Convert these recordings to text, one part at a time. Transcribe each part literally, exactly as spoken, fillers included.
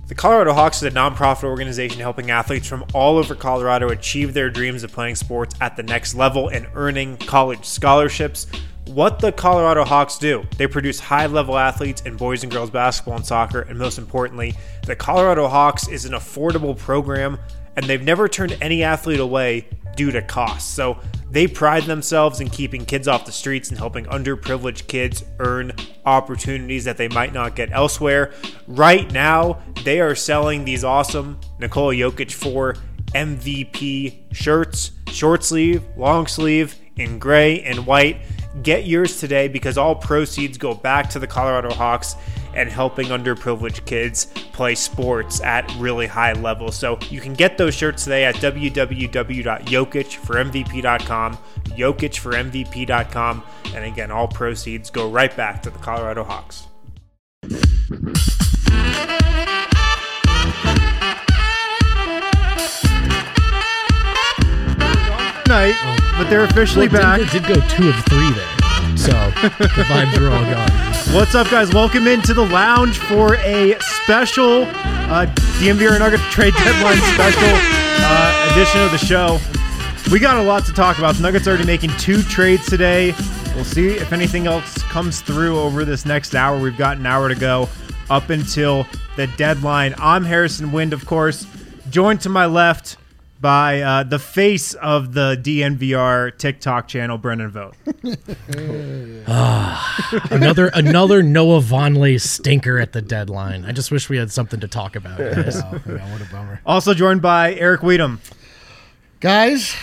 The Colorado Hawks is a nonprofit organization helping athletes from all over Colorado achieve their dreams of playing sports at the next level and earning college scholarships. What the Colorado Hawks do, they produce high-level athletes in boys and girls basketball and soccer, and most importantly, the Colorado Hawks is an affordable program, and they've never turned any athlete away due to cost. So they pride themselves in keeping kids off the streets and helping underprivileged kids earn opportunities that they might not get elsewhere. Right now, they are selling these awesome Nikola Jokic four M V P shirts, short sleeve, long sleeve, in gray and white. Get yours today because all proceeds go back to the Colorado Hawks and helping underprivileged kids play sports at really high levels. So you can get those shirts today at w w w dot jokic for m v p dot com, jokic for m v p dot com, and again, all proceeds go right back to the Colorado Hawks. Night, but they're officially well, back. Denver did go two of three there, so the vibes are all gone. What's up, guys? Welcome into the lounge for a special uh, D N V R Nuggets trade deadline special uh, edition of the show. We got a lot to talk about. The Nuggets are already making two trades today. We'll see if anything else comes through over this next hour. We've got an hour to go up until the deadline. I'm Harrison Wind, of course, joined to my left by uh, the face of the D N V R TikTok channel, Brendan Vogt. ah, another another Noah Vonleh stinker at the deadline. I just wish we had something to talk about, guys. Oh, yeah, what a bummer. Also joined by Eric Weedham. Guys,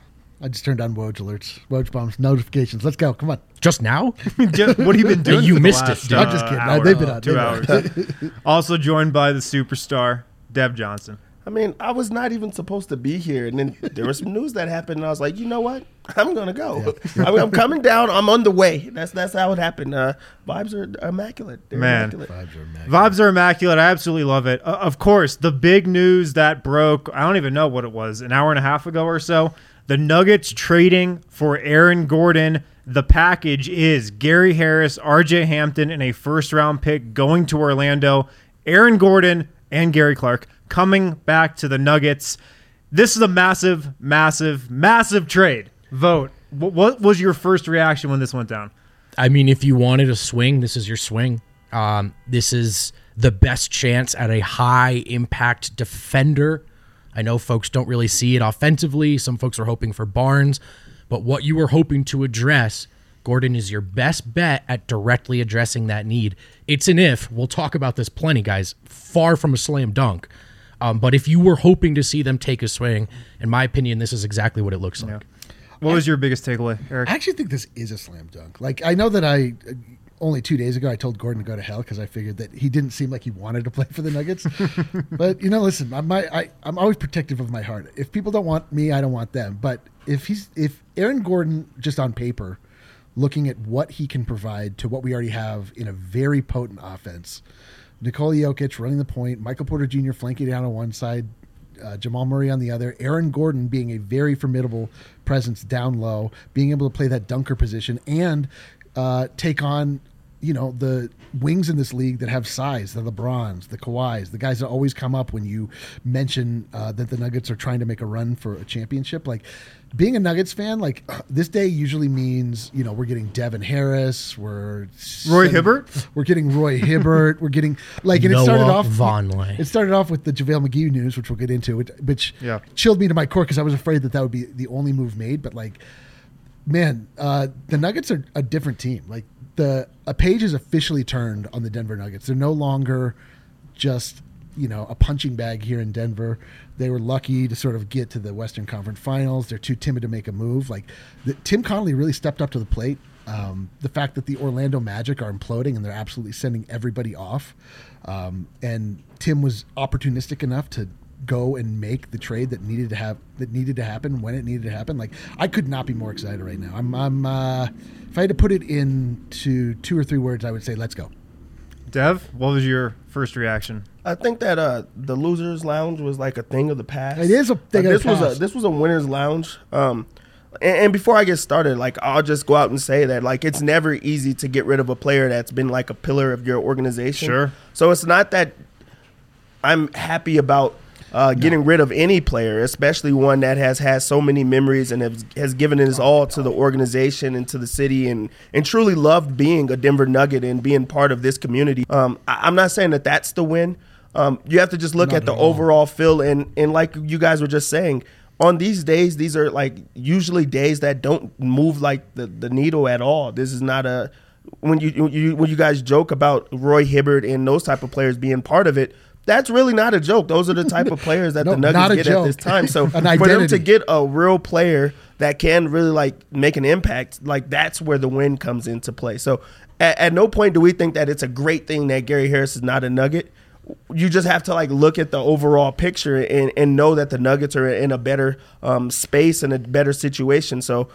I just turned on Woj alerts, Woj bombs, notifications. Let's go. Come on. Just now? Just, what have you been doing? You for missed the last, it. Uh, I'm just kidding. Hour, They've been out. Two They've hours. been out. Also joined by the superstar, Dev Johnson. I mean, I was not even supposed to be here, and then there was some news that happened, and I was like, you know what? I'm gonna go. Yeah. I mean, I'm coming down. I'm on the way. That's that's how it happened. Uh, vibes are immaculate. They're Man, immaculate. Vibes are immaculate. Vibes are immaculate. I absolutely love it. Uh, of course, the big news that broke, I don't even know what it was, an hour and a half ago or so, the Nuggets trading for Aaron Gordon. The package is Gary Harris, R J Hampton, and a first-round pick going to Orlando. Aaron Gordon and Gary Clark coming back to the Nuggets. This is a massive, massive, massive trade. Vote. What was your first reaction when this went down? I mean, if you wanted a swing, this is your swing. Um, this is the best chance at a high-impact defender. I know folks don't really see it offensively. Some folks are hoping for Barnes. But what you were hoping to address, Gordon is your best bet at directly addressing that need. It's an if. We'll talk about this plenty, guys. Far from a slam dunk. Um, but if you were hoping to see them take a swing, in my opinion, this is exactly what it looks like. Yeah. What was your biggest takeaway, Eric? I actually think this is a slam dunk. Like, I know that I only two days ago I told Gordon to go to hell because I figured that he didn't seem like he wanted to play for the Nuggets. But you know, listen, I'm my, I, I'm always protective of my heart. If people don't want me, I don't want them. But if he's if Aaron Gordon, just on paper, looking at what he can provide to what we already have in a very potent offense, Nikola Jokic running the point, Michael Porter Junior flanking down on one side, uh, Jamal Murray on the other, Aaron Gordon being a very formidable presence down low, being able to play that dunker position and uh, take on, you know, the wings in this league that have size, the LeBrons, the Kawhis, the guys that always come up when you mention uh, that the Nuggets are trying to make a run for a championship. Like, being a Nuggets fan, like, this day usually means, you know, we're getting Devin Harris, we're Roy Hibbert, we're getting Roy Hibbert, we're getting like, and Noah it started off Vonleh. It started off with the JaVale McGee news, which we'll get into, which, which yeah. chilled me to my core because I was afraid that that would be the only move made. But like, man, uh, the Nuggets are a different team. Like, the a page is officially turned on the Denver Nuggets. They're no longer just, you know, a punching bag here in Denver. They were lucky to sort of get to the Western Conference Finals. They're too timid to make a move. Like, the, Tim Connolly really stepped up to the plate. Um, the fact that the Orlando Magic are imploding and they're absolutely sending everybody off. Um, and Tim was opportunistic enough to go and make the trade that needed to have that needed to happen when it needed to happen. Like, I could not be more excited right now. I'm, I'm uh, if I had to put it into two or three words, I would say, let's go. Dev, what was your first reaction? I think that uh, the losers' lounge was like a thing of the past. It is a thing uh, of this the was past. a this was a winners' lounge. Um, and, and before I get started, like, I'll just go out and say that, like, it's never easy to get rid of a player that's been like a pillar of your organization. Sure. So it's not that I'm happy about uh, getting no. rid of any player, especially one that has had so many memories and has, has given his all to the organization and to the city, and, and truly loved being a Denver Nugget and being part of this community. Um, I, I'm not saying that that's the win. Um, you have to just look Not at the at all. overall feel, and, and like you guys were just saying, on these days, these are like usually days that don't move like the, the needle at all. This is not a when you, you when you guys joke about Roy Hibbert and those type of players being part of it. That's really not a joke. Those are the type of players that No, the not Nuggets a get joke. at this time. So An for them identity. to get a real player that can really like make an impact, like that's where the win comes into play. So at, at no point do we think that it's a great thing that Gary Harris is not a Nugget. You just have to like look at the overall picture and, and know that the Nuggets are in a better um, space and a better situation. So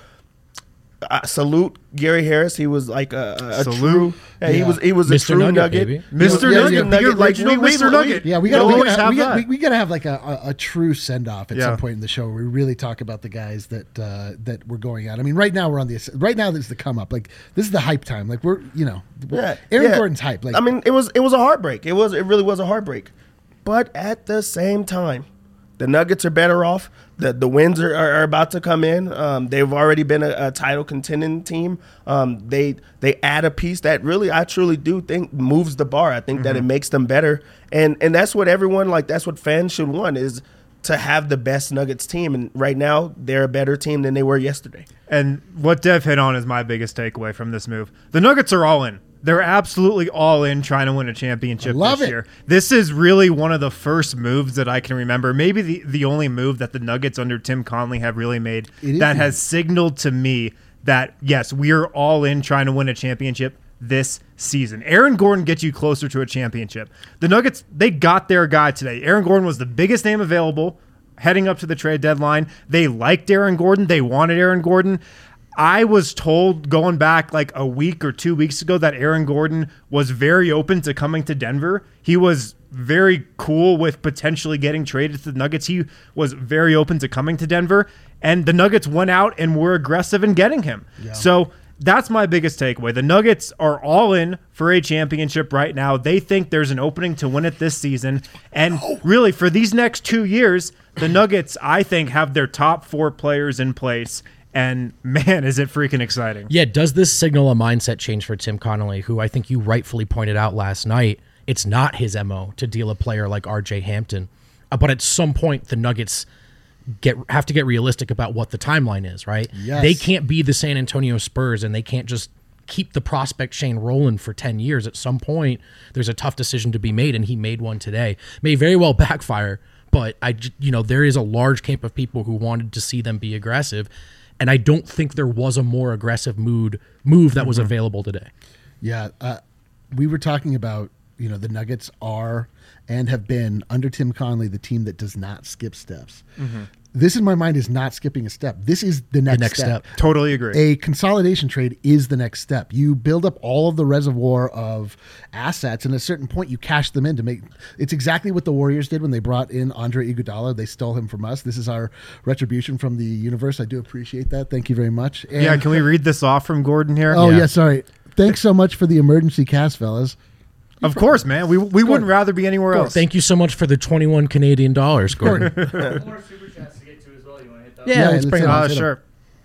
uh, salute Gary Harris. He was like a, a, a Salute. true. Yeah, He Yeah. was he was a Mister true Nugget, Nugget. baby. He was- Mister he was Nugget, a the Like, original we- we- Mister we- Nugget. Yeah, we You'll got we always gotta, have we, got, that. we, we gotta have like a, a, a true send off at Yeah. some point in the show where we really talk about the guys that uh, that we're going out. I mean, right now we're on the right now this is the come up. Like this is the hype time. Like we're you know, Yeah, Aaron yeah. Gordon's hype. Like I mean, it was it was a heartbreak. It was it really was a heartbreak. But at the same time, the Nuggets are better off. The the wins are, are, are about to come in. Um, they've already been a, a title contending team. Um, they they add a piece that really I truly do think moves the bar. I think mm-hmm. that it makes them better, and and that's what everyone like. That's what fans should want is to have the best Nuggets team. And right now, they're a better team than they were yesterday. And what Dev hit on is my biggest takeaway from this move. The Nuggets are all in. They're absolutely all in trying to win a championship Love this it. year. This is really one of the first moves that I can remember, maybe the, the only move that the Nuggets under Tim Conley have really made It is that the- has signaled to me that, yes, we are all in trying to win a championship this season. Aaron Gordon gets you closer to a championship. The Nuggets, they got their guy today. Aaron Gordon was the biggest name available heading up to the trade deadline. They liked Aaron Gordon. They wanted Aaron Gordon. I was told going back like a week or two weeks ago that Aaron Gordon was very open to coming to Denver. He was very cool with potentially getting traded to the Nuggets. He was very open to coming to Denver, and the Nuggets went out and were aggressive in getting him. Yeah. So that's my biggest takeaway. The Nuggets are all in for a championship right now. They think there's an opening to win it this season. And really, for these next two years, the Nuggets, I think, have their top four players in place. And man, is it freaking exciting. Yeah, does this signal a mindset change for Tim Connolly, who I think you rightfully pointed out last night? It's not his M O to deal a player like R J Hampton. Uh, but at some point, the Nuggets get have to get realistic about what the timeline is, right? Yes. They can't be the San Antonio Spurs, and they can't just keep the prospect chain rolling for ten years. At some point, there's a tough decision to be made, and he made one today. May very well backfire, but I, j- you know, there is a large camp of people who wanted to see them be aggressive. And I don't think there was a more aggressive mood move that was available today. Yeah, uh, we were talking about, you know, the Nuggets are and have been under Tim Conley the team that does not skip steps. Mm-hmm. This in my mind is not skipping a step. This is the next, next step. step. Totally agree. A consolidation trade is the next step. You build up all of the reservoir of assets, and at a certain point, you cash them in to make. It's exactly what the Warriors did when they brought in Andre Iguodala. They stole him from us. This is our retribution from the universe. I do appreciate that. Thank you very much. And, yeah, can we read this off from Gordon here? Oh, Yeah. yeah, sorry. Thanks so much for the emergency cast, fellas. Of course, man. We we wouldn't rather be anywhere else. Thank you so much for the twenty-one Canadian dollars, Gordon. More super chats to get to as well. You want to hit that? Yeah, Yeah, let's let's bring it hit on. Uh, Hit 'em. sure.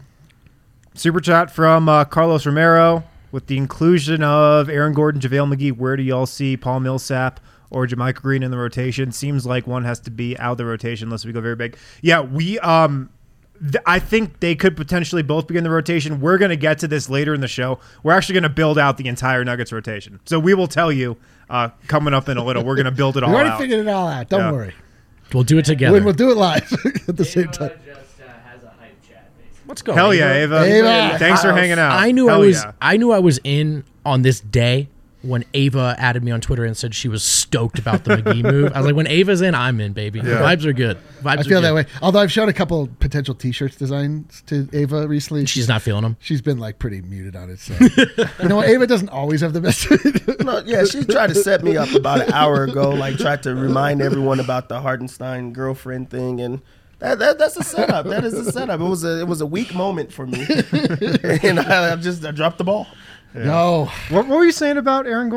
Super chat from uh, Carlos Romero with the inclusion of Aaron Gordon, JaVale McGee. Where do y'all see Paul Millsap or Jermichael Green in the rotation? Seems like one has to be out of the rotation unless we go very big. Yeah, we. Um, th- I think they could potentially both be in the rotation. We're going to get to this later in the show. We're actually going to build out the entire Nuggets rotation. So we will tell you uh, coming up in a little. We're going to build it all We already out. figured it all out. Don't Yeah. worry. We'll do it together. We'll, we'll do it live at the same Ava time. just uh, has a hype chat, basically. Let's go. Hell yeah, Ava. Ava. Thanks for House. hanging out. I knew Hell I was yeah. I knew I was in on this day when Ava added me on Twitter and said she was stoked about the McGee move. I was like, when Ava's in, I'm in, baby. Yeah. Vibes are good. Vibes I are feel good. that way. Although I've shown a couple potential T-shirts designs to Ava recently. She's not feeling them. She's been like pretty muted on it. So you know what? Ava doesn't always have the best. No, yeah, she tried to set me up about an hour ago, like tried to remind everyone about the Hartenstein girlfriend thing, and that, that that's a setup. That is a setup. It was a it was a weak moment for me, and I just I dropped the ball. No, What, what were you saying about Aaron Gordon?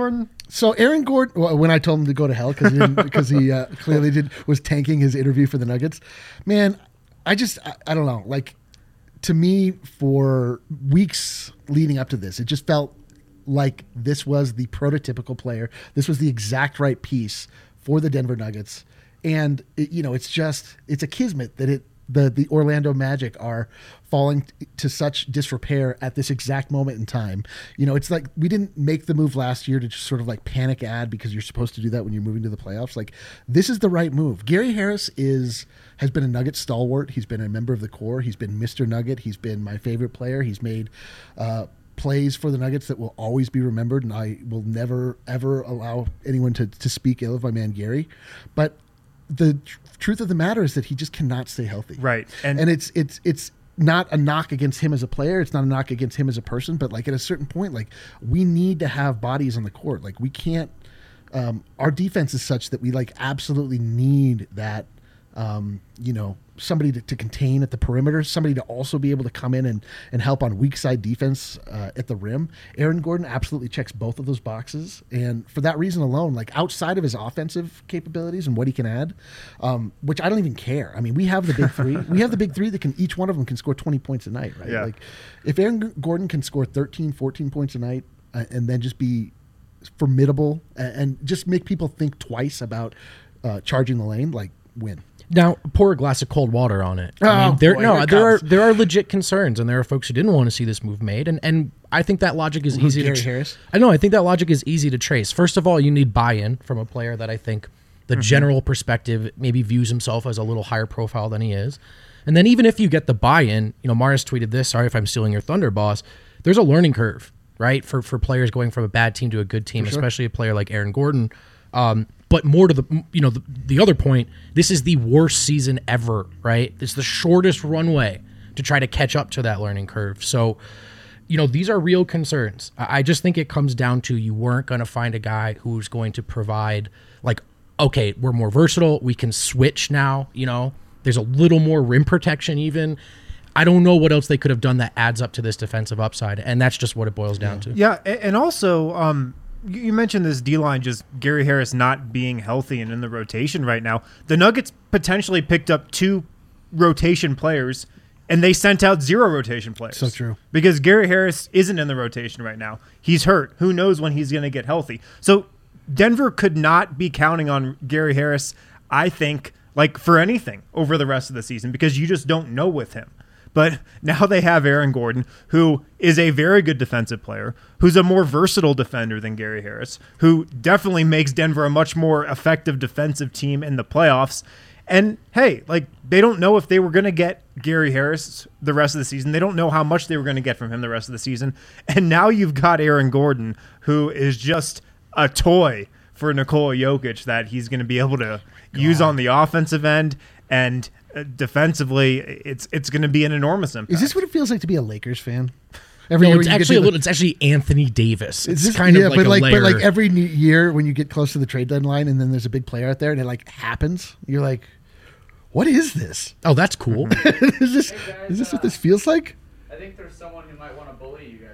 So Aaron Gordon, well, when I told him to go to hell because he, didn't- because he uh, clearly did was tanking his interview for the Nuggets, man, I just I, I don't know. Like to me, for weeks leading up to this, it just felt like this was the prototypical player. This was the exact right piece for the Denver Nuggets, and it, you know, it's just it's a kismet that it. The, the Orlando Magic are falling t- to such disrepair at this exact moment in time. You know, it's like we didn't make the move last year to just sort of like panic ad because you're supposed to do that when you're moving to the playoffs. Like this is the right move. Gary Harris is has been a Nugget stalwart. He's been a member of the core. He's been Mister Nugget. He's been my favorite player. He's made uh, plays for the Nuggets that will always be remembered, and I will never ever allow anyone to to speak ill of my man Gary. But the tr- truth of the matter is that he just cannot stay healthy. Right. And, and it's it's it's not a knock against him as a player. It's not a knock against him as a person. But like at a certain point, like we need to have bodies on the court. Like we can't. Um, our defense is such that we like absolutely need that. Um, you know, somebody to, to contain at the perimeter, somebody to also be able to come in and, and help on weak side defense uh, at the rim. Aaron Gordon absolutely checks both of those boxes. And for that reason alone, like outside of his offensive capabilities and what he can add, um, which I don't even care. I mean, we have the big three. We have the big three that can, each one of them can score twenty points a night, right? Yeah. Like if Aaron Gordon can score thirteen, fourteen points a night uh, and then just be formidable and, and just make people think twice about uh, charging the lane, like win. Now, pour a glass of cold water on it. I Oh, mean, there, boy, no, here it there are comes. there are legit concerns, and there are folks who didn't want to see this move made, and, and I think that logic is Who's easy Gary to tra- Harris? I know. I think that logic is easy to trace. First of all, you need buy-in from a player that I think the general perspective maybe views himself as a little higher profile than he is, and then even if you get the buy-in, you know, Morris tweeted this. Sorry if I'm stealing your thunder, boss. There's a learning curve, right, for for players going from a bad team to a good team, especially a player like Aaron Gordon. Um, but more to the, you know, the, the other point, this is the worst season ever, right? It's the shortest runway to try to catch up to that learning curve. So, you know, these are real concerns. I I just think it comes down to you weren't going to find a guy who's going to provide, like, okay, we're more versatile. We can switch now, you know. There's a little more rim protection even. I don't know what else they could have done that adds up to this defensive upside, and that's just what it boils down to. Yeah, a- and also, um, you you mentioned this D-line, just Gary Harris not being healthy and in the rotation right now. The Nuggets potentially picked up two rotation players, and they sent out zero rotation players. So true. Because Gary Harris isn't in the rotation right now. He's hurt. Who knows when he's going to get healthy? So Denver could not be counting on Gary Harris, I think, like for anything over the rest of the season because you just don't know with him. But now they have Aaron Gordon, who is a very good defensive player, who's a more versatile defender than Gary Harris, who definitely makes Denver a much more effective defensive team in the playoffs. And hey, like they don't know if they were going to get Gary Harris the rest of the season. They don't know how much they were going to get from him the rest of the season. And now you've got Aaron Gordon, who is just a toy for Nikola Jokic that he's going to be able to God. use on the offensive end. And defensively, it's it's going to be an enormous impact. Is this what it feels like to be a Lakers fan? Every No, year it's when you get actually to a the- little. It's actually Anthony Davis. It's Is this- kind yeah, of like but a like, layer. but like every new year when you get close to the trade deadline and then there's a big player out there and it like happens, you're like, what is this? Oh, that's cool. is this Hey, guys, is this what uh, this feels like? I think there's someone who might want to bully you guys.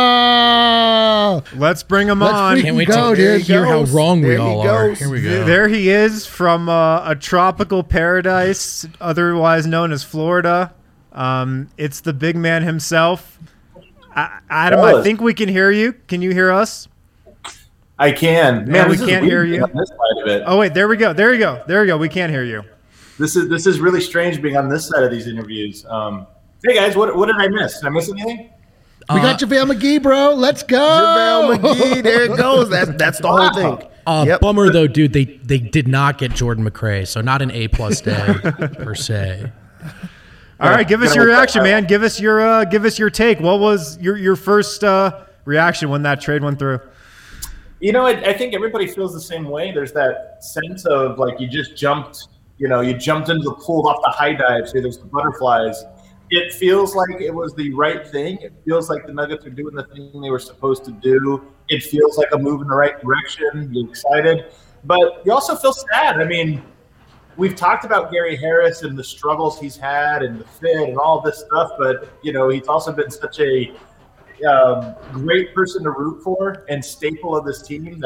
Oh, Let's bring him Let's on. freaking Can't wait go, to dude. hear how goes. wrong we There he all are. goes. Here we go. There he is from uh, a tropical paradise, otherwise known as Florida. Um, it's the big man himself. I, Adam, I Fellas. think we can hear you. Can you hear us? I can. Man, Yeah, we this is can't weird hear you. being on this side of it. Oh, wait, there we go. There you go. There we go. We can't hear you. This is this is really strange being on this side of these interviews. Um, hey guys, what what did I miss? Did I miss anything? we got JaVale McGee, bro. Let's go. JaVale McGee, there it goes. That's that's the whole thing. Uh, Yep. Bummer though, dude. They they did not get Jordan McRae, so not an A plus day per se. All right, give us Gonna your look reaction, that man. Give us your uh, give us your take. What was your your first uh, reaction when that trade went through? You know, I, I think everybody feels the same way. There's that sense of like you just jumped, you know, you jumped into the pool off the high dive. So there's the butterflies. It feels like it was the right thing. It feels like the Nuggets are doing the thing they were supposed to do. It feels like a move in the right direction. You're excited, but you also feel sad. I mean, we've talked about Gary Harris and the struggles he's had and the fit and all this stuff, but you know, he's also been such a um, great person to root for and staple of this team that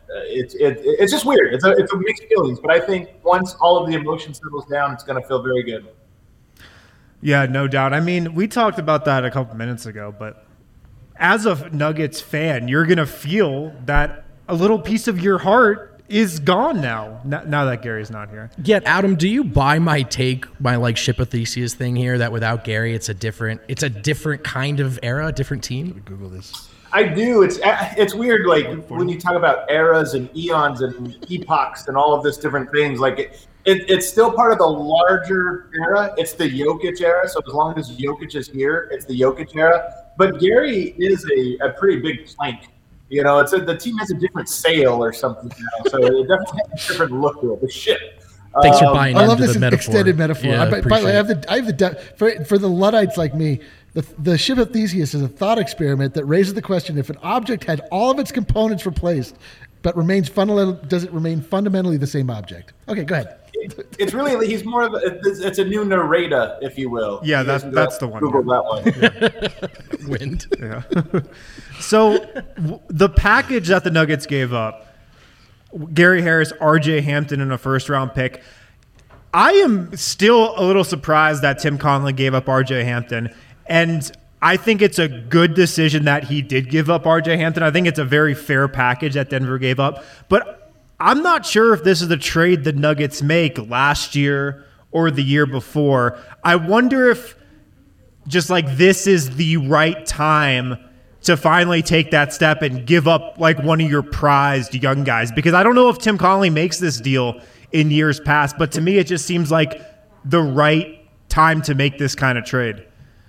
it's it, it's just weird. It's a it's a mixed feelings, but I think once all of the emotion settles down, it's going to feel very good. Yeah, no doubt. I mean, we talked about that a couple minutes ago, but as a Nuggets fan, you're going to feel that a little piece of your heart is gone now, now that Gary's not here. Yet, Adam, do you buy my take, my like ship of Theseus thing here, that without Gary, it's a different, it's a different kind of era, a different team? Google this. I do. It's it's weird, like when you talk about eras and eons and epochs and all of this different things. Like it, it, it's still part of the larger era. It's the Jokic era. So as long as Jokic is here, it's the Jokic era. But Gary is a, a pretty big plank. You know, it's a, the team has a different sail or something now, so it definitely has a different look to it. The ship. Thanks um, for buying I love into this the metaphor. extended metaphor. Yeah, I, by, by the way, I have appreciate the I have the de- for for the Luddites like me. The, the ship of Theseus is a thought experiment that raises the question: if an object had all of its components replaced, but remains fundamental, does it remain fundamentally the same object? Okay, go ahead. It, it's really he's more of a, it's, it's a new narrator, if you will. Yeah, You that's guys that's go the one. Google that one. Wind. Yeah. So w- the package that the Nuggets gave up, Gary Harris, R J Hampton, and a first round pick. I am still a little surprised that Tim Connelly gave up R J Hampton, and I think it's a good decision that he did give up R J Hampton. I think it's a very fair package that Denver gave up, but I'm not sure if this is the trade the Nuggets make last year or the year before. I wonder if just like this is the right time to finally take that step and give up like one of your prized young guys, because I don't know if Tim Connelly makes this deal in years past, but to me it just seems like the right time to make this kind of trade.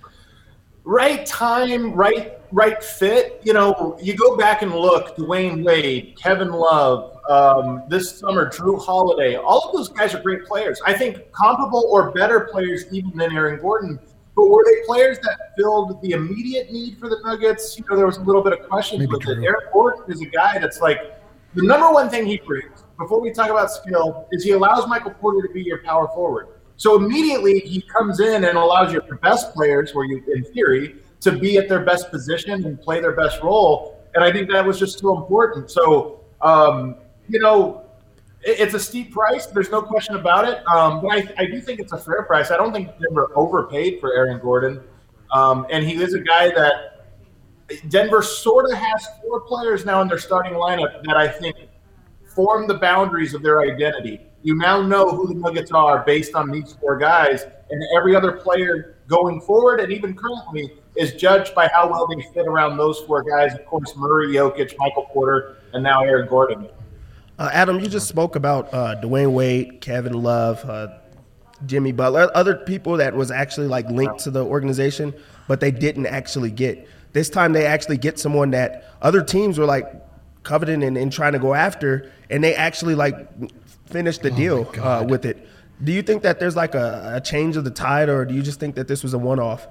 Right time, right right fit. You know, you go back and look, Dwayne Wade, Kevin Love, um, this summer, Drew Holiday, all of those guys are great players. I think comparable or better players even than Aaron Gordon. But were they players that filled the immediate need for the Nuggets? You know, there was a little bit of questions Maybe with true. it. Aaron Gordon is a guy that's like, the number one thing he brings, before we talk about skill, is he allows Michael Porter to be your power forward. So immediately he comes in and allows your best players, where you, in theory, to be at their best position and play their best role. And I think that was just so important. So, um, you know, it, it's a steep price. There's no question about it. Um, but I, I do think it's a fair price. I don't think Denver overpaid for Aaron Gordon. Um, and he is a guy that Denver sort of has four players now in their starting lineup that I think form the boundaries of their identity. You now know who the Nuggets are based on these four guys, and every other player going forward and even currently is judged by how well they fit around those four guys. Of course, Murray, Jokic, Michael Porter, and now Aaron Gordon. Uh, Adam, you just spoke about uh, Dwayne Wade, Kevin Love, uh, Jimmy Butler, other people that was actually like linked to the organization, but they didn't actually get. This time they actually get someone that other teams were like coveting and, and trying to go after, and they actually like finished the Oh deal my uh, God. with it. Do you think that there's like a, a change of the tide, or do you just think that this was a one-off?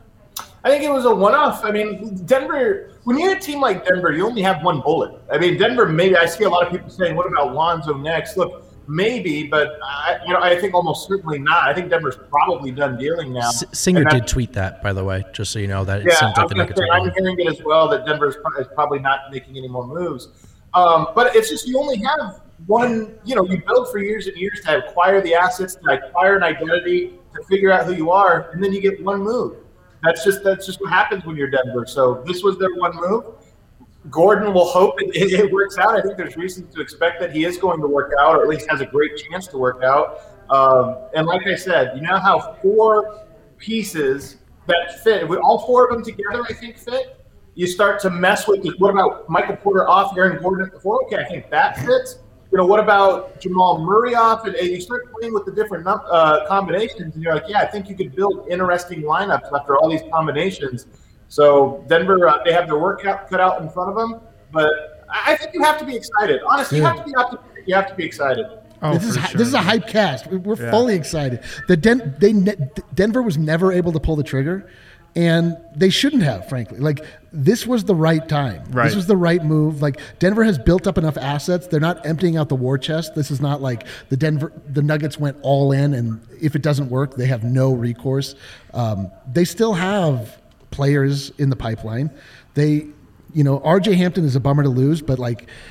I think it was a one-off. I mean, Denver, when you're a team like Denver, you only have one bullet. I mean, Denver, maybe I see a lot of people saying, what about Lonzo next? Look, maybe, but I, you know, I think almost certainly not. I think Denver's probably done dealing now. S- Singer And that- did tweet that, by the way, just so you know that it Yeah, seems I like was the gonna Nuggets say, are I'm going. hearing it as well that Denver's pro- is probably not making any more moves. Um, but it's just you only have one, you know, you build for years and years to acquire the assets, to acquire an identity, to figure out who you are, and then you get one move. That's just that's just what happens when you're Denver. So this was their one move. Gordon will hope it, it, it works out. I think there's reason to expect that he is going to work out, or at least has a great chance to work out. Um, and like I said, you now have four pieces that fit. With all four of them together, I think fit. You start to mess with what about Michael Porter off, Aaron Gordon at the four? Okay, I think that fits. You know, what about Jamal Murray off? And, and you start playing with the different uh, combinations, and you're like, yeah, I think you could build interesting lineups after all these combinations. So Denver, uh, they have their work cut cut out in front of them, but I I think you have to be excited. Honestly, you have to be optimistic. You have to be excited. Oh, this is for hi- sure. this is a hype cast. We- We're Yeah. fully excited. The Den- they ne- Denver was never able to pull the trigger, and they shouldn't have. Frankly, like this was the right time. Right. This was the right move. Like Denver has built up enough assets. They're not emptying out the war chest. This is not like the Denver the Nuggets went all in, and if it doesn't work, they have no recourse. Um, they still have players in the pipeline. They, you know, R J Hampton is a bummer to lose, but like.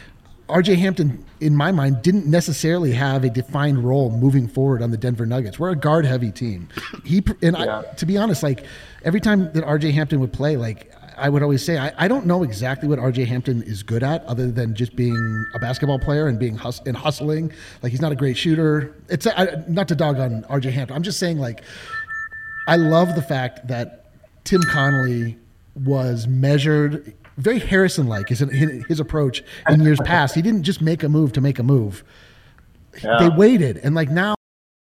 R J Hampton, in my mind, didn't necessarily have a defined role moving forward on the Denver Nuggets. We're a guard-heavy team. He and Yeah. I, to be honest, like every time that R J Hampton would play, like I would always say, I, I don't know exactly what R J Hampton is good at, other than just being a basketball player and being hus- and hustling. Like he's not a great shooter. It's I, not to dog on R J Hampton. I'm just saying, like I love the fact that Tim Connolly was measured. Very Harrison-like is his approach in years past. He didn't just make a move to make a move. Yeah. They waited, and like now,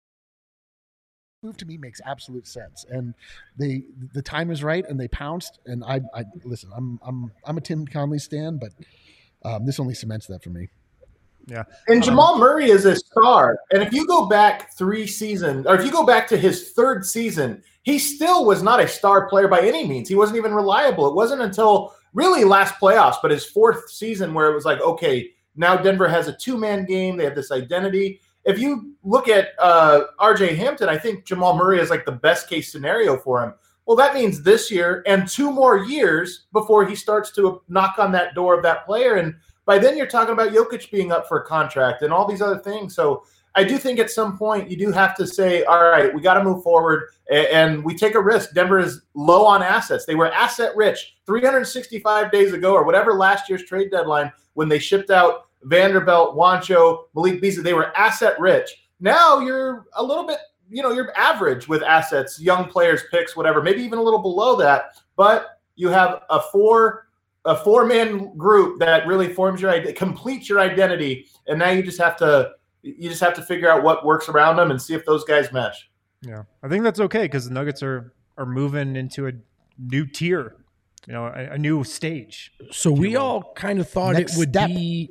move to me makes absolute sense. And they the time is right, and they pounced. And I, I listen. I'm I'm I'm a Tim Connolly stan, but um, this only cements that for me. Yeah. And Jamal Murray is a star. And if you go back three seasons, or if you go back to his third season, he still was not a star player by any means. He wasn't even reliable. It wasn't until really last playoffs, but his fourth season where it was like, okay, now Denver has a two-man game. They have this identity. If you look at uh, R J Hampton, I think Jamal Murray is like the best case scenario for him. Well, that means this year and two more years before he starts to knock on that door of that player. And by then you're talking about Jokic being up for a contract and all these other things. So I do think at some point you do have to say, all right, we got to move forward and we take a risk. Denver is low on assets. They were asset rich three hundred sixty-five days ago or whatever last year's trade deadline when they shipped out Vanderbilt, Juancho, Malik Beasley. They were asset rich. Now you're a little bit, you know, you're average with assets, young players, picks, whatever, maybe even a little below that. But you have a four a four-man group that really forms your idea, completes your identity, and now you just have to you just have to figure out what works around them and see if those guys mesh. Yeah, I think that's okay because the Nuggets are are moving into a new tier, you know, a, a new stage. So we all kind of thought Next it would step. be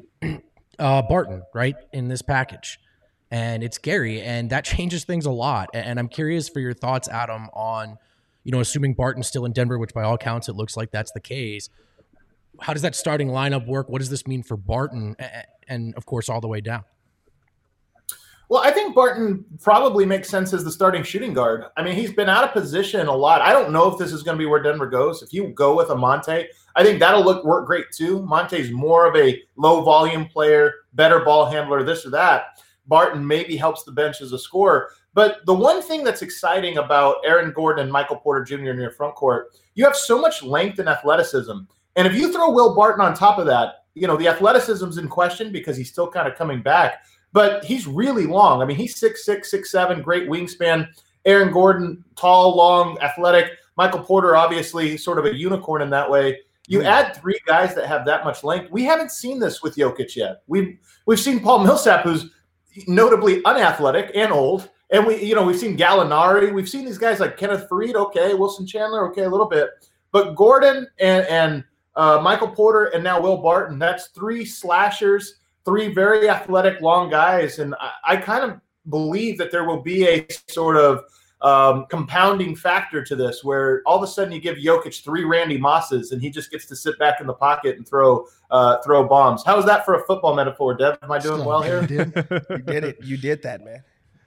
uh, Barton, right, in this package. And it's Gary, and that changes things a lot. And I'm curious for your thoughts, Adam, on, you know, assuming Barton's still in Denver, which by all counts it looks like that's the case. How does that starting lineup work? What does this mean for Barton? And, of course, all the way down. Well, I think Barton probably makes sense as the starting shooting guard. I mean, he's been out of position a lot. I don't know if this is going to be where Denver goes. If you go with a Monte, I think that'll look work great too. Monte's more of a low volume player, better ball handler, this or that. Barton maybe helps the bench as a scorer. But the one thing that's exciting about Aaron Gordon and Michael Porter Junior in your front court, you have so much length and athleticism. And if you throw Will Barton on top of that, you know, the athleticism's in question because he's still kind of coming back. But he's really long. I mean, he's six six, six seven, great wingspan. Aaron Gordon, tall, long, athletic. Michael Porter, obviously, sort of a unicorn in that way. You add three guys that have that much length. We haven't seen this with Jokic yet. We've we've seen Paul Millsap, who's notably unathletic and old, and we you know we've seen Gallinari. We've seen these guys like Kenneth Faried, okay, Wilson Chandler, okay, a little bit, but Gordon and and uh, Michael Porter and now Will Barton. That's three slashers. Three very athletic, long guys, and I, I kind of believe that there will be a sort of um, compounding factor to this, where all of a sudden you give Jokic three Randy Mosses, and he just gets to sit back in the pocket and throw uh, throw bombs. How is that for a football metaphor, Dev? Am I doing Still, well here? you did. You did it. You did that, man.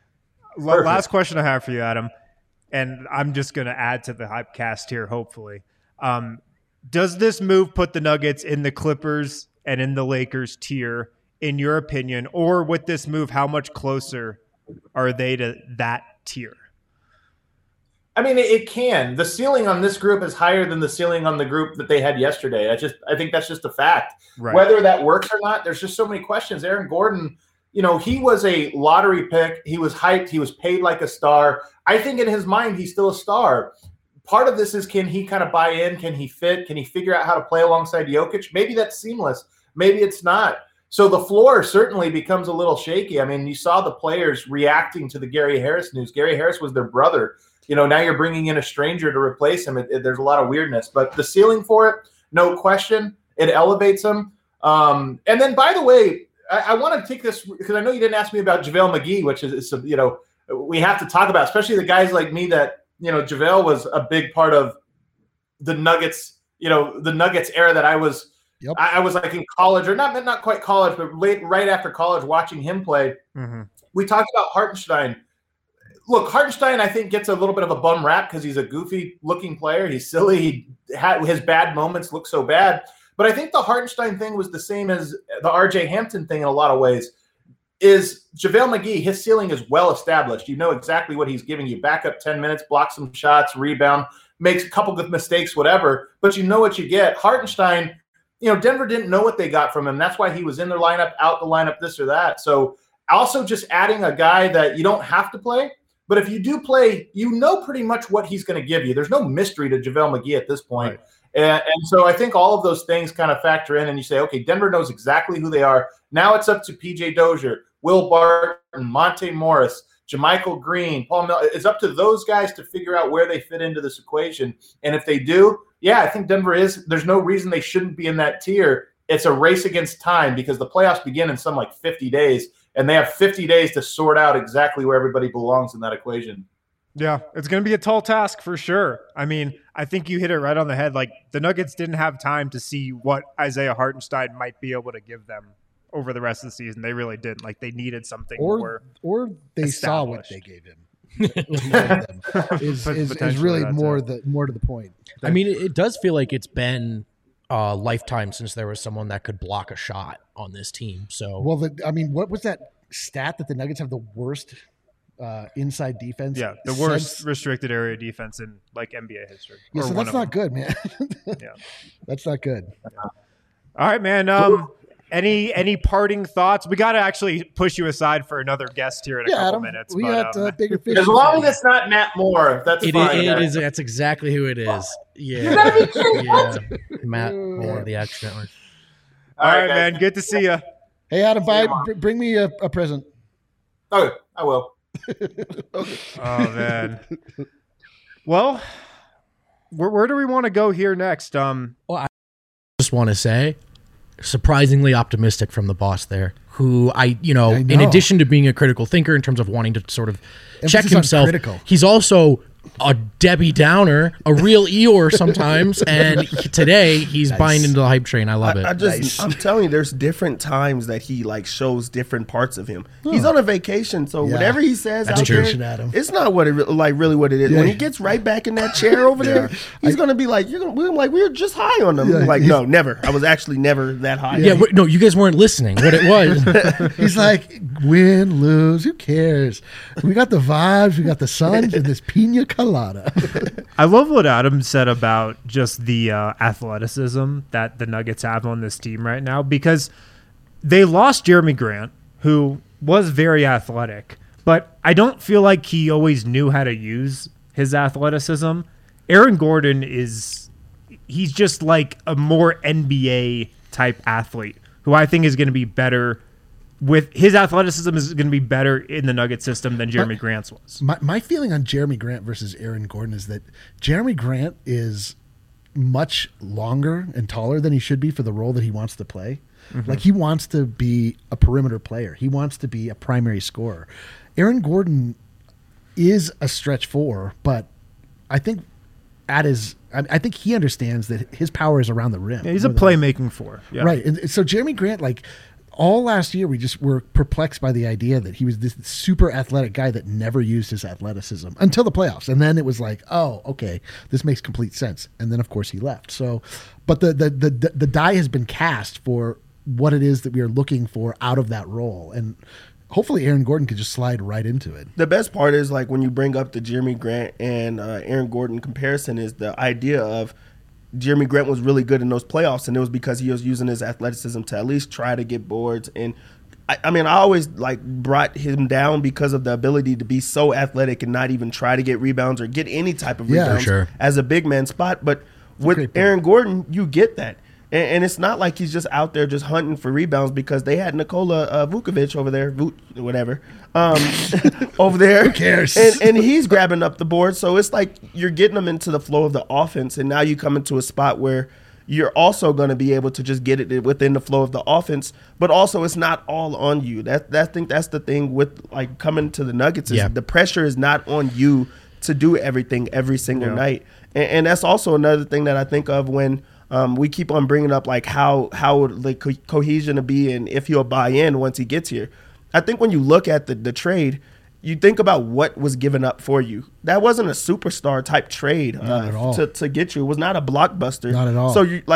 La- Last question I have for you, Adam, and I'm just going to add to the Hypecast here, hopefully. Um, does this move put the Nuggets in the Clippers and in the Lakers tier, in your opinion, or with this move, how much closer are they to that tier? I mean, it, it can. The ceiling on this group is higher than the ceiling on the group that they had yesterday. I just, I think that's just a fact. Right. Whether that works or not, there's just so many questions. Aaron Gordon, you know, he was a lottery pick. He was hyped. He was paid like a star. I think in his mind, he's still a star. Part of this is, can he kind of buy in? Can he fit? Can he figure out how to play alongside Jokic? Maybe that's seamless. Maybe it's not. So the floor certainly becomes a little shaky. I mean, you saw the players reacting to the Gary Harris news. Gary Harris was their brother. You know, now you're bringing in a stranger to replace him. It, it, there's a lot of weirdness. But the ceiling for it, no question, it elevates them. Um, and then, by the way, I, I want to take this because I know you didn't ask me about JaVale McGee, which is, is, you know, we have to talk about, especially the guys like me that, you know, JaVale was a big part of the Nuggets, you know, the Nuggets era that I was – Yep. I, I was like in college, or not not quite college, but late, right after college, watching him play. Mm-hmm. We talked about Hartenstein. Look, Hartenstein, I think, gets a little bit of a bum rap because he's a goofy-looking player. He's silly. He had, his bad moments look so bad. But I think the Hartenstein thing was the same as the R J Hampton thing in a lot of ways. Is JaVale McGee, his ceiling is well established. You know exactly what he's giving you. Back up ten minutes, block some shots, rebound, makes a couple good mistakes, whatever. But you know what you get. Hartenstein, you know, Denver didn't know what they got from him. That's why he was in their lineup, out the lineup, this or that. So also just adding a guy that you don't have to play. But if you do play, you know pretty much what he's going to give you. There's no mystery to JaVale McGee at this point. Right. And, and so I think all of those things kind of factor in, and you say, okay, Denver knows exactly who they are. Now it's up to P J Dozier, Will Barton, Monte Morris, JaMychal Green, Paul Miller. It's up to those guys to figure out where they fit into this equation. And if they do, yeah, I think Denver is. There's no reason they shouldn't be in that tier. It's a race against time because the playoffs begin in some like fifty days, and they have fifty days to sort out exactly where everybody belongs in that equation. Yeah, it's going to be a tall task for sure. I mean, I think you hit it right on the head. Like, the Nuggets didn't have time to see what Isaiah Hartenstein might be able to give them over the rest of the season. They really didn't. Like, they needed something or, more Or they saw what they gave him. is, is, is really more the more to the point. I mean, it, it does feel like it's been a lifetime since there was someone that could block a shot on this team. So, well, the, I mean, what was that stat that the Nuggets have the worst uh, inside defense? Yeah, the worst since, restricted area defense in like N B A history. Yeah, so that's not good, man. Yeah, that's not good. Yeah. All right, man. Um, any any parting thoughts? We got to actually push you aside for another guest here in a yeah, couple Adam, minutes. We but, got um, uh, bigger fish. As long as it's not Matt Moore, that's it, fine. It, it is. That's exactly who it is. Yeah, yeah. Matt Moore, the accident one. All, All right, guys. man. Good to see you. Hey, Adam, buy, bring me a, a present. Okay, I will. Okay. Oh man. Well, where where do we want to go here next? Um. Well, I just want to say, surprisingly optimistic from the boss there, who I, you know, I know. in addition to being a critical thinker in terms of wanting to sort of Emphasis check himself, critical. He's also a Debbie Downer, a real Eeyore sometimes, and he, today he's nice. buying into the hype train. I love I, it. I just, Nice. I'm telling you, there's different times that he like shows different parts of him. Oh. He's on a vacation, so Yeah. whatever he says That's out true. there, Adam. it's not what it re- like really what it is. Yeah. When he gets right back in that chair over there, he's I- gonna be like, "You're gonna," we're like, "We were just high on them." Yeah, I'm like, he's- no, never. I was actually never that high. yeah, wait, no, you guys weren't listening. What it was. He's like, win, lose, who cares? We got the vibes, we got the suns, and this pina colada. I love what Adam said about just the uh, athleticism that the Nuggets have on this team right now, because they lost Jeremy Grant, who was very athletic, but I don't feel like he always knew how to use his athleticism. Aaron Gordon is, he's just like a more N B A type athlete who I think is going to be better with his athleticism is going to be better in the Nugget system than Jeremy But Grant's was. My, my feeling on Jeremy Grant versus Aaron Gordon is that Jeremy Grant is much longer and taller than he should be for the role that he wants to play. Mm-hmm. Like, he wants to be a perimeter player. He wants to be a primary scorer. Aaron Gordon is a stretch four, but I think at his, I, I think he understands that his power is around the rim. Yeah, he's a more than- playmaking four. Yeah. Right. And so Jeremy Grant, like, all last year, we just were perplexed by the idea that he was this super athletic guy that never used his athleticism until the playoffs. And then it was like, oh, okay, this makes complete sense. And then, of course, he left. So, but the the the, the die has been cast for what it is that we are looking for out of that role. And hopefully Aaron Gordon could just slide right into it. The best part is, like, when you bring up the Jeremy Grant and uh, Aaron Gordon comparison, is the idea of Jeremy Grant was really good in those playoffs, and it was because he was using his athleticism to at least try to get boards. And I, I mean, I always like brought him down because of the ability to be so athletic and not even try to get rebounds or get any type of Yeah, rebounds sure. as a big man spot. But with great point. Aaron Gordon, you get that. And, and it's not like he's just out there just hunting for rebounds, because they had Nikola uh, Vukovic over there, Vuk, whatever, um, over there. Who cares? And, and he's grabbing up the board. So it's like you're getting them into the flow of the offense. And now you come into a spot where you're also going to be able to just get it within the flow of the offense. But also, it's not all on you. That, that I think that's the thing with like coming to the Nuggets is Yeah. the pressure is not on you to do everything every single Yeah. night. And, and that's also another thing that I think of when um, we keep on bringing up like how how like co- cohesion to be and if he'll buy in once he gets here. I think when you look at the, the trade, you think about what was given up for you. That wasn't a superstar type trade Not uh, at all. to to get you. It was not a blockbuster. Not at all. So you like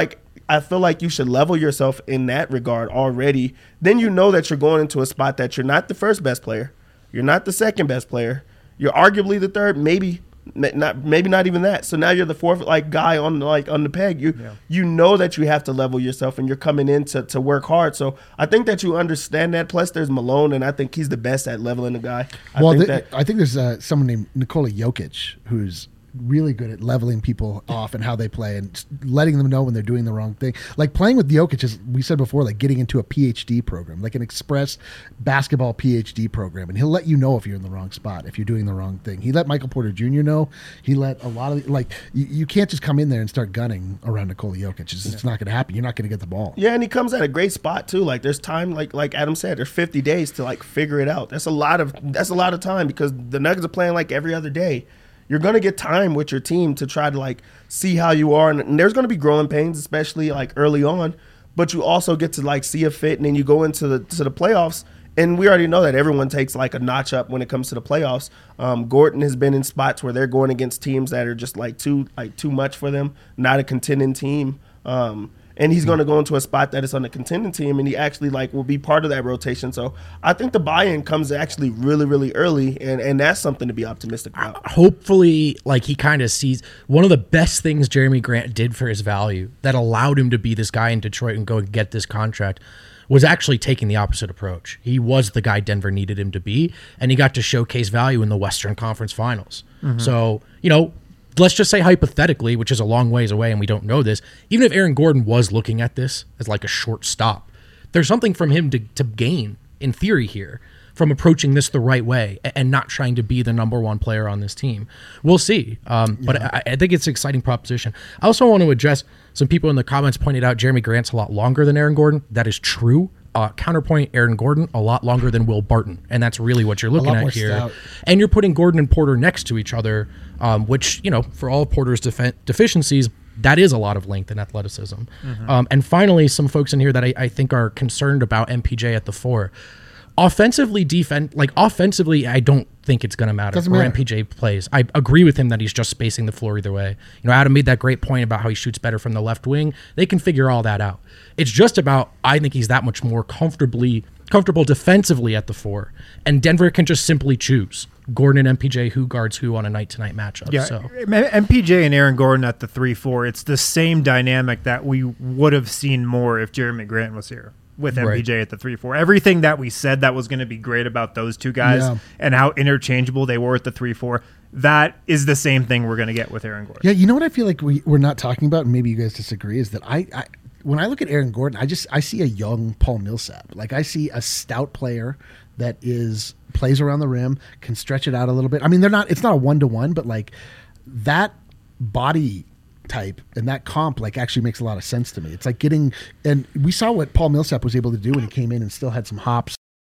I feel like you should level yourself in that regard already. Then you know that you're going into a spot that you're not the first best player. You're not the second best player. You're arguably the third, maybe not, maybe not even that. So now you're the fourth like guy on the, like on the peg. You yeah. you know that you have to level yourself, and you're coming in to, to work hard. So I think that you understand that. Plus, there's Malone, and I think he's the best at leveling the guy. I well, think the, that, I think there's uh, someone named Nikola Jokic who's really good at leveling people off and how they play and letting them know when they're doing the wrong thing. Like playing with Jokic, as we said before, like getting into a P H D program, like an express basketball P H D program. And he'll let you know if you're in the wrong spot, if you're doing the wrong thing. He let Michael Porter Junior know. He let a lot of, like, you, you can't just come in there and start gunning around Nikola Jokic. It's, it's not going to happen. You're not going to get the ball. Yeah, and he comes at a great spot too. Like there's time, like like Adam said, there's fifty days to like figure it out. That's a lot of that's a lot of time because the Nuggets are playing like every other day. You're going to get time with your team to try to, like, see how you are. And, and there's going to be growing pains, especially, like, early on. But you also get to, like, see a fit, and then you go into the to the playoffs. And we already know that everyone takes, like, a notch up when it comes to the playoffs. Um, Gordon has been in spots where they're going against teams that are just, like, too like too much for them, not a contending team. Um And he's going to go into a spot that is on the contending team, and he actually like will be part of that rotation. So I think the buy-in comes actually really, really early, and, and that's something to be optimistic about. Hopefully, like he kind of sees one of the best things Jeremy Grant did for his value that allowed him to be this guy in Detroit and go and get this contract was actually taking the opposite approach. He was the guy Denver needed him to be, and he got to showcase value in the Western Conference Finals. Mm-hmm. So, you know, let's just say hypothetically, which is a long ways away and we don't know this, even if Aaron Gordon was looking at this as like a short stop, there's something from him to, to gain in theory here from approaching this the right way and not trying to be the number one player on this team. We'll see. Um, yeah. But I, I think it's an exciting proposition. I also want to address some people in the comments pointed out Jeremy Grant's a lot longer than Aaron Gordon. That is true. Uh, counterpoint, Aaron Gordon, a lot longer than Will Barton. And that's really what you're looking at here. Stout. And you're putting Gordon and Porter next to each other, um, which, you know, for all of Porter's def- deficiencies, that is a lot of length and athleticism. Mm-hmm. Um, and finally, some folks in here that I, I think are concerned about M P J at the four. Offensively, defense, like offensively, I don't think it's going to matter Doesn't where matter. M P J plays. I agree with him that he's just spacing the floor either way. You know, Adam made that great point about how he shoots better from the left wing. They can figure all that out. It's just about, I think he's that much more comfortably comfortable defensively at the four, and Denver can just simply choose Gordon and M P J who guards who on a night-to-night matchup. Yeah, so. M P J and Aaron Gordon at the three four, it's the same dynamic that we would have seen more if Jeremy Grant was here. With M P J right. at the three four. Everything that we said that was going to be great about those two guys yeah. and how interchangeable they were at the three four, that is the same thing we're going to get with Aaron Gordon. Yeah, you know what I feel like we, we're not talking about, and maybe you guys disagree, is that I, I when I look at Aaron Gordon, I just I see a young Paul Millsap. Like I see a stout player that is plays around the rim, can stretch it out a little bit. I mean, they're not it's not a one-to-one, but like that body type and that comp like actually makes a lot of sense to me. It's like getting, and we saw what Paul Millsap was able to do when he came in and still had some hops.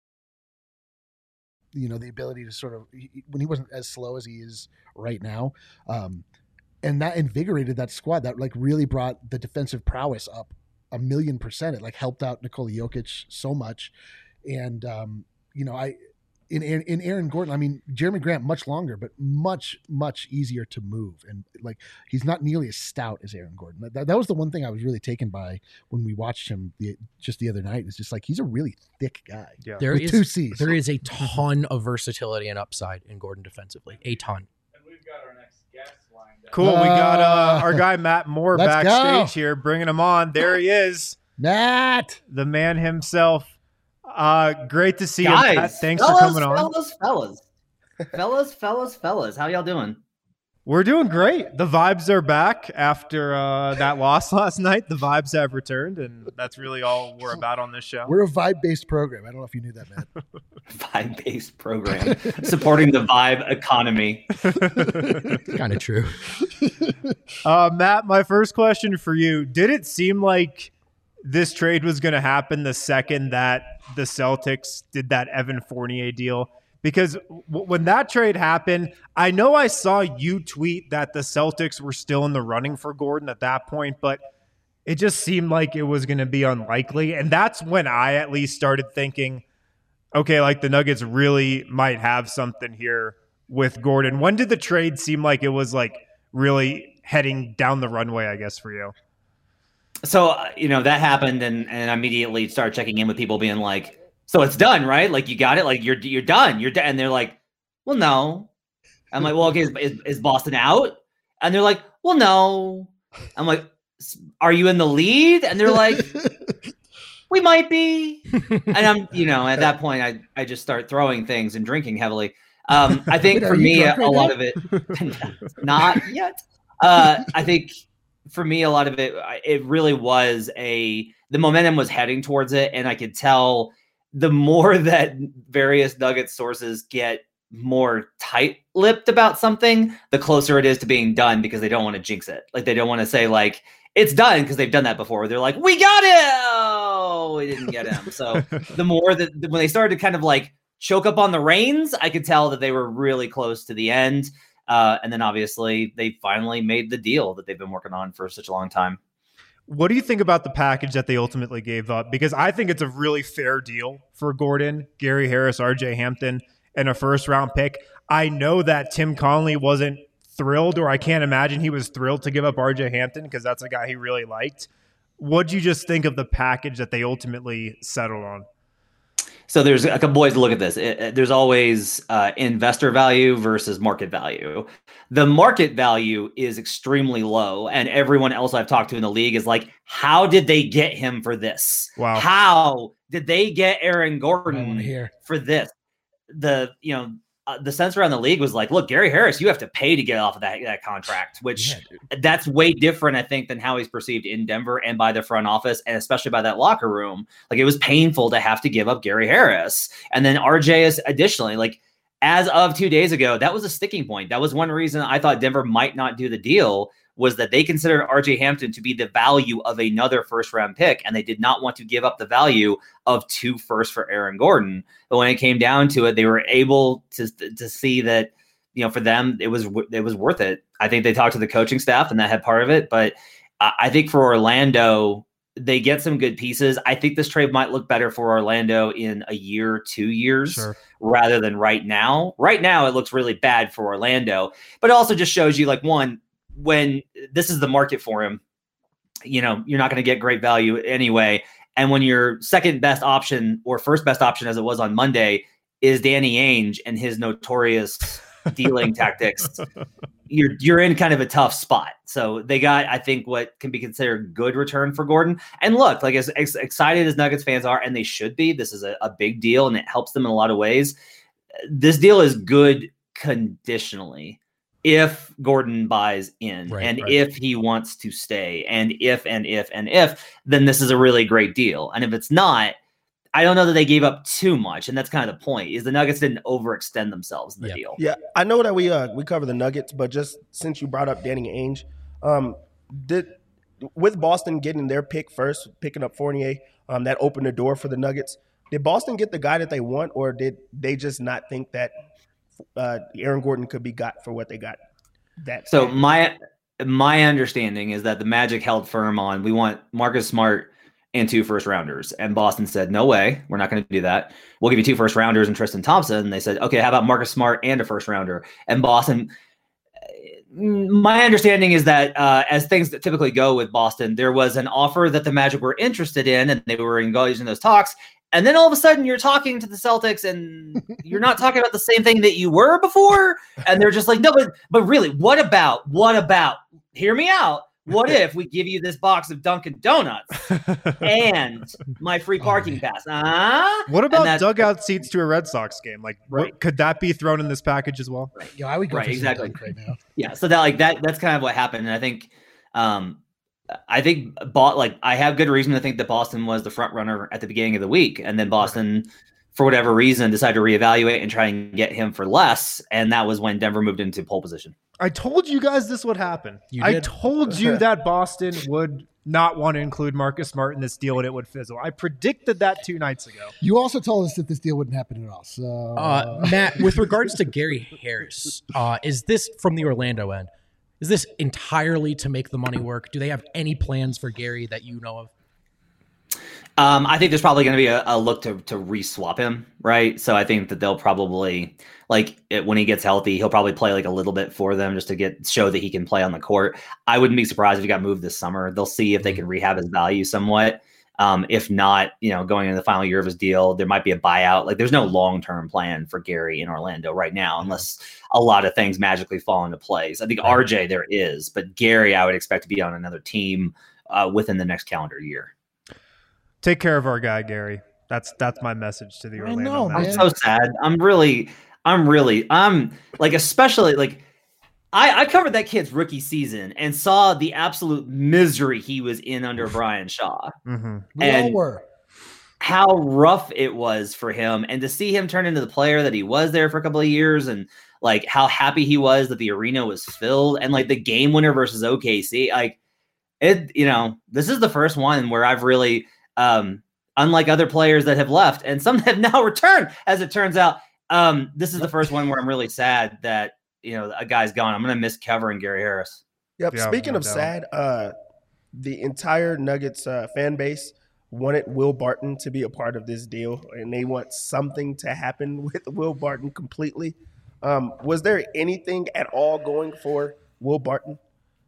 You know, the ability to sort of, when he wasn't as slow as he is right now, um, and that invigorated that squad. That like really brought the defensive prowess up a million percent. It like helped out Nikola Jokic so much, and um, you know, I. In, in Aaron Gordon, I mean, Jeremy Grant, much longer, but much, much easier to move. And like, he's not nearly as stout as Aaron Gordon. That, that was the one thing I was really taken by when we watched him the, just the other night. It's just like, he's a really thick guy. Yeah. There with is, two C's. There is a ton of versatility and upside in Gordon defensively. A ton. And we've got our next guest lined up. Cool. Uh, we got uh, our guy, Matt Moore, let's backstage go. here, bringing him on. There he is. Matt. The man himself. Uh, great to see Guys, you, Matt. Thanks fellas, for coming on. Fellas, fellas, fellas, fellas, fellas. How y'all doing? We're doing great. The vibes are back after uh, that loss last night. The vibes have returned, and that's really all we're about on this show. We're a vibe-based program. I don't know if you knew that, Matt. Vibe-based program supporting the vibe economy. Kind of true. Uh, Matt, my first question for you: did it seem like this trade was going to happen the second that the Celtics did that Evan Fournier deal? Because w- when that trade happened, I know I saw you tweet that the Celtics were still in the running for Gordon at that point, but it just seemed like it was going to be unlikely. And that's when I at least started thinking, okay, like the Nuggets really might have something here with Gordon. When did the trade seem like it was like really heading down the runway, I guess, for you? so uh, you know that happened, and and I immediately started checking in with people, being like, "So it's done, right? Like you got it? Like you're you're done? You're done?" And they're like, "Well, no." I'm like, "Well, okay, is, is, is Boston out?" And they're like, "Well, no." I'm like, "Are you in the lead?" And they're like, "We might be." And I'm, you know, at that point, I I just start throwing things and drinking heavily. Um, I think Wait, for are you me, drunk a, right a lot now? of it, not yet. Uh, I think for me, a lot of it, I- it really was a, the momentum was heading towards it. And I could tell the more that various Nuggets sources get more tight-lipped about something, the closer it is to being done, because they don't want to jinx it. Like they don't want to say like, it's done, because they've done that before. They're like, we got it. Oh, we didn't get him. So the more that when they started to kind of like choke up on the reins, I could tell that they were really close to the end. Uh, and then obviously they finally made the deal that they've been working on for such a long time. What do you think about the package that they ultimately gave up? Because I think it's a really fair deal for Gordon, Gary Harris, R J Hampton, and a first round pick. I know that Tim Connelly wasn't thrilled, or I can't imagine he was thrilled to give up R J Hampton, because that's a guy he really liked. What'd you just think of the package that they ultimately settled on? So there's a couple ways to look at this. It, it, there's always uh, investor value versus market value. The market value is extremely low, and everyone else I've talked to in the league is like, how did they get him for this? Wow. How did they get Aaron I Gordon want to hear. for this? The, you know, uh, the sense around the league was like, look, Gary Harris, you have to pay to get off of that, that contract, which Yeah, that's way different, I think, than how he's perceived in Denver and by the front office, and especially by that locker room. Like, it was painful to have to give up Gary Harris. And then R J is additionally, like, as of two days ago, that was a sticking point. That was one reason I thought Denver might not do the deal, was that they considered R J Hampton to be the value of another first round pick, and they did not want to give up the value of two firsts for Aaron Gordon. But when it came down to it, they were able to to see that, you know, for them, it was it was worth it. I think they talked to the coaching staff, and that had part of it. But I think for Orlando, they get some good pieces. I think this trade might look better for Orlando in a year, two years, Sure. rather than right now. Right now, it looks really bad for Orlando, but it also just shows you, like, one, when this is the market for him, you know, you're not going to get great value anyway. And when your second best option, or first best option as it was on Monday, is Danny Ainge and his notorious dealing tactics, you're you're in kind of a tough spot. So they got, I think, what can be considered good return for Gordon. And look, like, as, as excited as Nuggets fans are, and they should be, this is a, a big deal and it helps them in a lot of ways. This deal is good conditionally. If Gordon buys in, Right, and right. if he wants to stay, and if, and if, and if, then this is a really great deal. And if it's not, I don't know that they gave up too much. And that's kind of the point, is the Nuggets didn't overextend themselves in the Yeah. deal. Yeah, I know that we uh we cover the Nuggets, but just since you brought up Danny Ainge, um, did with Boston getting their pick first, picking up Fournier, um, that opened the door for the Nuggets. Did Boston get the guy that they want, or did they just not think that uh, Aaron Gordon could be got for what they got? That So my my understanding is that the Magic held firm on, we want Marcus Smart and two first rounders. And Boston said, no way, we're not going to do that. We'll give you two first rounders and Tristan Thompson. And they said, okay, how about Marcus Smart and a first rounder? And Boston, my understanding is that uh, as things that typically go with Boston, there was an offer that the Magic were interested in, and they were engaged in those talks. And then all of a sudden you're talking to the Celtics and you're not talking about the same thing that you were before. And they're just like, no, but, but really, what about, what about, hear me out. What if we give you this box of Dunkin' Donuts and my free parking pass? Huh? What And about that's- dugout seats to a Red Sox game? Like, Right. what, could that be thrown in this package as well? Yo, I would go Right, for some exactly. dunk right now. Yeah, so that like that that's kind of what happened. And I think um I think bought like I have good reason to think that Boston was the front runner at the beginning of the week, and then Boston, for whatever reason, decided to reevaluate and try and get him for less, and that was when Denver moved into pole position. I told you guys this would happen. You I did. told you that Boston would not want to include Marcus Smart in this deal and it would fizzle. I predicted that two nights ago. You also told us that this deal wouldn't happen at all. So Uh, Matt, with regards to Gary Harris, uh, is this from the Orlando end? Is this entirely to make the money work? Do they have any plans for Gary that you know of? Um, I think there's probably going to be a, a look to to re-swap him, right? So I think that they'll probably like it, when he gets healthy, he'll probably play like a little bit for them just to get show that he can play on the court. I wouldn't be surprised if he got moved this summer. They'll see if they can rehab his value somewhat. Um, if not, you know, going into the final year of his deal, there might be a buyout. Like there's no long-term plan for Gary in Orlando right now, unless a lot of things magically fall into place. I think R J there is, but Gary, I would expect to be on another team uh, within the next calendar year. Take care of our guy, Gary. That's that's my message to the Orlando know, Magic. I'm so sad. I'm really, I'm really, I'm like, especially like, I, I covered that kid's rookie season and saw the absolute misery he was in under Brian Shaw. Mm-hmm. We And all were. how rough it was for him, and to see him turn into the player that he was there for a couple of years, and like how happy he was that the arena was filled, and like the game winner versus O K C, like it, you know, this is the first one where I've really, um, unlike other players that have left and some have now returned, as it turns out, um, this is the first one where I'm really sad that, you know, a guy's gone. I'm going to miss covering Gary Harris. Yep. Yeah, Speaking no of doubt. sad, uh, the entire Nuggets uh, fan base wanted Will Barton to be a part of this deal, and they want something to happen with Will Barton completely. Um, was there anything at all going for Will Barton?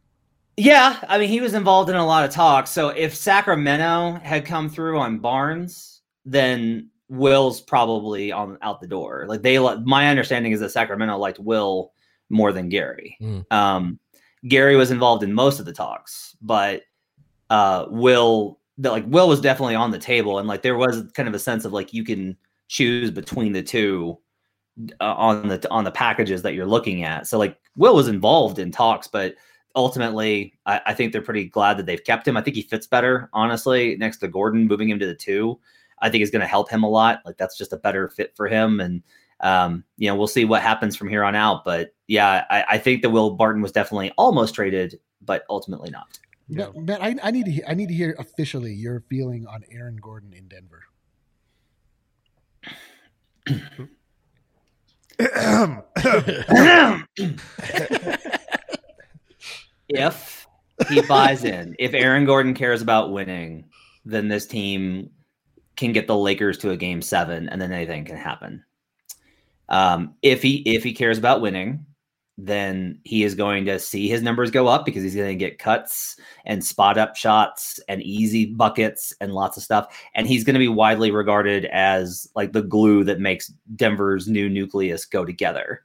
Yeah, I mean, he was involved in a lot of talks. So if Sacramento had come through on Barnes, then Will's probably on out the door. Like they, my understanding is that Sacramento liked Will more than Gary. Mm. Um, Gary was involved in most of the talks, but uh, Will, the, like Will was definitely on the table, and like there was kind of a sense of like you can choose between the two uh, on the on the packages that you're looking at. So like Will was involved in talks, but ultimately, I, I think they're pretty glad that they've kept him. I think he fits better, honestly, next to Gordon. Moving him to the two, I think is going to help him a lot. Like that's just a better fit for him. And, um, you know, we'll see what happens from here on out. But yeah, I, I think that Will Barton was definitely almost traded, but ultimately not. Matt, Matt, I, I need to hear, I need to hear officially your feeling on Aaron Gordon in Denver. If he buys in, if Aaron Gordon cares about winning, then this team can get the Lakers to a game seven, and then anything can happen. Um, if he if he cares about winning, then he is going to see his numbers go up because he's going to get cuts and spot up shots and easy buckets and lots of stuff. And he's going to be widely regarded as like the glue that makes Denver's new nucleus go together.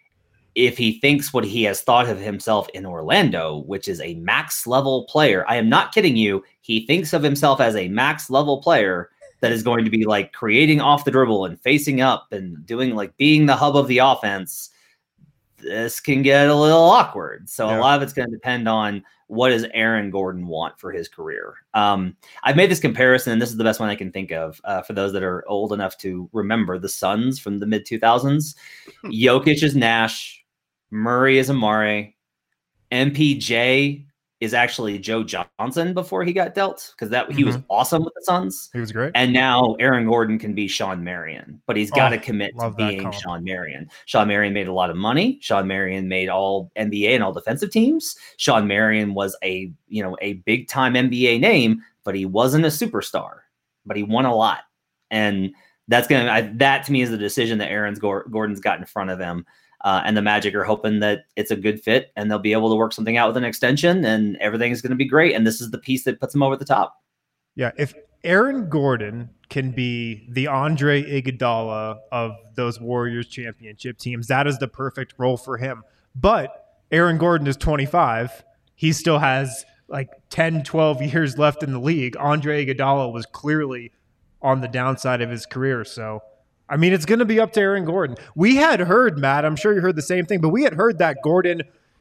If he thinks what he has thought of himself in Orlando, which is a max level player, I am not kidding you. He thinks of himself as a max level player that is going to be like creating off the dribble and facing up and doing like being the hub of the offense. This can get a little awkward. So Yeah. a lot of it's going to depend on what does Aaron Gordon want for his career. Um, I've made this comparison, and this is the best one I can think of uh, for those that are old enough to remember the Suns from the mid two thousands. Jokic is Nash. Murray is Amare. M P J is actually Joe Johnson before he got dealt, because that he was awesome with the Suns. He was great. And now Aaron Gordon can be Sean Marion, but he's got to Oh, commit to love that being comp. Sean Marion. Sean Marion made a lot of money. Sean Marion made all N B A and all defensive teams. Sean Marion was a, you know, a big time N B A name, but he wasn't a superstar, but he won a lot. And that's going to, that to me is the decision that Aaron's Gordon's got in front of him. Uh, and the Magic are hoping that it's a good fit and they'll be able to work something out with an extension and everything is going to be great. And this is the piece that puts them over the top. Yeah, if Aaron Gordon can be the Andre Iguodala of those Warriors championship teams, that is the perfect role for him. But Aaron Gordon is twenty-five. He still has like ten, twelve years left in the league. Andre Iguodala was clearly on the downside of his career. So, I mean, it's going to be up to Aaron Gordon. We had heard, Matt, I'm sure you heard the same thing, but we had heard that Gordon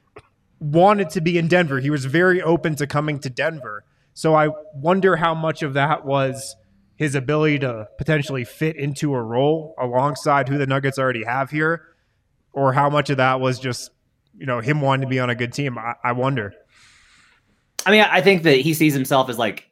wanted to be in Denver. He was very open to coming to Denver. So I wonder how much of that was his ability to potentially fit into a role alongside who the Nuggets already have here, or how much of that was just, you know, him wanting to be on a good team. I, I wonder. I mean, I think that he sees himself as like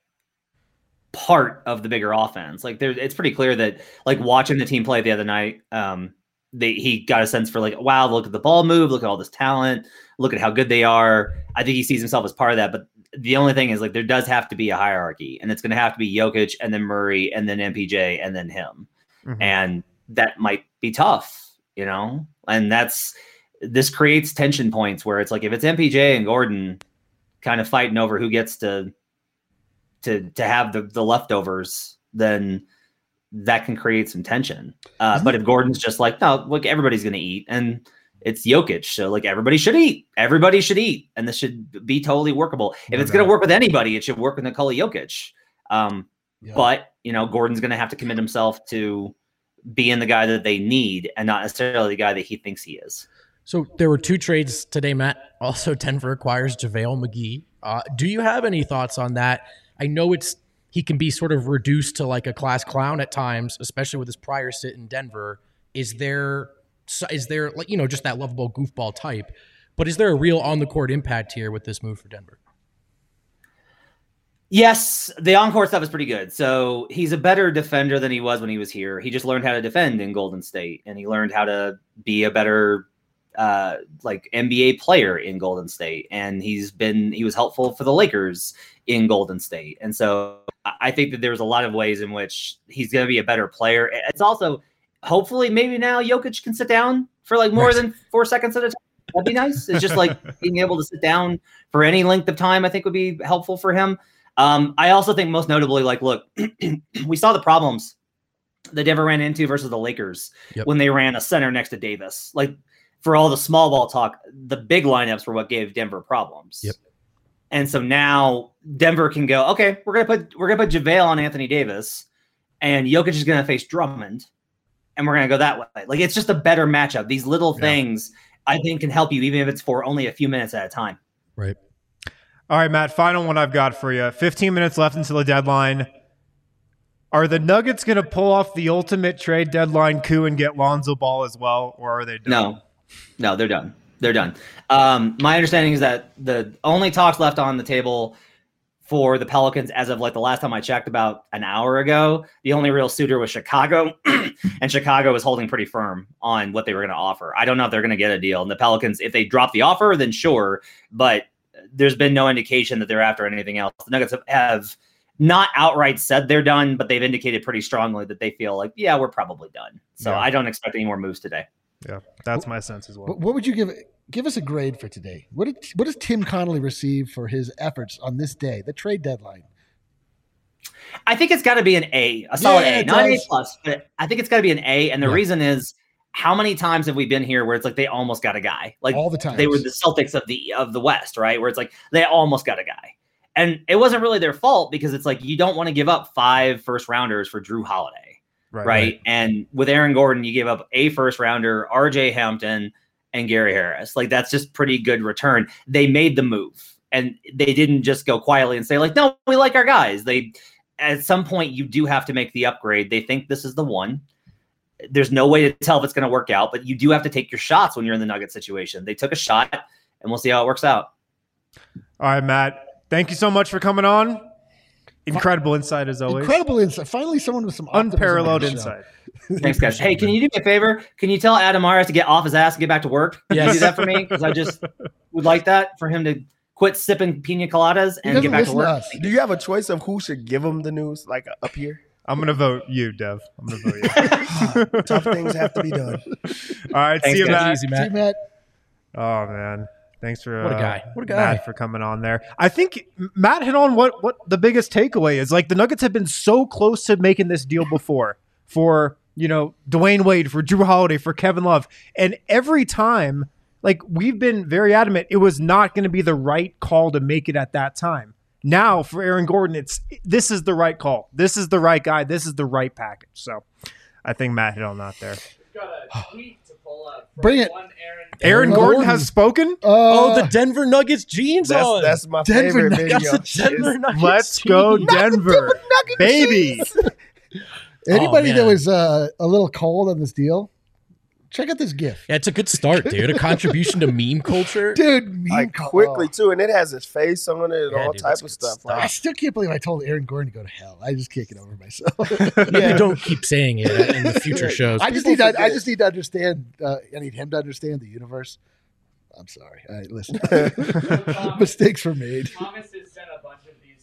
part of the bigger offense. Like there, it's pretty clear that like watching the team play the other night, um, they, he got a sense for like, wow, look at the ball move, look at all this talent, look at how good they are. I think he sees himself as part of that, but the only thing is like there does have to be a hierarchy, and it's going to have to be Jokic and then Murray and then M P J and then him. Mm-hmm. And that might be tough, you know, and that's, this creates tension points where it's like, if it's M P J and Gordon kind of fighting over who gets to, to, to have the, the leftovers, then that can create some tension. Uh, mm-hmm. But if Gordon's just like, no, look, everybody's going to eat, and it's Jokic, so like everybody should eat. Everybody should eat, and this should be totally workable. If no it's going to work with anybody, it should work with Nikola Jokic. Um, yeah. But you know, Gordon's going to have to commit himself to being the guy that they need, and not necessarily the guy that he thinks he is. So there were two trades today, Matt. Also, Denver acquires JaVale McGee. Uh, do you have any thoughts on that? I know it's he can be sort of reduced to like a class clown at times, especially with his prior sit in Denver. Is there is there like you know just that lovable goofball type? But is there a real on the court impact here with this move for Denver? Yes, the on-court stuff is pretty good. So he's a better defender than he was when he was here. He just learned how to defend in Golden State, and he learned how to be a better uh, like N B A player in Golden State. And he's been he was helpful for the Lakers in Golden State. And so I think that there's a lot of ways in which he's going to be a better player. It's also hopefully maybe now Jokic can sit down for like more right. than four seconds at a time. That'd be nice. It's just like being able to sit down for any length of time, I think would be helpful for him. Um, I also think most notably, like, look, we saw the problems that Denver ran into versus the Lakers yep. when they ran a center next to Davis. Like, for all the small ball talk, the big lineups were what gave Denver problems. Yep. And so now Denver can go, okay, we're gonna put we're gonna put JaVale on Anthony Davis, and Jokic is gonna face Drummond, and we're gonna go that way. Like, it's just a better matchup. These little yeah. things I think can help you, even if it's for only a few minutes at a time. Right. All right, Matt, final one I've got for you. fifteen minutes left until the deadline. Are the Nuggets going to pull off the ultimate trade deadline coup and get Lonzo Ball as well, or are they done? No. No, they're done. They're done. Um, my understanding is that the only talks left on the table for the Pelicans as of like the last time I checked about an hour ago, the only real suitor was Chicago, and Chicago was holding pretty firm on what they were going to offer. I don't know if they're going to get a deal. And the Pelicans, if they drop the offer, then sure, but there's been no indication that they're after anything else. The Nuggets have, have not outright said they're done, but they've indicated pretty strongly that they feel like, yeah, we're probably done. So yeah. I don't expect any more moves today. Yeah, that's my sense as well. What would you give give us a grade for today? What did what does Tim Connolly receive for his efforts on this day, the trade deadline? I think it's got to be an A, a solid yeah, A, not an A plus, but I think it's got to be an A. And the yeah. reason is, how many times have we been here where it's like they almost got a guy? Like all the time. They were the Celtics of the of the West, right? Where it's like they almost got a guy. And it wasn't really their fault, because it's like you don't want to give up five first rounders for Drew Holiday. Right, right? right. And with Aaron Gordon, you gave up a first rounder, R J Hampton, and Gary Harris. Like, that's just pretty good return. They made the move, and they didn't just go quietly and say like, no, we like our guys. They, at some point you do have to make the upgrade. They think this is the one. There's no way to tell if it's going to work out, but you do have to take your shots when you're in the Nugget situation. They took a shot, and we'll see how it works out. All right, Matt, thank you so much for coming on. Incredible insight as always. Incredible insight. Finally, someone with some unparalleled insight. Thanks, guys. Hey, can you do me a favor? Can you tell Adam Myers to get off his ass and get back to work? Can you do that for me? Because I just would like that for him to quit sipping pina coladas and get back to work. To do you have a choice of who should give him the news, like up here? I'm going to vote you, Dev. I'm going to vote you. Tough things have to be done. All right. Thanks, see you, guys. Matt. Easy, Matt. See you, Matt. Oh, man. Thanks for what a uh, guy. What a guy. Matt for coming on there. I think Matt hit on what, what the biggest takeaway is. Like, the Nuggets have been so close to making this deal before for, you know, Dwayne Wade, for Drew Holiday, for Kevin Love. And every time, like, we've been very adamant it was not going to be the right call to make it at that time. Now for Aaron Gordon, it's this is the right call. This is the right guy. This is the right package. So I think Matt hit on that there. We've got a tweet to pull up. From Bring it. One Aaron, Aaron Aaron Gordon Gordon has spoken. Uh, Oh, the Denver Nuggets jeans That's, on. that's my Denver favorite Nuggets. video. That's a Denver Nuggets Let's jeans. go Denver, baby. Anybody Oh, that man. was uh, a little cold on this deal, check out this GIF. Yeah, it's a good start, dude. A contribution to meme culture. Dude, meme Like co- quickly oh. too, and it has his face on it and Yeah, all dude, type that's of good stuff. stuff. I Like, still can't believe I told Aaron Gordon to go to hell. I just can't get over myself. Yeah, don't keep saying it in the future shows. I just People need to, I forget. just need to understand. Uh, I need him to understand the universe. I'm sorry. All right, listen. Thomas, Mistakes were made. Thomas has sent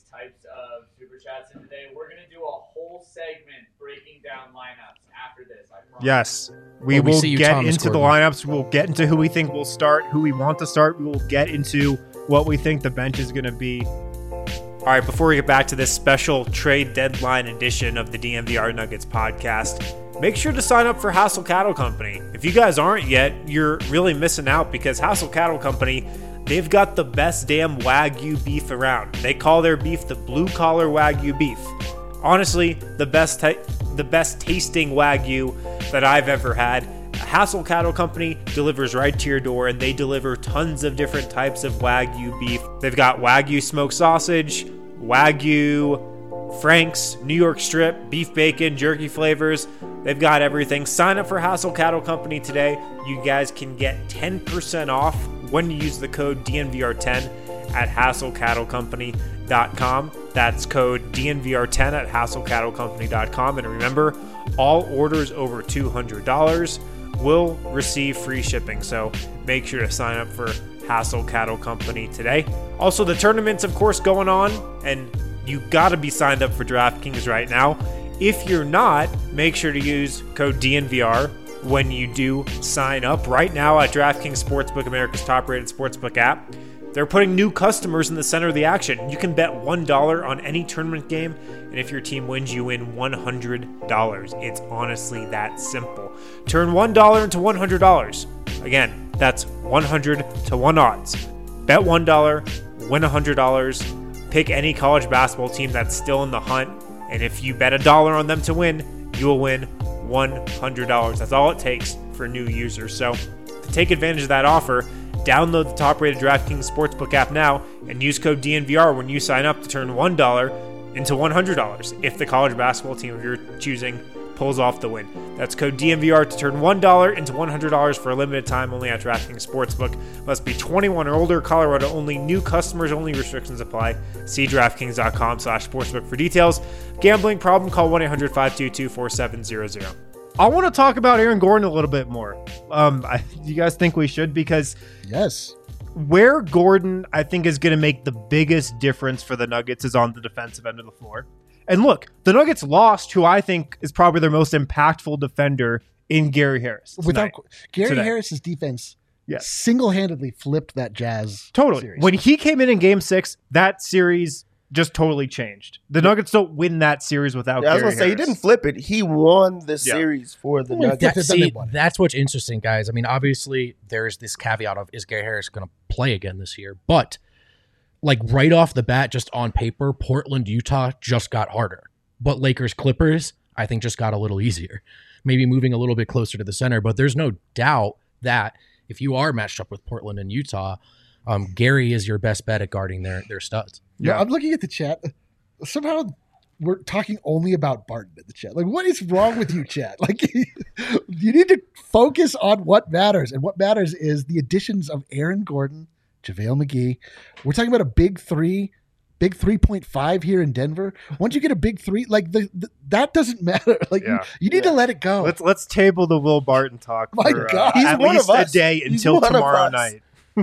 types of super chats in today. We're going to do a whole segment breaking down lineups after this. I promise. Yes, we Well, we will see you, get Thomas into the Gordon. lineups. We'll get into who we think will start, who we want to start. We will get into what we think the bench is going to be. All right, before we get back to this special trade deadline edition of the D N V R Nuggets podcast, make sure to sign up for Hassel Cattle Company. If you guys aren't yet, you're really missing out because Hassel Cattle Company, they've got the best damn Wagyu beef around. They call their beef the blue collar Wagyu beef. Honestly, the best ta- the best tasting Wagyu that I've ever had. Hassel Cattle Company delivers right to your door, and they deliver tons of different types of Wagyu beef. They've got Wagyu smoked sausage, Wagyu Franks, New York strip, beef bacon, jerky flavors. They've got everything. Sign up for Hassel Cattle Company today. You guys can get ten percent off when you use the code D N V R ten at hassel cattle company dot com. That's code D N V R ten at hassel cattle company dot com. And remember, all orders over two hundred dollars will receive free shipping. So make sure to sign up for Hassel Cattle Company today. Also, the tournament's of course going on, and you got to be signed up for DraftKings right now. If you're not, make sure to use code D N V R when you do sign up right now at DraftKings Sportsbook, America's top-rated sportsbook app. They're putting new customers in the center of the action. You can bet one dollar on any tournament game, and if your team wins, you win one hundred dollars. It's honestly that simple. Turn one dollar into one hundred dollars. Again, that's one hundred to one odds. Bet one dollar, win one hundred dollars. Pick any college basketball team that's still in the hunt, and if you bet a dollar on them to win, you will win one hundred dollars. That's all it takes for new users. So to take advantage of that offer, download the top-rated DraftKings Sportsbook app now and use code D N V R when you sign up to turn one dollar into one hundred dollars if the college basketball team of your choosing pulls off the win. That's code D N V R to turn one dollar into one hundred dollars for a limited time only at DraftKings Sportsbook. Must be twenty-one or older, Colorado only, new customers only, restrictions apply. See DraftKings.com slash sportsbook for details. Gambling problem, call one eight hundred five two two four seven zero zero. I want to talk about Aaron Gordon a little bit more. Um, I, you guys think we should? Because Yes. where Gordon, I think, is going to make the biggest difference for the Nuggets is on the defensive end of the floor. And look, the Nuggets lost who I think is probably their most impactful defender in Gary Harris. Without tonight. Gary Today. Harris's defense Yes. single-handedly flipped that Jazz Totally. series. When he came in in game six, that series just totally changed. The Nuggets don't win that series without Yeah, I was Gary gonna say he Harris. didn't flip it. He won the Yeah. series for the Well, Nuggets. that- See, they won it. that's what's interesting, guys. I mean, obviously, there's this caveat of is Gary Harris going to play again this year? But like right off the bat, just on paper, Portland, Utah just got harder. But Lakers, Clippers, I think just got a little easier. Maybe moving a little bit closer to the center. But there's no doubt that if you are matched up with Portland and Utah, um, Gary is your best bet at guarding their their studs. Yeah, Yeah. I'm looking at the chat. Somehow we're talking only about Barton in the chat. Like, what is wrong with you, chat? Like, you need to focus on what matters. And what matters is the additions of Aaron Gordon, JaVale McGee. We're talking about a big three, big three point five here in Denver. Once you get a big three, like, the, the that doesn't matter. Like, Yeah. you, you need to let it go. Let's let's table the Will Barton talk My for God. uh, He's at one least of a us. day He's until one of tomorrow us. night.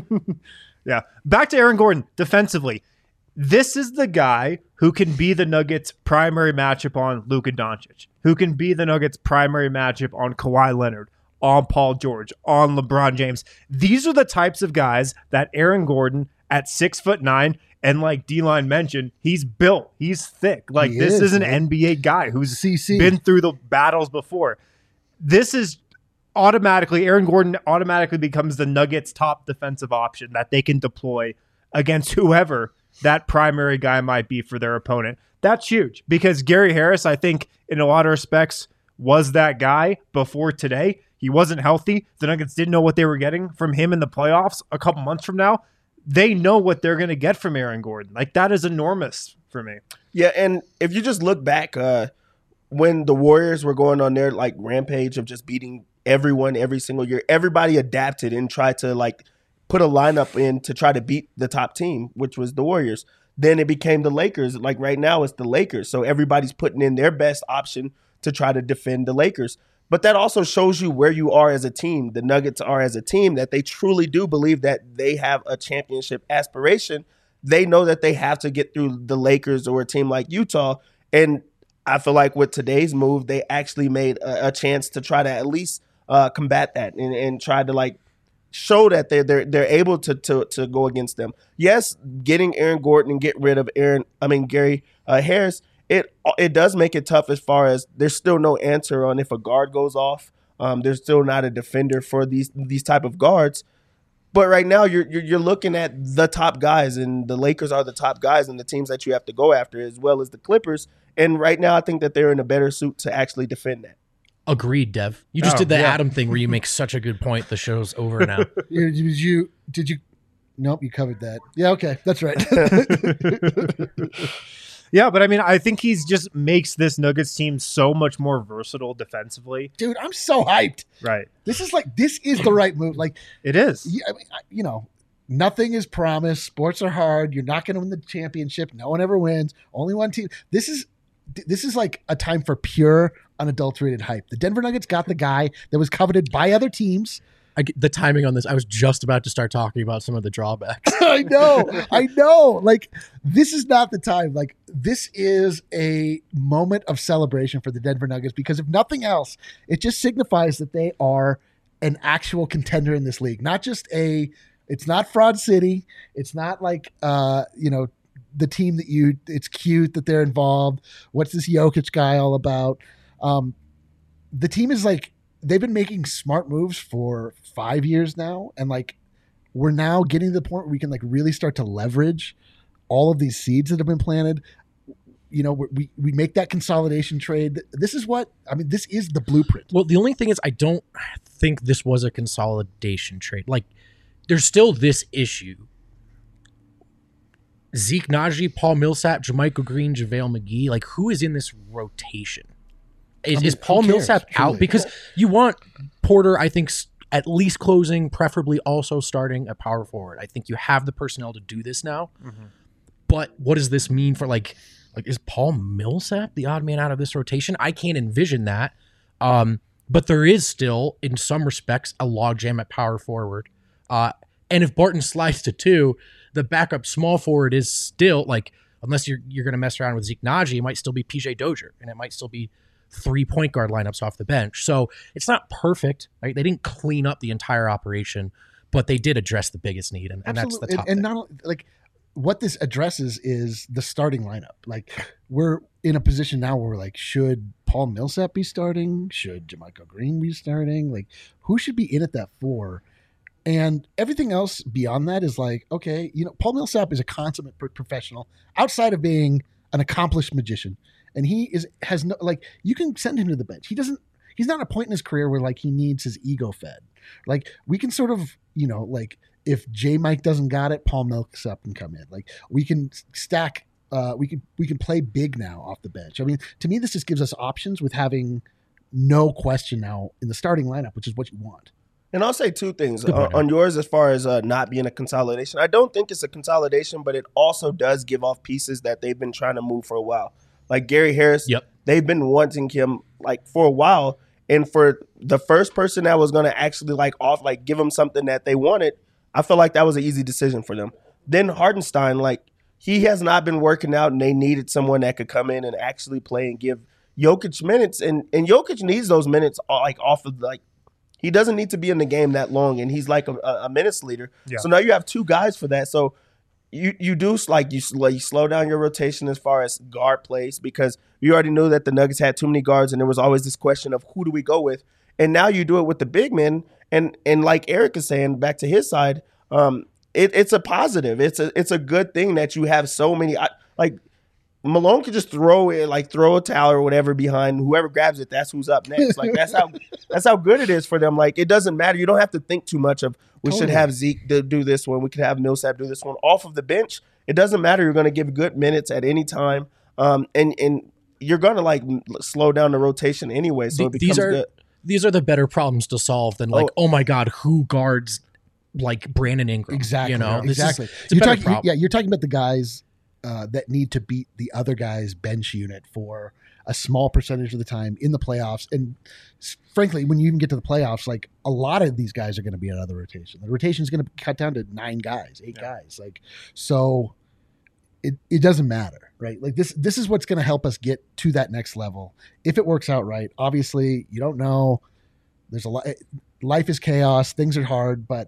Yeah. Back to Aaron Gordon defensively. This is the guy who can be the Nuggets' primary matchup on Luka Doncic, who can be the Nuggets' primary matchup on Kawhi Leonard, on Paul George, on LeBron James. These are the types of guys that Aaron Gordon at six foot nine, and like D-Line mentioned, he's built, he's thick. Like He this is, is an man. N B A guy who's C C. been through the battles before. This is automatically, Aaron Gordon automatically becomes the Nuggets' top defensive option that they can deploy against whoever that primary guy might be for their opponent. That's huge because Gary Harris, I think, in a lot of respects, was that guy before today. He wasn't healthy. The Nuggets didn't know what they were getting from him in the playoffs a couple months from now. They know what they're going to get from Aaron Gordon. Like, that is enormous for me. Yeah, and if you just look back, uh, when the Warriors were going on their like rampage of just beating everyone every single year, everybody adapted and tried to like put a lineup in to try to beat the top team, which was the Warriors. Then it became the Lakers. Like right now, it's the Lakers. So everybody's putting in their best option to try to defend the Lakers. But that also shows you where you are as a team. The Nuggets are as a team that they truly do believe that they have a championship aspiration. they know that they have to get through the Lakers or a team like Utah. And I feel like with today's move, they actually made a, a chance to try to at least uh, combat that and, and try to like show that they're they're they're able to to to go against them. Yes, getting Aaron Gordon and get rid of Aaron, I mean Gary uh, Harris, it it does make it tough as far as there's still no answer on if a guard goes off. Um, there's still not a defender for these these type of guards. But right now you're, you're you're looking at the top guys, and the Lakers are the top guys and the teams that you have to go after, as well as the Clippers. And right now I think that they're in a better suit to actually defend that. Agreed, Dev. You just Oh, did the yeah. Adam thing where you make such a good point. The show's over now. Did you? Did you? Nope, you covered that. Yeah, okay, that's right. Yeah, but I mean, I think he's just makes this Nuggets team so much more versatile defensively. Dude, I'm so hyped. Right. This is like this is the right move. Like, It is. yeah, I mean, I- you know, nothing is promised. Sports are hard. You're not going to win the championship. No one ever wins. Only one team. This is this is like a time for pure, unadulterated hype. The Denver Nuggets got the guy that was coveted by other teams. I get the timing on this. I was just about to start talking about some of the drawbacks. I know, I know. Like, this is not the time. Like, this is a moment of celebration for the Denver Nuggets because if nothing else, it just signifies that they are an actual contender in this league. Not just a, it's not Fraud City. It's not like, uh, you know, the team that you, it's cute that they're involved. What's this Jokic guy all about? Um, the team is like, they've been making smart moves for five years now. And like, we're now getting to the point where we can like really start to leverage all of these seeds that have been planted. You know, we, we make that consolidation trade. This is what, I mean, this is the blueprint. Well, the only thing is I don't think this was a consolidation trade. Like, there's still this issue. Zeke Naji, Paul Millsap, JaMychal Green, JaVale McGee. Like, who is in this rotation? Is, I mean, is Paul who cares, Millsap truly? out? Because you want Porter, I think, s- at least closing, preferably also starting at power forward. I think you have the personnel to do this now. But what does this mean for, like, like is Paul Millsap the odd man out of this rotation? I can't envision that. Um, but there is still, in some respects, a logjam at power forward. Uh, and if Barton slides to two, the backup small forward is still, like, unless you're you're going to mess around with Zeke Naji, it might still be P J Dozier, and it might still be three point guard lineups off the bench. So it's not perfect, right? They didn't clean up the entire operation, but they did address the biggest need, and, and that's the Absolutely. top And, and thing. not only- like what this addresses is the starting lineup. Like, we're in a position now where we're like, should Paul Millsap be starting? Should JaMychal Green be starting? Like, who should be in at that four? And everything else beyond that is like, okay, you know, Paul Millsap is a consummate pro- professional outside of being an accomplished magician. And he is, has no, like, you can send him to the bench. He doesn't, he's not at a point in his career where like he needs his ego fed. Like, we can sort of, you know, like if J Mike doesn't got it, Paul Millsap can come in. Like, we can stack, uh, we can, we can play big now off the bench. I mean, to me, this just gives us options with having no question now in the starting lineup, which is what you want. And I'll say two things Good on, point. on yours as far as uh, not being a consolidation. I don't think it's a consolidation, but it also does give off pieces that they've been trying to move for a while. Like Gary Harris, Yep. they've been wanting him like for a while. And for the first person that was going to actually like off, like give them something that they wanted, I feel like that was an easy decision for them. Then Hardenstein, like he has not been working out, and they needed someone that could come in and actually play and give Jokic minutes. And and Jokic needs those minutes uh, like off of like. He doesn't need to be in the game that long, and he's like a, a minutes leader. Yeah. So now you have two guys for that. So you you do like you, sl- you slow down your rotation as far as guard plays because you already knew that the Nuggets had too many guards, and there was always this question of who do we go with. And now you do it with the big men, and and like Eric is saying, back to his side, um, it, it's a positive. It's a it's a good thing that you have so many. I, like Malone could just throw it, like throw a towel or whatever behind whoever grabs it. That's who's up next. Like that's how that's how good it is for them. Like it doesn't matter. You don't have to think too much of we should Totally. have Zeke do, do this one. We could have Millsap do this one off of the bench. It doesn't matter. You're going to give good minutes at any time, um, and and you're going to like m- slow down the rotation anyway. So it Th- becomes these are good. these are the better problems to solve than like, oh, my God, who guards like Brandon Ingram? Exactly. You know, This is- exactly. it's a you're better talking, problem. yeah, you're talking about the guys uh, that need to beat the other guy's bench unit for a small percentage of the time in the playoffs. And s- frankly, when you even get to the playoffs, like a lot of these guys are going to be another rotation. The rotation is going to cut down to nine guys, eight guys. Like, so it, it doesn't matter, right? Like this, this is what's going to help us get to that next level. If it works out right, obviously you don't know. There's a lot. Life is chaos. Things are hard, but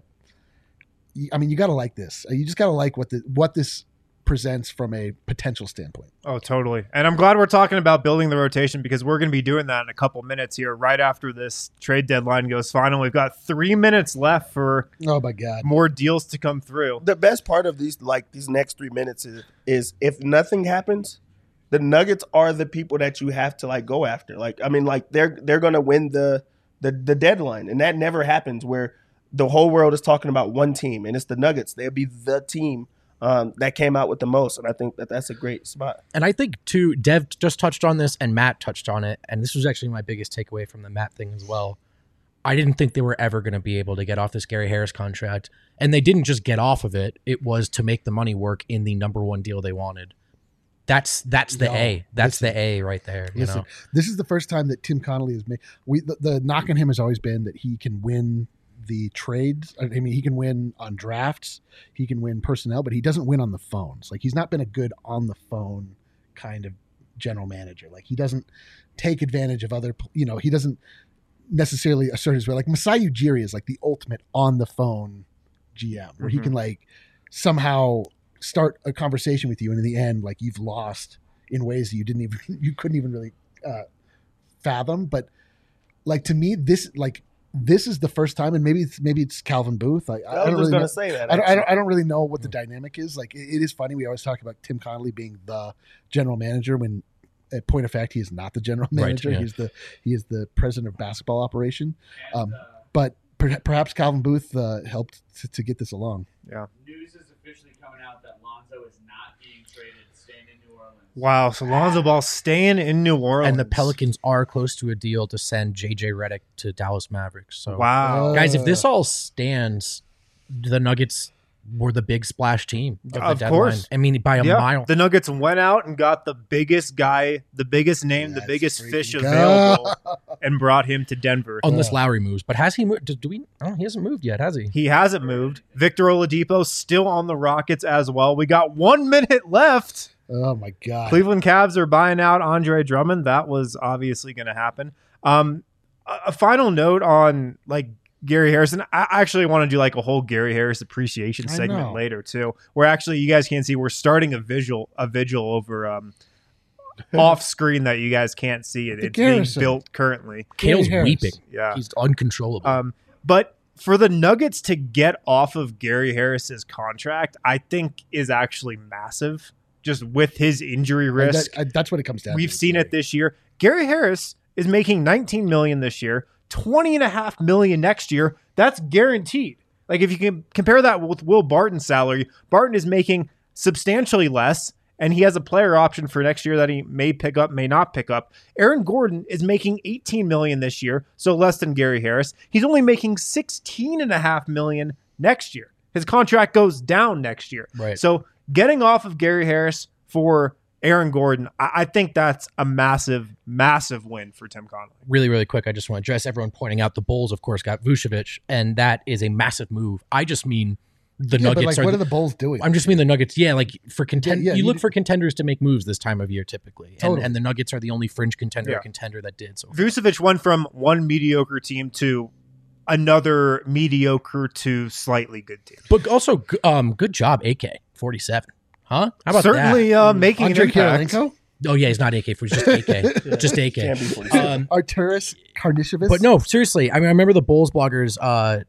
I mean, you got to like this. You just got to like what the what this presents from a potential standpoint. Oh, totally. And I'm glad we're talking about building the rotation because we're going to be doing that in a couple minutes here, right after this trade deadline goes final. We've got three minutes left for oh my god more deals to come through. The best part of these, like these next three minutes, is, is if nothing happens, the Nuggets are the people that you have to like go after. Like, I mean, like they're they're going to win the, the the deadline, and that never happens where the whole world is talking about one team, and it's the Nuggets. They'll be the team um, that came out with the most, and I think that that's a great spot. And I think, too, Dev just touched on this, and Matt touched on it, and this was actually my biggest takeaway from the Matt thing as well. I didn't think they were ever going to be able to get off this Gary Harris contract, and they didn't just get off of it. It was to make the money work in the number one deal they wanted. That's that's the No, A. That's listen, the A right there. You Listen, know? this is the first time that Tim Connolly has made. We the, the knock on him has always been that he can win the trades. I mean, he can win on drafts, he can win personnel, but he doesn't win on the phones. Like he's not been a good on the phone kind of general manager. Like he doesn't take advantage of other. You know, he doesn't necessarily assert his way. Like Masai Ujiri is like the ultimate on the phone G M, where Mm-hmm. he can like somehow start a conversation with you, and in the end, like you've lost in ways that you didn't even you couldn't even really uh, fathom. But like to me, this like this is the first time, and maybe it's maybe it's Calvin Booth. Like, I, I I was don't just really going know. to say that. I don't, I, actually. don't, I don't really know what the dynamic is. Like, it, it is funny. We always talk about Tim Connolly being the general manager when, at point of fact, he is not the general Right, manager. yeah. He's the he is the president of basketball operation. And, Um, uh, But per, perhaps Calvin Booth uh, helped to, to get this along. news is officially coming out that Lonzo is not being traded, staying in New Orleans. Wow, so Lonzo Ball staying in New Orleans. And the Pelicans are close to a deal to send J J Redick to Dallas Mavericks. So, Wow. Uh, guys, if this all stands, the Nuggets were the big splash team of the Of deadline. course. I mean, by a Yeah, mile. the Nuggets went out and got the biggest guy, the biggest name, the Let's biggest fish freaking available, go. and brought him to Denver. Unless Lowry moves, but has he moved? Do, do we? Oh, he hasn't moved yet, has he? He hasn't moved. Victor Oladipo still on the Rockets as well. We got one minute left. Oh my God! Cleveland Cavs are buying out Andre Drummond. That was obviously going to happen. Um, a, a final note on like Gary Harrison. I actually want to do like a whole Gary Harris appreciation I segment know. later too, where actually you guys can't see. We're starting a visual, a vigil over um, off screen that you guys can't see. It, The it's being Garrison. built currently. Kale's Harris. weeping. Yeah. He's uncontrollable. Um, but for the Nuggets to get off of Gary Harris's contract, I think is actually massive. Just with his injury I- risk, that- I- that's what it comes down. we've to. seen it this year. Gary Harris is making nineteen million this year, twenty and a half million next year. That's guaranteed. Like if you can compare that with Will Barton's salary, Barton is making substantially less, and he has a player option for next year that he may pick up, may not pick up. Aaron Gordon is making eighteen million this year, so less than Gary Harris. He's only making sixteen and a half million next year. His contract goes down next year. Right. So getting off of Gary Harris for Aaron Gordon, I, I think that's a massive, massive win for Tim Connolly. really, really quick, I just want to address everyone pointing out the Bulls, of course, got Vucevic, and that is a massive move. I just mean the Yeah, but Nuggets like, are. what the- are the Bulls doing? I'm just mean the Nuggets. Yeah, like for contend, Yeah, yeah, you you look do- for contenders to make moves this time of year typically, and, Totally. and the Nuggets are the only fringe contender Yeah. contender that did. So Vucevic went from one mediocre team to another mediocre to slightly good team. but also, g- um, good job, A K forty-seven, huh? How about Certainly uh, making Andre an impact. Kirilenko, that? Oh yeah, he's not A K, he's just A K, just A K. Can't be forty-seven. Um, Arturas Karnisovas. But no, seriously. I mean, I remember the Bulls bloggers. Uh,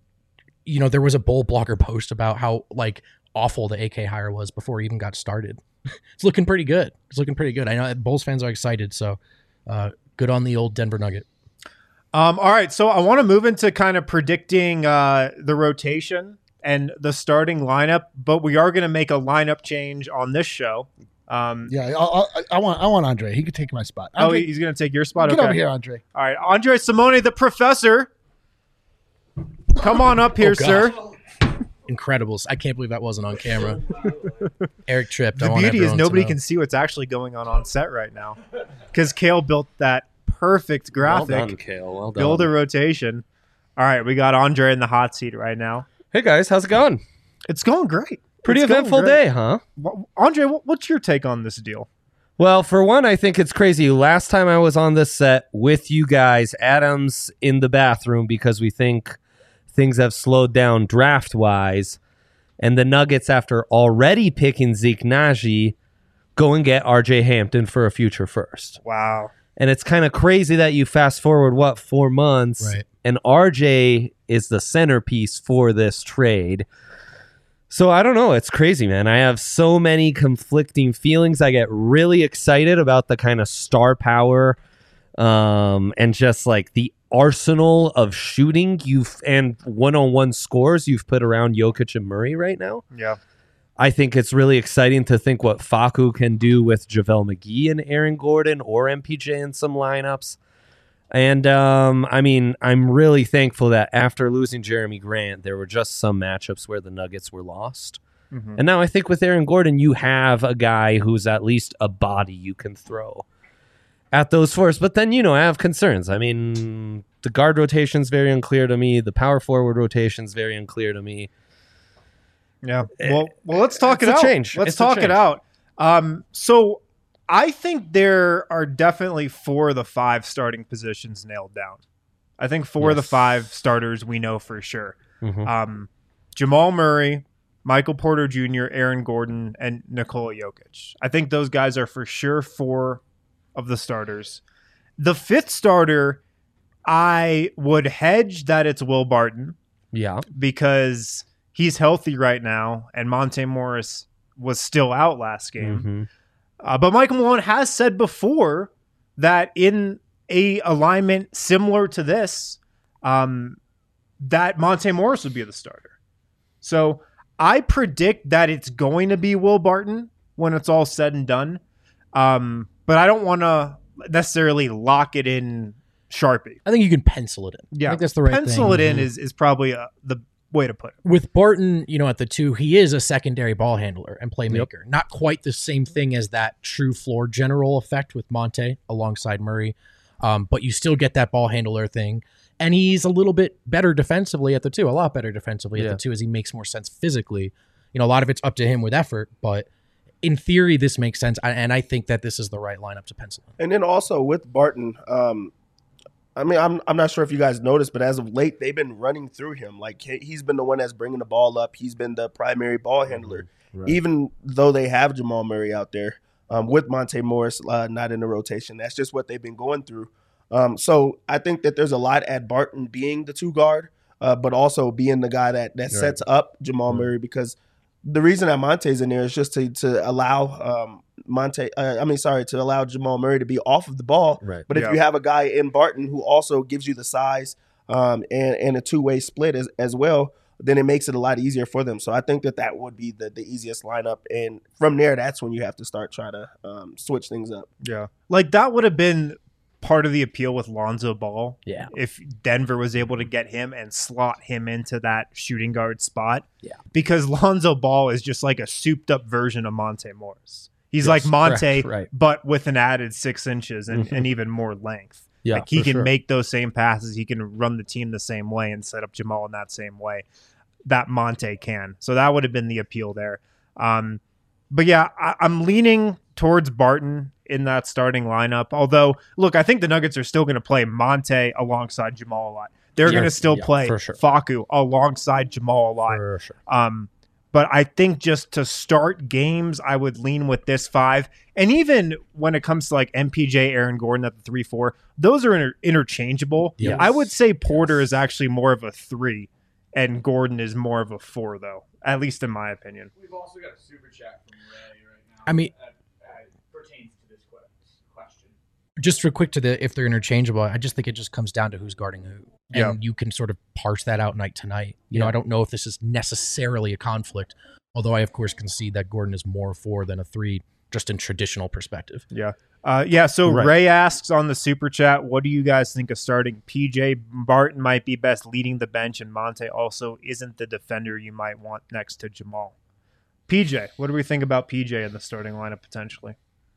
you know, there was a Bull blogger post about how like awful the A K hire was before he even got started. It's looking pretty good. It's looking pretty good. I know Bulls fans are excited. So, uh, good on the old Denver Nugget. Um, all right, so I want to move into kind of predicting uh, the rotation and the starting lineup, but we are going to make a lineup change on this show. Um, Yeah, I'll, I'll, I want I want Andre. He could take my spot. oh, Andre, he's going to take your spot? get Okay. over here, Andre. All right, Andre Simone, the professor. Come on up here, Oh, God. sir. Incredibles. I can't believe that wasn't on camera. Eric tripped. I The want beauty is everyone to nobody know. can see what's actually going on on set right now because Kale built that perfect Well graphic. done, Kale. Well done. Build a rotation. All right, we got Andre in the hot seat right now. Hey guys, how's it going? It's going great. Pretty It's going eventful great. day, huh? Wha- Andre, what- what's your take on this deal? Well, for one, I think it's crazy. Last time I was on this set with you guys, Adam's in the bathroom because we think things have slowed down draft-wise. And the Nuggets, after already picking Zeke Naji, go and get R J Hampton for a future first. Wow. And it's kind of crazy that you fast forward, what, four months, Right. and R J is the centerpiece for this trade. So I don't know. It's crazy, man. I have so many conflicting feelings. I get really excited about the kind of star power um, and just like the arsenal of shooting you've and one-on-one scores you've put around Jokic and Murray right now. Yeah. I think it's really exciting to think what Facu can do with JaVale McGee and Aaron Gordon or M P J in some lineups. And, um, I mean, I'm really thankful that after losing Jeremy Grant, there were just some matchups where the Nuggets were lost. Mhm. And now I think with Aaron Gordon, you have a guy who's at least a body you can throw at those fours. But then, you know, I have concerns. I mean, the guard rotation's very unclear to me. The power forward rotation's very unclear to me. Yeah. Well, well, let's talk It's it a out. change. Let's It's a talk it change. out. Um, so I think there are definitely four of the five starting positions nailed down. I think four of the Yes. five starters we know for sure. Mhm. Um, Jamal Murray, Michael Porter Junior, Aaron Gordon, and Nikola Jokic. I think those guys are for sure four of the starters. The fifth starter, I would hedge that it's Will Barton Yeah. because he's healthy right now, and Monte Morris was still out last game. Mhm. Uh, but Michael Malone has said before that in a alignment similar to this, um, that Monte Morris would be the starter. So I predict that it's going to be Will Barton when it's all said and done. Um, but I don't want to necessarily lock it in Sharpie. I think you can pencil it in. Yeah, I think that's the right pencil thing. it in is is probably uh the way to put it. With Barton, you know, at the two, he is a secondary ball handler and playmaker. Not quite the same thing as that true floor general effect with Monte alongside Murray, um, but you still get that ball handler thing. And he's a little bit better defensively at the two, a lot better defensively Yeah. at the two, as he makes more sense physically. You know, a lot of it's up to him with effort, but in theory, this makes sense. I- And I think that this is the right lineup to pencil in. And then also with Barton, um, I mean, I'm I'm not sure if you guys noticed, but as of late, they've been running through him. Like he- he's been the one that's bringing the ball up. He's been the primary ball handler, Right. even though they have Jamal Murray out there um, with Monte Morris uh, not in the rotation. That's just what they've been going through. Um, so I think that there's a lot at Barton being the two guard, uh, but also being the guy that that Right. sets up Jamal Murray, because the reason that Monte's in there is just to to allow um, Monte. Uh, I mean, sorry, to allow Jamal Murray to be off of the ball. Right. But if Yeah. you have a guy in Barton who also gives you the size um, and and a two way split as as well, then it makes it a lot easier for them. So I think that that would be the the easiest lineup, and from there, that's when you have to start trying to um, switch things up. Yeah. Like that would have been part of the appeal with Lonzo Ball. Yeah. If Denver was able to get him and slot him into that shooting guard spot. Yeah. Because Lonzo Ball is just like a souped up version of Monte Morris. He's Yes, like Monte, correct, right. but with an added six inches and, Mhm. and even more length. Yeah, like he for can sure. make those same passes. He can run the team the same way and set up Jamal in that same way that Monte can. So that would have been the appeal there. Um, but yeah, I, I'm leaning towards Barton in that starting lineup. Although, look, I think the Nuggets are still going to play Monte alongside Jamal a lot. They're Yeah, going to still yeah, play for sure. Facu alongside Jamal a lot. For sure. Um, but I think just to start games, I would lean with this five. And even when it comes to like M P J, Aaron Gordon at the three four, those are inter- interchangeable. Yes. I would say Porter is actually more of a three and Gordon is more of a four, though, at least in my opinion. We've also got a super chat from Ray right now. I mean- that uh, pertains to this que- question. Just real quick to the if they're interchangeable, I just think it just comes down to who's guarding who. And Yeah. you can sort of parse that out night to night. You know, Yeah. I don't know if this is necessarily a conflict, although I of course concede that Gordon is more a four than a three, just in traditional perspective. Yeah. Uh, yeah. So Right. Ray asks on the super chat, what do you guys think of starting P J? Barton might be best leading the bench, and Monte also isn't the defender you might want next to Jamal. P J, what do we think about P J in the starting lineup potentially?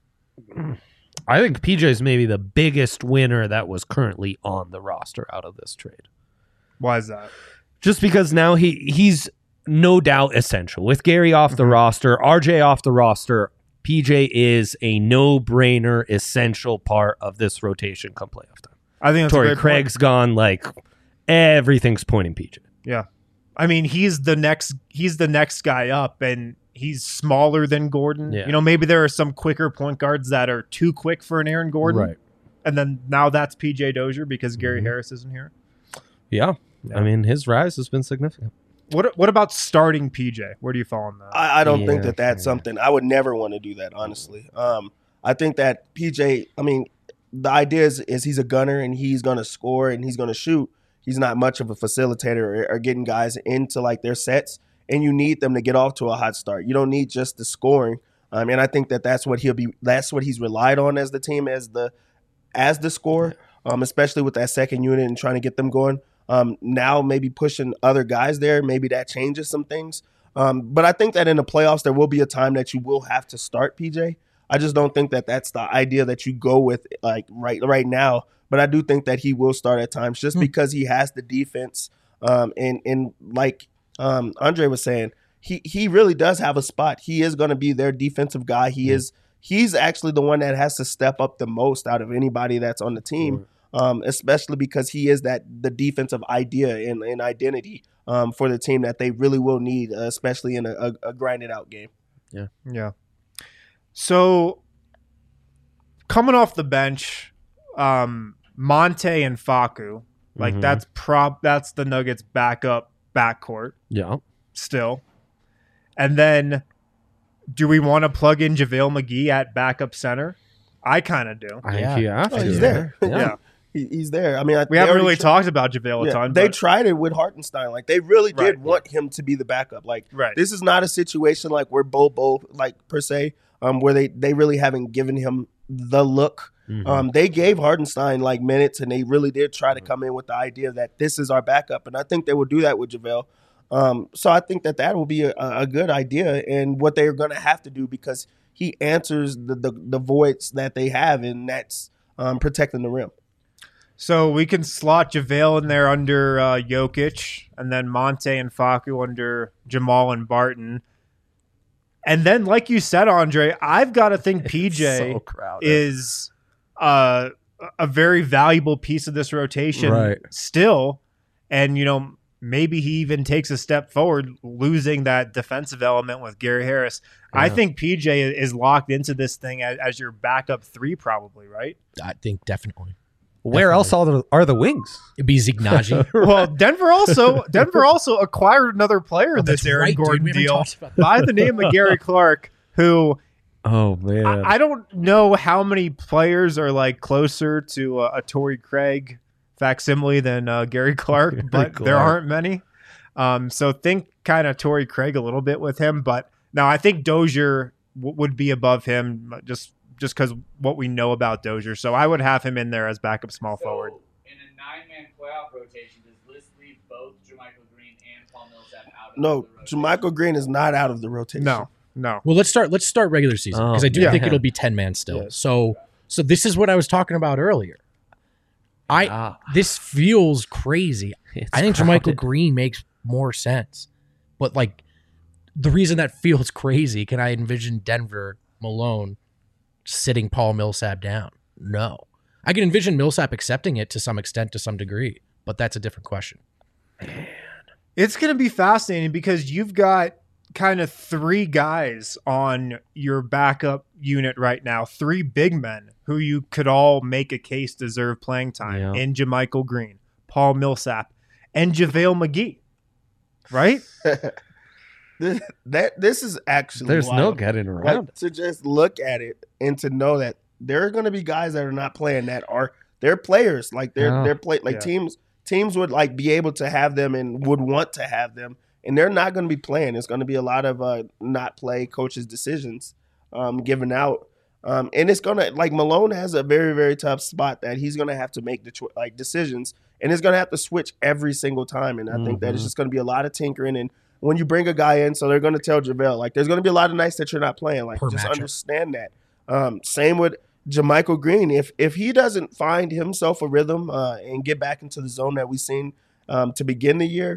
I think P J is maybe the biggest winner that was currently on the roster out of this trade. Why is that? Just because now he he's no doubt essential. With Gary off the roster, R J off the roster, P J is a no-brainer essential part of this rotation come playoff time. I think that's a Torrey great Craig's point. gone. Like everything's pointing P J. Yeah. I mean, he's the next he's the next guy up, and he's smaller than Gordon. Yeah. You know, maybe there are some quicker point guards that are too quick for an Aaron Gordon. Right. And then now that's P J Dozier because Gary Mm-hmm. Harris isn't here. Yeah. Yeah. I mean, his rise has been significant. What what about starting P J? Where do you fall on that? I, I don't think Yeah, that that's yeah. something I would never want to do that. Honestly, um, I think that P J. I mean, the idea is, is he's a gunner and he's going to score and he's going to shoot. He's not much of a facilitator or, or getting guys into like their sets, and you need them to get off to a hot start. You don't need just the scoring. Um, and I think that that's what he'll be. That's what he's relied on as the team as the as the scorer, um, especially with that second unit and trying to get them going. Um, now maybe pushing other guys there, maybe that changes some things. Um, but I think that in the playoffs there will be a time that you will have to start P J. I just don't think that that's the idea that you go with like right right now. But I do think that he will start at times just because he has the defense. Um, and and like um, Andre was saying, he he really does have a spot. He is going to be their defensive guy. He is he's actually the one that has to step up the most out of anybody that's on the team. Um, especially because he is that the defensive idea and, and identity um, for the team that they really will need, uh, especially in a, a, a grinded out game. Yeah. Yeah. So coming off the bench, um, Monte and Facu, like Mhm. that's prop that's the Nuggets backup backcourt Yeah. still. And then do we want to plug in JaVale McGee at backup center? I kind of do. I Yeah. think you have Oh, to. he's there. Yeah. He, he's there. I mean, I, We they haven't already really tried- talked about JaVale a Yeah, ton. they but- tried it with Hartenstein. Like they really did Right, want him to be the backup. Like Right. this is not a situation like where Bobo like per se, um, where they they really haven't given him the look. Mhm. Um, they gave Hardenstein like minutes, and they really did try to come in with the idea that this is our backup, and I think they will do that with JaVale. Um, so I think that that will be a, a good idea, and what they're going to have to do because he answers the, the the voids that they have, and that's um, protecting the rim. So we can slot JaVale in there under uh, Jokic, and then Monte and Facu under Jamal and Barton. And then, like you said, Andre, I've got to think P J so crowded. is uh, a very valuable piece of this rotation Right. still. And, you know, maybe he even takes a step forward, losing that defensive element with Gary Harris. I Yeah. think P J is locked into this thing as, as your backup three, probably, right? I think definitely. Where else are the, are the wings? It'd be Zignaji. Well, Denver also Denver also acquired another player in this that's Aaron right, dude. Gordon We haven't deal talked about by the name of Gary Clark, who Oh man. I, I don't know how many players are like closer to uh, a Torrey Craig facsimile than uh, Gary Clark, Gary but there Clark. aren't many. Um, so think kind of Torrey Craig a little bit with him, but now I think Dozier w- would be above him just just because what we know about Dozier. So I would have him in there as backup small So, forward. in a nine-man playoff rotation, does this leave both JaMychal Green and Paul Millsap out of No, the rotation? JaMychal Green is not out of the rotation. No, no. Well, let's start. Let's start regular season because Oh, I do yeah. think it'll be ten man still. Yes. So, so this is what I was talking about earlier. I Ah. this feels crazy. It's I think crowded. JaMychal Green makes more sense, but like the reason that feels crazy, can I envision Denver Malone sitting Paul Millsap down? No, I can envision Millsap accepting it to some extent, to some degree, but that's a different question. It's going to be fascinating because you've got kind of three guys on your backup unit right now, three big men who you could all make a case deserve playing time Yeah. in JaMychal Green, Paul Millsap, and JaVale McGee, right? This, that this is actually There's no wild. getting Like, around it. to just look at it and to know that there are going to be guys that are not playing that are they're players like they're Yeah. they're play like Yeah. teams teams would like be able to have them and would want to have them, and they're not going to be playing. It's going to be a lot of uh, not play coaches' decisions um, given out, um, and it's going to like Malone has a very very tough spot that he's going to have to make the cho- like decisions, and it's going to have to switch every single time. And I think that it's Mhm. just going to be a lot of tinkering. And when you bring a guy in, so they're going to tell JaVale like there's going to be a lot of nights that you're not playing. Like Per just matchup. understand that. Um, same with JaMychal Green. If if he doesn't find himself a rhythm uh, and get back into the zone that we've seen um, to begin the year,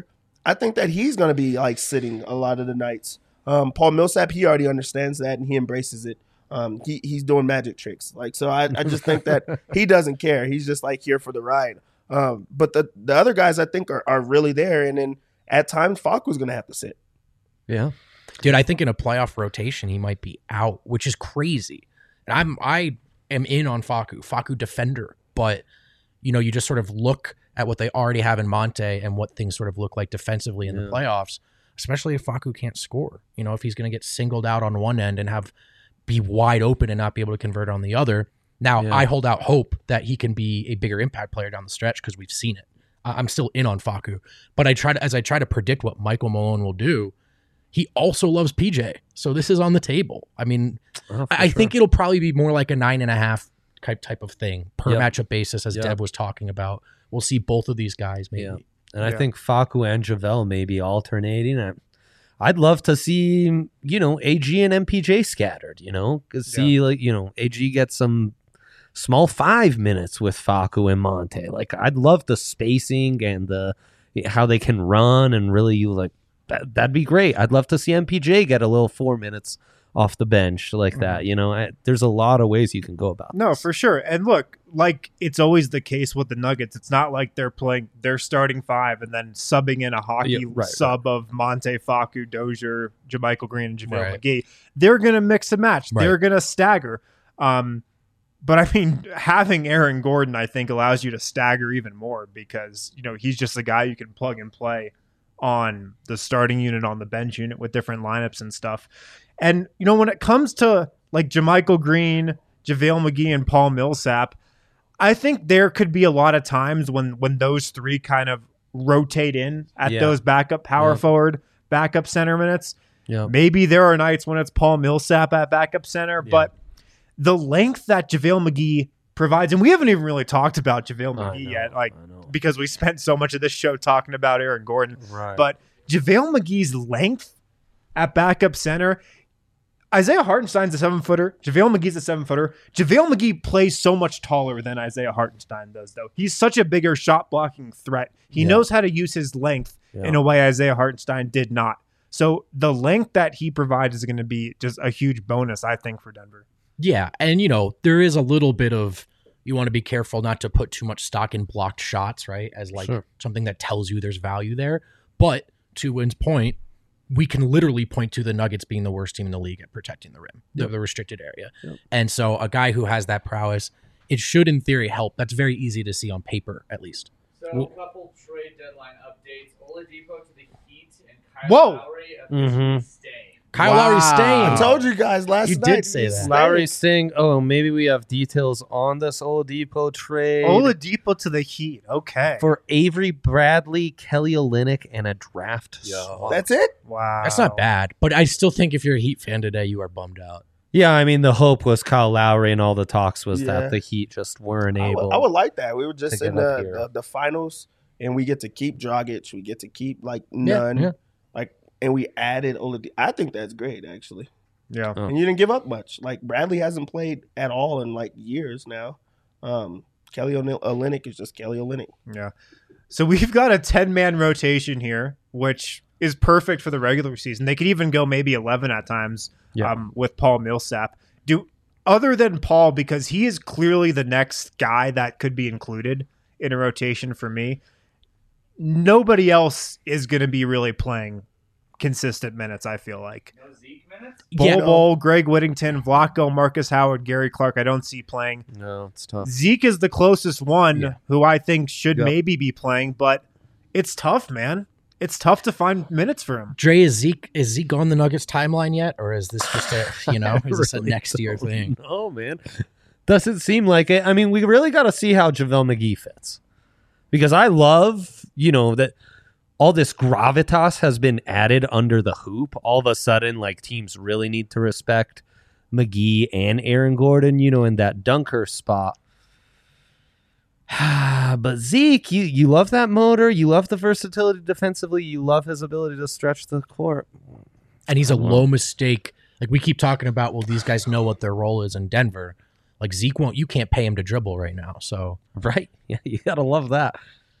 I think that he's going to be like sitting a lot of the nights. Um, Paul Millsap, he already understands that and he embraces it. Um, he he's doing magic tricks. Like, so I, I just think that he doesn't care. He's just like here for the ride. Um, but the, the other guys I think are, are really there. And then at times Facu's going to have to sit. Yeah. Dude, I think in a playoff rotation, he might be out, which is crazy. And I'm, I am in on Facu, Facu defender, but you know, you just sort of look at what they already have in Monte and what things sort of look like defensively in Yeah. the playoffs, especially if Facu can't score, you know, if he's going to get singled out on one end and have be wide open and not be able to convert on the other. Now Yeah. I hold out hope that he can be a bigger impact player down the stretch because we've seen it. I- I'm still in on Facu, but I try to, as I try to predict what Michael Malone will do, he also loves P J. So this is on the table. I mean, Oh, for I, I sure. think it'll probably be more like a nine and a half type type of thing per Yep. matchup basis, as Yep. Deb was talking about. We'll see both of these guys maybe. Yeah. And I Yeah. think Facu and JaVale may be alternating. I, I'd love to see, you know, A G and M P J scattered, you know, 'cause see, like, you know, A G get some small five minutes with Facu and Monte. Like, I'd love the spacing and the how they can run and really, you like, that, that'd be great. I'd love to see M P J get a little four minutes off the bench like that. You know, I, there's a lot of ways you can go about No, this. for sure. And look, like it's always the case with the Nuggets. It's not like they're playing their starting five and then subbing in a hockey Yeah, right, sub of Monte, Facu, Dozier, JaMychal Green, and JaVale Right. McGee. They're going to mix and match. Right. They're going to stagger. Um, but I mean, having Aaron Gordon, I think, allows you to stagger even more because, you know, he's just a guy you can plug and play on the starting unit, on the bench unit with different lineups and stuff. And, you know, when it comes to like JaMychal Green, JaVale McGee, and Paul Millsap, I think there could be a lot of times when when those three kind of rotate in at Yeah. those backup power Yeah. forward, backup center minutes. Yeah. Maybe there are nights when it's Paul Millsap at backup center, Yeah. but the length that JaVale McGee provides, and we haven't even really talked about JaVale I McGee know, yet, like I know. because we spent so much of this show talking about Aaron Gordon. Right. But JaVale McGee's length at backup center, Isaiah Hartenstein's a seven footer. JaVale McGee's a seven footer. JaVale McGee plays so much taller than Isaiah Hartenstein does, though. He's such a bigger shot blocking threat. He Yeah. knows how to use his length Yeah. in a way Isaiah Hartenstein did not. So the length that he provides is going to be just a huge bonus, I think, for Denver. Yeah, and you know, there is a little bit of you want to be careful not to put too much stock in blocked shots, right? As like Sure. something that tells you there's value there. But to Wynn's point, we can literally point to the Nuggets being the worst team in the league at protecting the rim, the, Yep. the restricted area. Yep. And so a guy who has that prowess, it should in theory help. That's very easy to see on paper, at least. So Well- a couple trade deadline updates. Oladipo to the Heat and Kyle Whoa! Lowry officially Mhm. staying. Kyle Wow. Lowry's staying. I told you guys last You night. did say he's that. staying. Lowry's saying, "Oh, maybe we have details on this Oladipo trade Oladipo to the Heat. Okay. for Avery Bradley, Kelly Olynyk, and a draft swap." That's it? wow. That's not bad. But I still think if you're a Heat fan today, you are bummed out. Yeah, I mean, the hope was Kyle Lowry, and all the talks was Yeah. that the Heat just weren't I would, able. I would like that. We were just to in get up the, here. the, the finals, and we get to keep Dragic. We get to keep, like, none. yeah. Like, and we added Oladipo. I think that's great, actually. Yeah. Oh. And you didn't give up much. Like, Bradley hasn't played at all in, like, years now. Um, Kelly Oly- Olynyk is just Kelly Olynyk. Yeah. So we've got a ten-man rotation here, which is perfect for the regular season. They could even go maybe eleven at times Yeah. um, with Paul Millsap. Do other than Paul, because he is clearly the next guy that could be included in a rotation for me, nobody else is going to be really playing consistent minutes, I feel like. No Zeke minutes? Bol Yeah. Bol, Greg Whittington, Vlatko, Marcus Howard, Gary Clark, I don't see playing. No, it's tough. Zeke is the closest one Yeah. who I think should Yep. maybe be playing, but it's tough, man. It's tough to find minutes for him. Dre, is Zeke is Zeke on the Nuggets timeline yet, or is this just a you know is this a Really next year don't thing? know, man. Doesn't seem like it. I mean, we really got to see how JaVale McGee fits, because I love, you know, that all this gravitas has been added under the hoop. All of a sudden, like, teams really need to respect McGee and Aaron Gordon, you know, in that dunker spot. But Zeke, you, you love that motor. You love the versatility defensively. You love his ability to stretch the court. And he's a Wow. low mistake. Like we keep talking about, well, these guys know what their role is in Denver. Like Zeke won't. You can't pay him to dribble right now. So Right? Yeah, you got to love that.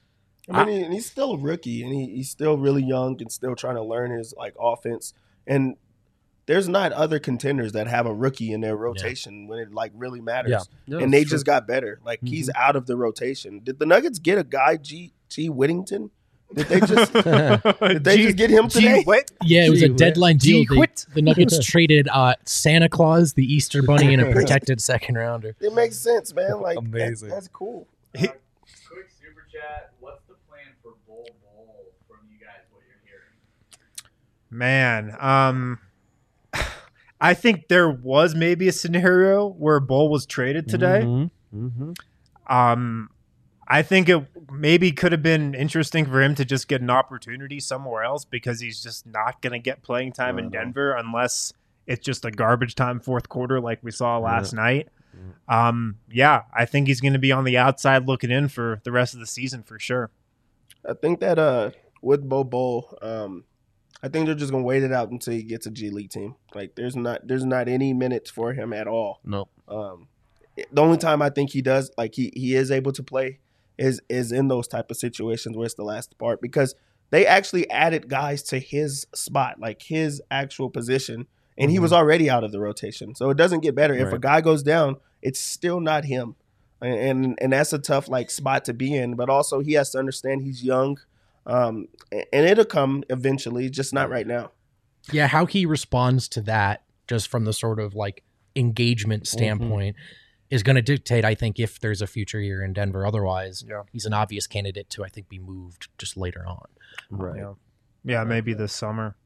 I mean, he, he's still a rookie, and he, he's still really young and still trying to learn his like offense. And there's not other contenders that have a rookie in their rotation yeah. when it like really matters. Yeah. Yeah, and they true. just got better. Like Mm-hmm. he's out of the rotation. Did the Nuggets get a guy G G Whittington? Did they just did they G- just get him G- today? what? Yeah, it was a Gee, deadline deal. Gee, They- quit. the Nuggets traded uh, Santa Claus, the Easter Bunny, and a protected second rounder. It makes sense, man. Like Amazing. That, that's cool. Uh, quick super chat. What's the plan for Bull Bowl from you guys? What you're hearing? Man, um, I think there was maybe a scenario where Bull was traded today. Mm-hmm. Mm-hmm. Um, I think it maybe could have been interesting for him to just get an opportunity somewhere else because he's just not going to get playing time in Denver unless it's just a garbage time fourth quarter like we saw last Yeah. night. Um, yeah, I think he's going to be on the outside looking in for the rest of the season for sure. I think that uh with Bo Bowl, um, I think they're just gonna wait it out until he gets a G League team. Like there's not there's not any minutes for him at all. Nope. Um, the only time I think he does like he he is able to play is is in those type of situations where it's the last part because they actually added guys to his spot, like his actual position, and he was already out of the rotation. So it doesn't get better. If a Right. guy goes down, it's still not him. And, and and that's a tough like spot to be in. But also he has to understand he's young, um, and it'll come eventually, just not right now. Yeah, how he responds to that, just from the sort of like engagement standpoint, is going to dictate, I think, if there's a future here in Denver. Otherwise, Yeah. he's an obvious candidate to, I think, be moved just later on. Right. Yeah, yeah maybe this summer.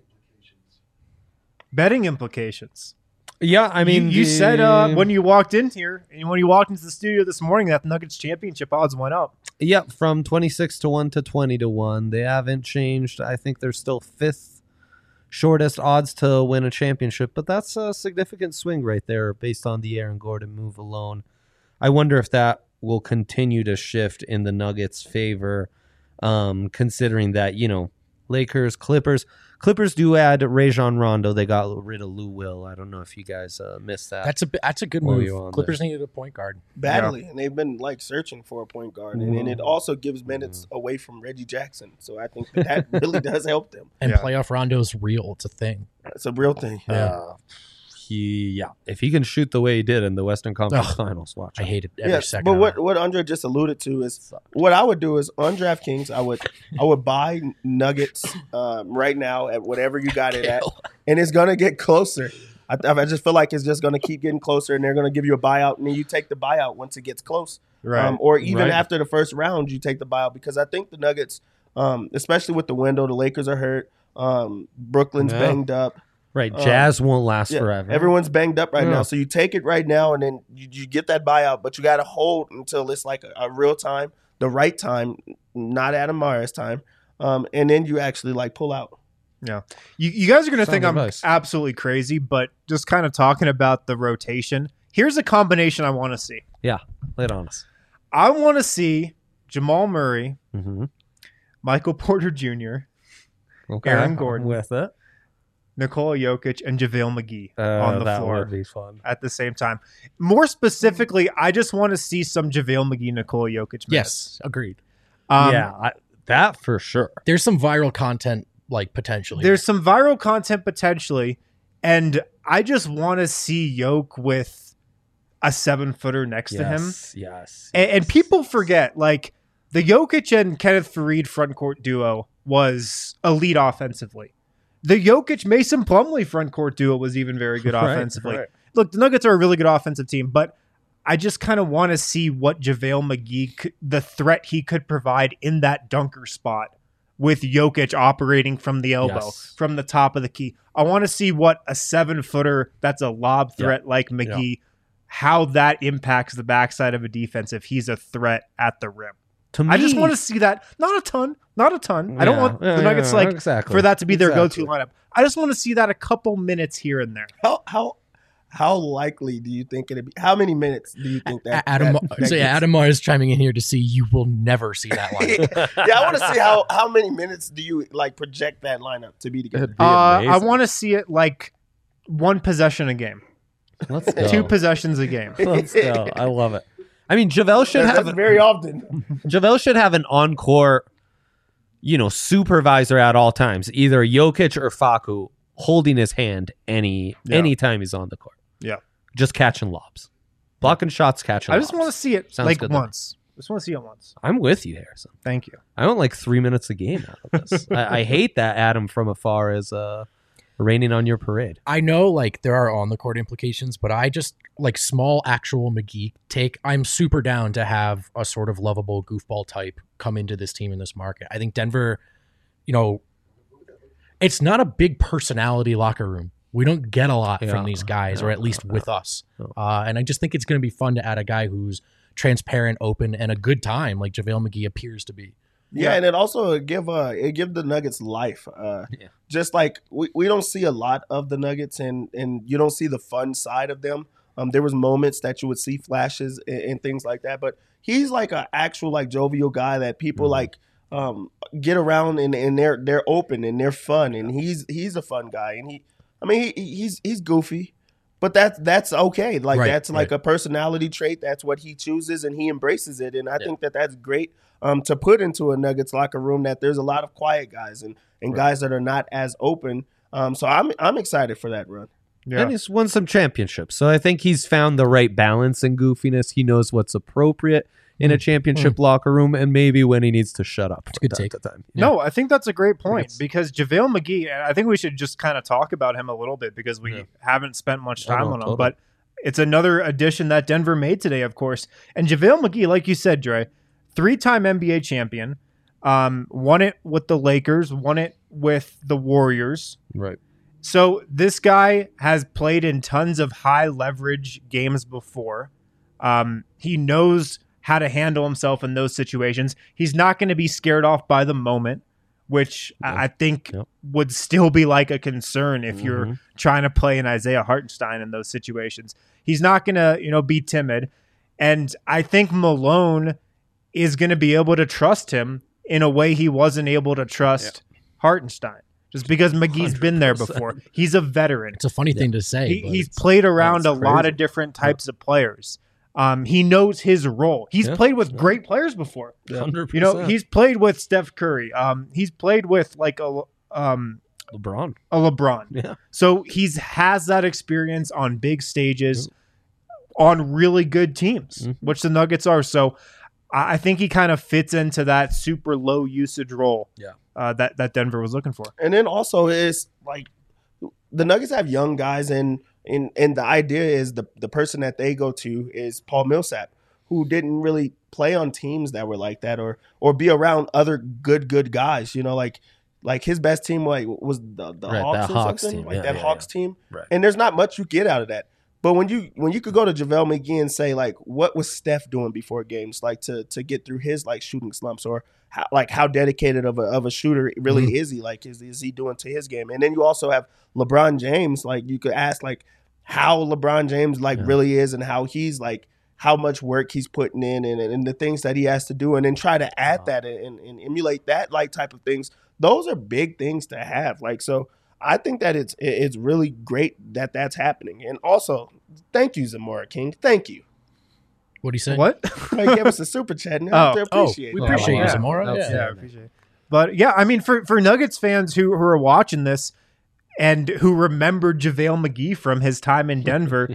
Betting implications. Yeah, I mean, you, you the- said uh, when you walked in here and when you walked into the studio this morning that the Nuggets championship odds went up. Yep, from twenty-six to one to twenty to one. They haven't changed. I think they're still fifth shortest odds to win a championship, but that's a significant swing right there based on the Aaron Gordon move alone. I wonder if that will continue to shift in the Nuggets' favor, um, considering that, you know, Lakers, Clippers. Clippers do add Rajon Rondo. They got rid of Lou Will. I don't know if you guys uh, missed that. That's a bi- that's a good While move. you're on Clippers there. needed a point guard. Badly, and they've been like searching for a point guard, and, and it also gives minutes away from Reggie Jackson. So I think that, that really does help them. And Yeah. playoff Rondo's real. It's a thing. It's a real thing. Uh, he, yeah. If he can shoot the way he did in the Western Conference Ugh. Finals, watch. I out. hate it every Yes, second. but of what it. what Andre just alluded to is what I would do is on DraftKings, I would I would buy Nuggets um, right now at whatever you got it at, and it's gonna get closer. I, I just feel like it's just gonna keep getting closer, and they're gonna give you a buyout, and then you take the buyout once it gets close, Right. um, or even Right. after the first round, you take the buyout because I think the Nuggets, um, especially with the window, the Lakers are hurt, um, Brooklyn's Yeah. banged up. Right, Um, Jazz won't last Yeah, forever. everyone's banged up right Yeah. now, so you take it right now, and then you, you get that buyout, but you got to hold until it's like a, a real time, the right time, not Adam Myers time, um, and then you actually like pull out. Yeah. You, you guys are going to Sound think I'm advice. absolutely crazy, but just kind of talking about the rotation, here's a combination I want to see. Yeah, lay it on us. I want to see Jamal Murray, Mm-hmm. Michael Porter Junior, Okay. Aaron Gordon. with it. Nikola Jokic, and JaVale McGee Uh, on the that floor would be fun. at the same time. More specifically, I just want to see some JaVale McGee, Nikola Jokic minutes. Yes, agreed. Um, yeah, I, that for sure. There's some viral content like potentially. There's some viral content potentially, and I just want to see Yoke with a seven footer next to him. Yes, yes. And, and yes. people forget, like, the Jokic and Kenneth Faried front court duo was elite offensively. The Jokic Mason Plumlee front court duo was even very good Right, offensively. right. Look, the Nuggets are a really good offensive team, but I just kind of want to see what JaVale McGee, could, the threat he could provide in that dunker spot with Jokic operating from the elbow, Yes. from the top of the key. I want to see what a seven footer that's a lob threat like McGee, how that impacts the backside of a defense if he's a threat at the rim. To me, I just want to see that. Not a ton. Not a ton. I don't Yeah, want yeah, the Nuggets yeah, like exactly. for that to be their Exactly. go-to lineup. I just want to see that a couple minutes here and there. How how how likely do you think it'd be? How many minutes do you think that? A- Adam, that, that so yeah, gets? Adam Mars chiming in here to see you will never see that line. yeah, I want to see how how many minutes do you like project that lineup to be together? It'd be Uh, I amazing. want to see it like one possession a game, Let's go. two possessions a game. Let's go. I love it. I mean, JaVale should That's have very often. JaVale should have an on-court, you know, supervisor at all times, either Jokic or Facu holding his hand any Yeah. anytime he's on the court. Yeah. Just catching lobs. Blocking shots, catching I lobs. just want to see it Sounds like good to me. once. Just want to see it once. I'm with you, Harrison. Thank you. I want like three minutes a game out of this. I, I hate that Adam from afar is uh, raining on your parade. I know like there are on the court implications, but I just like small actual McGee take. I'm super down to have a sort of lovable goofball type come into this team in this market. I think Denver, you know, it's not a big personality locker room. We don't get a lot Yeah. from these guys, No, or at least no, with us. Uh, and I just think it's going to be fun to add a guy who's transparent, open, and a good time, like JaVale McGee appears to be. Yeah, and it also give uh it give the Nuggets life. Uh, Yeah. Just like we, we don't see a lot of the Nuggets, and and you don't see the fun side of them. Um, there was moments that you would see flashes and, and things like that, but he's like an actual like jovial guy that people Mhm. like um get around and, and they're they're open and they're fun, and he's he's a fun guy, and he I mean he, he's he's goofy. But that's that's okay. Like Right, that's like right. a personality trait. That's what he chooses, and he embraces it. And I Yeah. think that that's great um, to put into a Nuggets locker room. That there's a lot of quiet guys and, and Right. guys that are not as open. Um, so I'm I'm excited for that run. Yeah. And he's won some championships. So I think he's found the right balance in goofiness. He knows what's appropriate in a championship locker room and maybe when he needs to shut up. It's a good from time take. to time. No, I think that's a great point it's- because JaVale McGee, and I think we should just kind of talk about him a little bit because we Yeah. haven't spent much Oh, time no, on him. totally. But it's another addition that Denver made today, of course. And JaVale McGee, like you said, Dre, three-time N B A champion, um, won it with the Lakers, won it with the Warriors. Right. So this guy has played in tons of high leverage games before. Um, he knows how to handle himself in those situations. He's not going to be scared off by the moment, which Yep. I I think Yep. would still be like a concern if you're Mhm. trying to play an Isaiah Hartenstein in those situations. He's not going to, you know, be timid. And I think Malone is going to be able to trust him in a way he wasn't able to trust Hartenstein. Just because McGee's been there before. He's a veteran. It's a funny thing to say. He, but he's it's- played around a that's lot crazy. of different types of players. Um, he knows his role. He's Yeah. played with great players before. one hundred percent. You know, he's played with Steph Curry. Um, he's played with like a um LeBron. a LeBron. Yeah. So he's has that experience on big stages, on really good teams, Mhm. which the Nuggets are. So I I think he kind of fits into that super low usage role. Yeah. Uh, that that Denver was looking for. And then also it's like the Nuggets have young guys, and and and the idea is the the person that they go to is Paul Millsap, who didn't really play on teams that were like that, or or be around other good good guys. You know, like like his best team like was the, the Right, Hawks that or Hawks something, team. like Yeah, that yeah, Hawks team. Right. And there's not much you get out of that. But when you when you could go to JaVale McGee and say like, what was Steph doing before games, like to to get through his like shooting slumps, or how, like how dedicated of a of a shooter really Mhm. is he? Like is is he doing to his game? And then you also have LeBron James. Like you could ask like how LeBron James like Yeah. really is, and how he's like how much work he's putting in, and, and the things that he has to do, and then try to add Wow. that and, and emulate that like type of things. Those are big things to have. Like so. I think that it's it's really great that that's happening. And also, thank you, Zamora King. Thank you. What do you say? What? He gave us a super chat, and Oh. I appreciate Oh, it. we appreciate Yeah. you, Zamora. That's- Yeah. Yeah, I appreciate it. But yeah, I mean, for, for Nuggets fans who, who are watching this and who remember JaVale McGee from his time in Denver,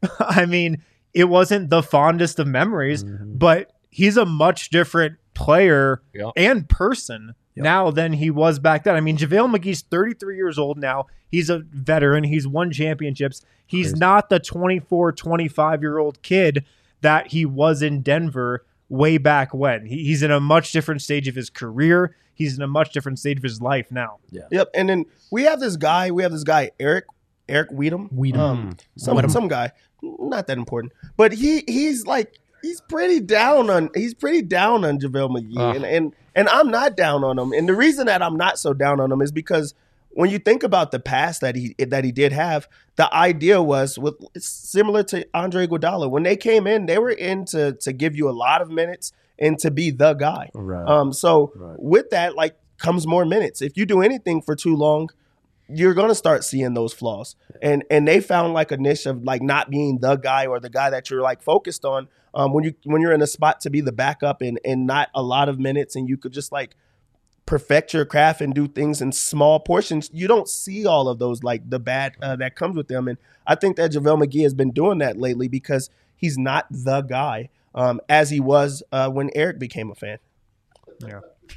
I mean, it wasn't the fondest of memories, Mhm. but he's a much different player Yeah. and person Yep. now than he was back then. I mean, JaVale McGee's thirty-three years old now. He's a veteran. He's won championships. He's Crazy. not the twenty-four, twenty-five-year-old kid that he was in Denver way back when. He, he's in a much different stage of his career. He's in a much different stage of his life now. Yep. And then we have this guy. We have this guy Eric Eric Weedham. Weedham. Um, some Weedham. some guy, not that important, but he he's like he's pretty down on he's pretty down on JaVale McGee, Ugh. and and and I'm not down on him. And the reason that I'm not so down on him is because when you think about the past that he that he did have, the idea was with it's similar to Andre Iguodala. When they came in, they were in to to give you a lot of minutes and to be the guy. Right. Um, so Right. with that, like comes more minutes. If you do anything for too long, you're going to start seeing those flaws. And and they found like a niche of like not being the guy or the guy that you're like focused on um, when you when you're in a spot to be the backup and and not a lot of minutes, and you could just like perfect your craft and do things in small portions. You don't see all of those like the bad uh, that comes with them. And I think that JaVale McGee has been doing that lately because he's not the guy um, as he was uh, when Eric became a fan. Yeah.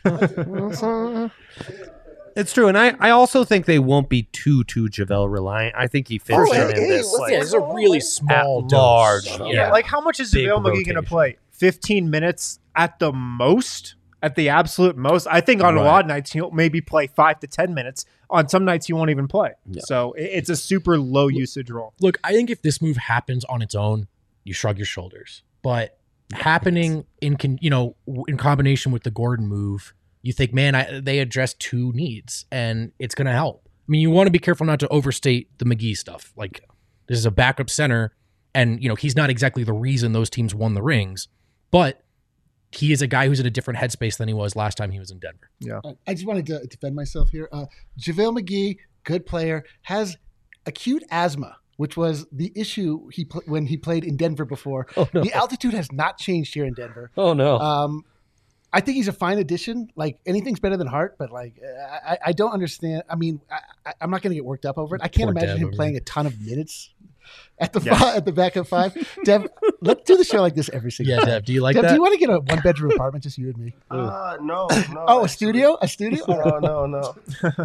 It's true, and I, I also think they won't be too too JaVale reliant. I think he fits Oh, in, hey, in this what's like, Yeah, it's a really small at dose. large. Yeah. Yeah, Like, how much is Big JaVale McGee going to rotation. play? fifteen minutes at the most? At the absolute most? I think on a Right. lot of nights he'll maybe play five to ten minutes. On some nights he won't even play. Yeah. So it- it's a super low usage role. Look, I think if this move happens on its own, you shrug your shoulders. But happening in con, you know w- in combination with the Gordon move, you think, man, I, they addressed two needs, and it's going to help. I mean, you want to be careful not to overstate the McGee stuff. Like, this is a backup center, and you know he's not exactly the reason those teams won the rings, but he is a guy who's in a different headspace than he was last time he was in Denver. Uh, I just wanted to defend myself here. Uh, JaVale McGee, good player, has acute asthma, which was the issue he pl- when he played in Denver before. Oh, no. The altitude has not changed here in Denver. Oh no. Um, I think he's a fine addition. Like, anything's better than Hart, but like I, I don't understand. I mean, I, I'm not going to get worked up over it. I can't Poor imagine Dev him over playing a ton of minutes at the Yeah. fi- at the backup five. Dev, let's do the show like this every single Yeah, time. Dev, do you like Dev, that? do you want to get a one bedroom apartment, just you and me? Uh, no, no. Oh, a actually. studio, a studio. No, no, no.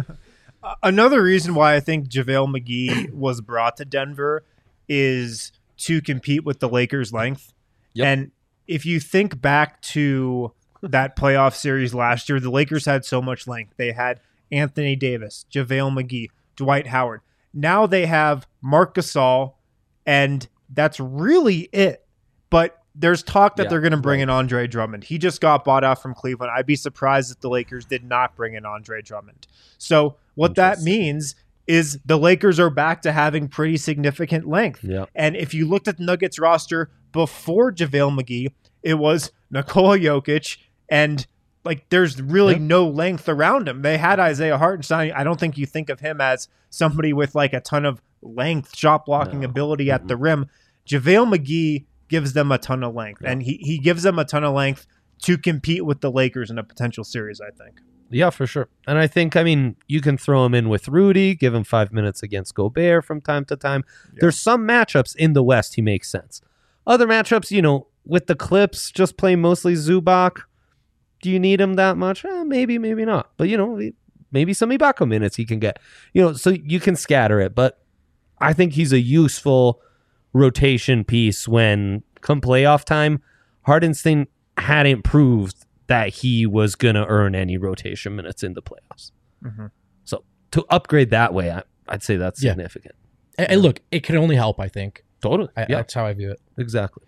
Another reason why I think JaVale McGee was brought to Denver is to compete with the Lakers' length. Yep. And if you think back to that playoff series last year, the Lakers had so much length. They had Anthony Davis, JaVale McGee, Dwight Howard. Now they have Marc Gasol, and that's really it. But there's talk that Yeah, they're going to bring right. in Andre Drummond. He just got bought out from Cleveland. I'd be surprised if the Lakers did not bring in Andre Drummond. So what that Interesting. means is the Lakers are back to having pretty significant length. Yep. And if you looked at the Nuggets roster before JaVale McGee, it was Nikola Jokic, and like there's really Yeah. no length around him. They had Isaiah Hartenstein. I don't think you think of him as somebody with like a ton of length, shot blocking No. ability at the rim. JaVale McGee gives them a ton of length, Yeah. and he, he gives them a ton of length to compete with the Lakers in a potential series, I think. Yeah, for sure. And I think, I mean, you can throw him in with Rudy, give him five minutes against Gobert from time to time. There's some matchups in the West he makes sense. Other matchups, you know, with the Clips, just play mostly Zubac. Do you need him that much? Eh, maybe, maybe not. But, you know, maybe some Ibaka minutes he can get. You know, so you can scatter it. But I think he's a useful rotation piece when, come playoff time, Hardenstein hadn't proved that he was going to earn any rotation minutes in the playoffs. Mhm. So to upgrade that way, I, I'd say that's Yeah. significant. And, and look, it can only help, I think. Totally. I, yeah, That's how I view it. exactly.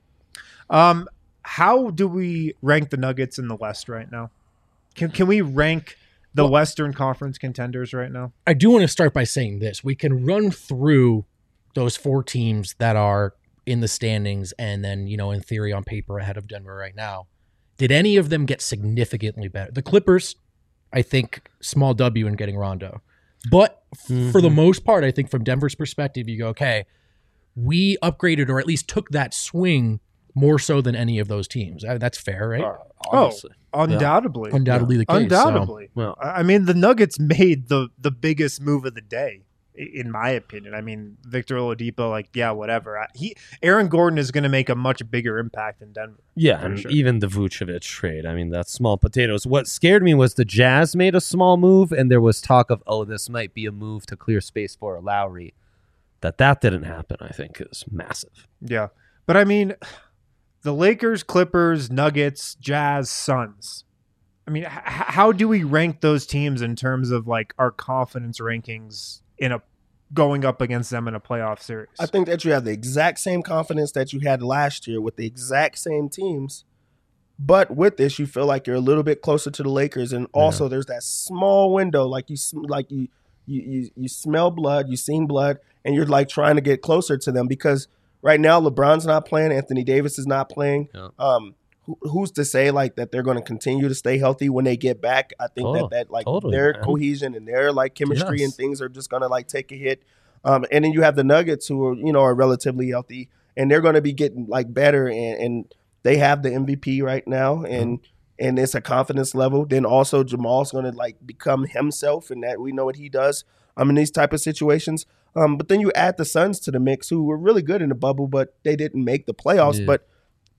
Um, how do we rank the Nuggets in the West right now? Can can we rank the Well- Western Conference contenders right now? I do want to start by saying this. We can run through those four teams that are in the standings and then, you know, in theory on paper ahead of Denver right now. Did any of them get significantly better? The Clippers, I think, small W in getting Rondo. But f- for the most part, I think from Denver's perspective, you go, okay, we upgraded or at least took that swing more so than any of those teams. Uh, That's fair, right? Obviously. Undoubtedly. Undoubtedly the case. so- Undoubtedly. Well, I I mean, the Nuggets made the the biggest move of the day, i- in my opinion. I mean, Victor Oladipo, like, yeah, whatever. I- He, Aaron Gordon is going to make a much bigger impact in Denver. yeah, for and sure. even the Vucevic trade. I mean, that's small potatoes. What scared me was the Jazz made a small move, and there was talk of, oh, this might be a move to clear space for a Lowry. That that didn't happen, I think, is massive. Yeah. But I mean, the Lakers, Clippers, Nuggets, Jazz, Suns. I mean, h- how do we rank those teams in terms of like our confidence rankings in a going up against them in a playoff series? I think that you have the exact same confidence that you had last year with the exact same teams. But with this, you feel like you're a little bit closer to the Lakers, and also there's that small window, like you, sm- like you, you, you, you smell blood, you seen blood, and you're like trying to get closer to them because right now LeBron's not playing, Anthony Davis is not playing. Yeah. Um, who- who's to say like that they're going to continue to stay healthy when they get back? I think Oh, that that like totally, their man. cohesion and their like chemistry Yes. and things are just going to like take a hit. Um, and then you have the Nuggets who are you know are relatively healthy and they're going to be getting like better and, and they have the M V P right now and and it's a confidence level. Then also Jamal's going to like become himself and that we know what he does. Um, in these type of situations. Um, but then you add the Suns to the mix, who were really good in the bubble, but they didn't make the playoffs. Yeah. But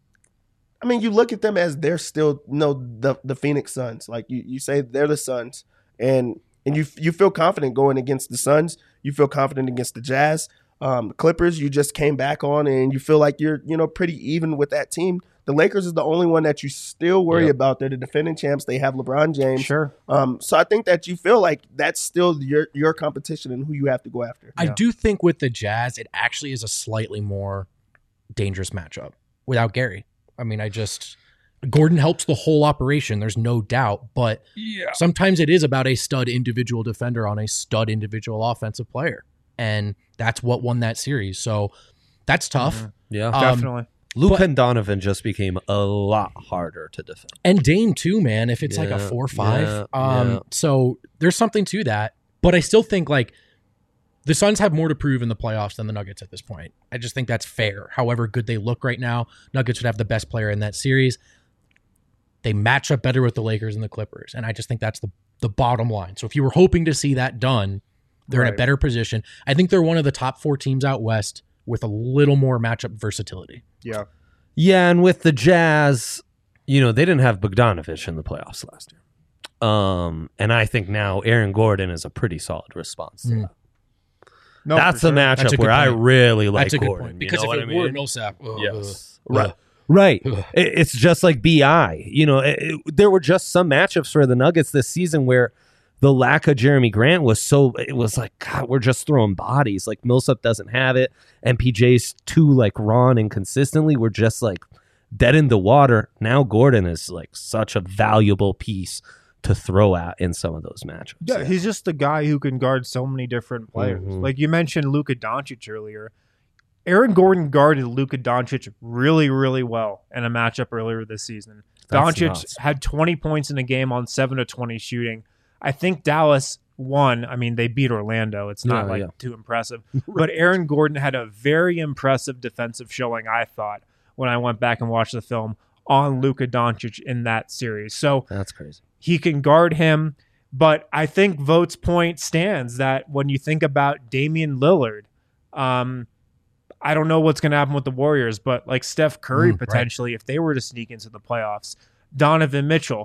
I mean, you look at them as they're still you know the the Phoenix Suns. Like you, you say they're the Suns, and and you you feel confident going against the Suns. You feel confident against the Jazz, um, the Clippers. You just came back on, and you feel like you're you know pretty even with that team. The Lakers is the only one that you still worry Yep. about. They're the defending champs. They have LeBron James. Sure. Um, so I think that you feel like that's still your your competition and who you have to go after. I do think with the Jazz, it actually is a slightly more dangerous matchup without Gary. I mean, I just Gordon helps the whole operation. There's no doubt, but sometimes it is about a stud individual defender on a stud individual offensive player, and that's what won that series. So that's tough. Yeah, Um, Definitely. Luke but- and Donovan just became a lot harder to defend. And Dame too, man. If it's like a Yeah, four five, yeah, um, yeah. so there's something to that. But I still think like the Suns have more to prove in the playoffs than the Nuggets at this point. I just think that's fair. However good they look right now, Nuggets would have the best player in that series. They match up better with the Lakers and the Clippers, and I just think that's the the bottom line. So if you were hoping to see that done, they're in a Right. better position. I think they're one of the top four teams out west with a little more matchup versatility. Yeah. Yeah, and with the Jazz, you know, they didn't have Bogdanovich in the playoffs last year. Um, and I think now Aaron Gordon is a pretty solid response to Mm. that. No, That's for the sure. matchup That's a good where I point. really like That's a good Gordon. point. you Because know if what it I mean? were Millsap, ugh, Yes. ugh, Right. ugh. Right. Ugh. It- It's just like B I. You know, it, it- there were just some matchups for the Nuggets this season where the lack of Jeremy Grant was so, it was like, God, we're just throwing bodies. Like Millsap doesn't have it. And P J's too like raw and inconsistently. We're just like dead in the water. Now Gordon is like such a valuable piece to throw at in some of those matchups. Yeah, he's just the guy who can guard so many different players. Mhm. Like you mentioned Luka Doncic earlier. Aaron Gordon guarded Luka Doncic really, really well in a matchup earlier this season. That's Doncic nuts. had twenty points in a game on seven of twenty shooting. I think Dallas won. I mean, they beat Orlando. It's not Yeah, like yeah. too impressive. But Aaron Gordon had a very impressive defensive showing, I thought, when I went back and watched the film on Luka Doncic in that series. So That's crazy. he can guard him. But I think Vogt's point stands that when you think about Damian Lillard, um, I don't know what's going to happen with the Warriors, but like Steph Curry Mm, right. potentially, if they were to sneak into the playoffs, Donovan Mitchell,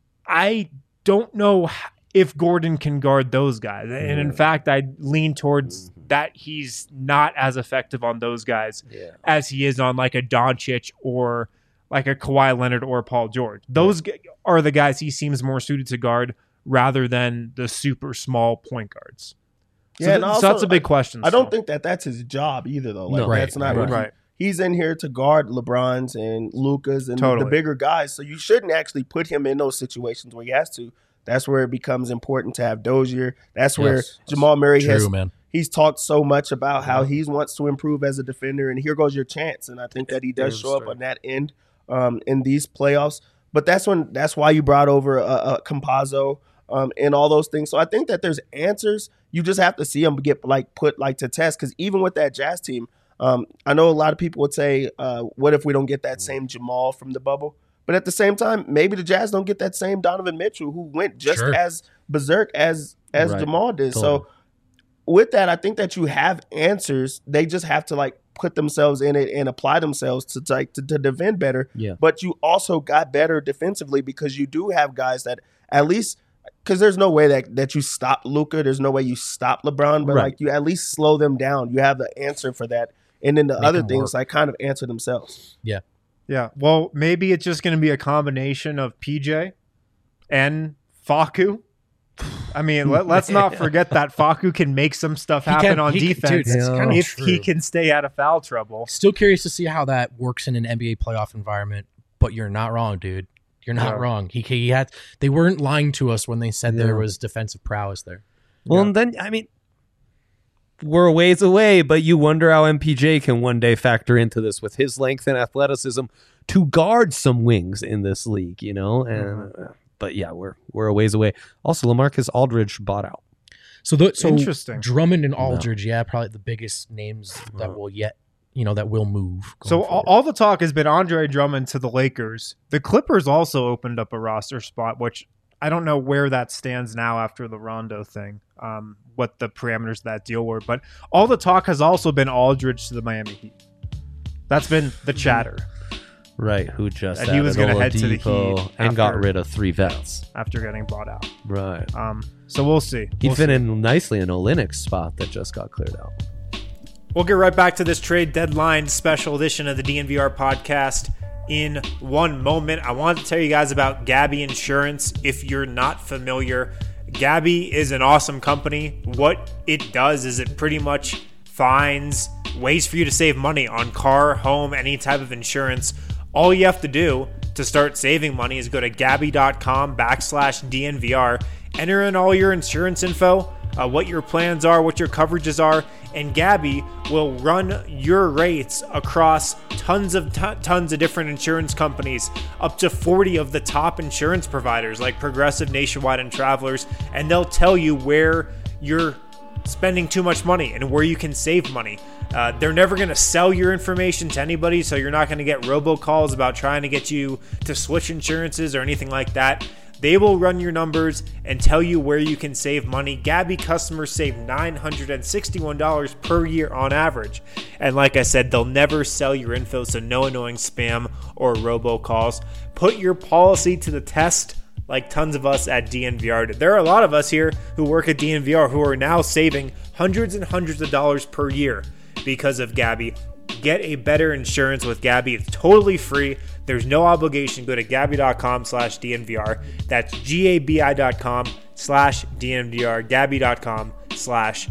I don't know h- if Gordon can guard those guys. And in fact, I lean towards that he's not as effective on those guys Yeah. as he is on like a Doncic or like a Kawhi Leonard or Paul George. Those g- are the guys he seems more suited to guard rather than the super small point guards. So, Yeah, and th- so also, that's a big question. I don't still. think that that's his job either, though. Like No. Right, that's not right. what he- Right. He's in here to guard LeBron's and Luca's and Totally. the bigger guys. So you shouldn't actually put him in those situations where he has to. That's where it becomes important to have Dozier. That's where Yes. Jamal Murray True, has. man. He's talked so much about how he wants to improve as a defender, and here goes your chance. And I think that he does There's show up straight. on that end um, in these playoffs. But that's when that's why you brought over a uh, uh, Campazzo um, and all those things. So I think that there's answers. You just have to see them get like put like to test. Because even with that Jazz team, um, I know a lot of people would say, uh, "What if we don't get that same Jamal from the bubble?" But at the same time, maybe the Jazz don't get that same Donovan Mitchell who went just Sure. as berserk as as Right. Jamal did. Totally. So with that, I think that you have answers. They just have to like put themselves in it and apply themselves to like to, to defend better. Yeah. But you also got better defensively because you do have guys that at least because there's no way that, that you stop Luka. There's no way you stop LeBron, but Right. like you at least slow them down. You have the answer for that. And then the Make other them things work. like kind of answer themselves. Yeah. Yeah. Well, maybe it's just going to be a combination of P J and Facu. I mean, let, let's not forget that Facu can make some stuff He happen can- on he can- defense dude, that's kinda if he true. can stay out of foul trouble. Still curious to see how that works in an N B A playoff environment, but you're not wrong, dude. You're not Yeah. wrong. He he had they weren't lying to us when they said Yeah. there was defensive prowess there. Well, and then I mean, we're a ways away, but you wonder how M P J can one day factor into this with his length and athleticism to guard some wings in this league, you know. And uh, but yeah, we're we're a ways away. Also, LaMarcus Aldridge bought out. So the, so Interesting. Drummond and Aldridge, yeah, probably the biggest names that will yet, you know, that will move. going So all, forward. all the talk has been Andre Drummond to the Lakers. The Clippers also opened up a roster spot, which I don't know where that stands now after the Rondo thing, um, what the parameters of that deal were. But all the talk has also been Aldridge to the Miami Heat. That's been the chatter Right, who just And he was going to head to the Heat Heat and got after- rid of three vets. after getting bought out. Right. Um, so we'll see. He'd We'll fit see. in nicely in Olynyk's spot that just got cleared out. We'll get right back to this trade deadline special edition of the D N V R podcast in one moment. I want to tell you guys about Gabby Insurance. If you're not familiar, Gabby is an awesome company. What it does is it pretty much finds ways for you to save money on car, home, any type of insurance. All you have to do to start saving money is go to Gabby.com backslash DNVR, enter in all your insurance info, uh, what your plans are, what your coverages are, and Gabby will run your rates across tons of t- tons of different insurance companies, up to forty of the top insurance providers like Progressive, Nationwide, and Travelers, and they'll tell you where you're spending too much money and where you can save money. Uh, they're never going to sell your information to anybody, so you're not going to get robocalls about trying to get you to switch insurances or anything like that. They will run your numbers and tell you where you can save money. Gabby customers save nine hundred sixty-one dollars per year on average. And like I said, they'll never sell your info, so no annoying spam or robocalls. Put your policy to the test like tons of us at D N V R did. There are a lot of us here who work at D N V R who are now saving hundreds and hundreds of dollars per year because of Gabby. Get a better insurance with Gabby. It's totally free. There's no obligation. Go to Gabby.com slash DNVR. That's G-A-B-I.com slash DNVR. Gabby.com slash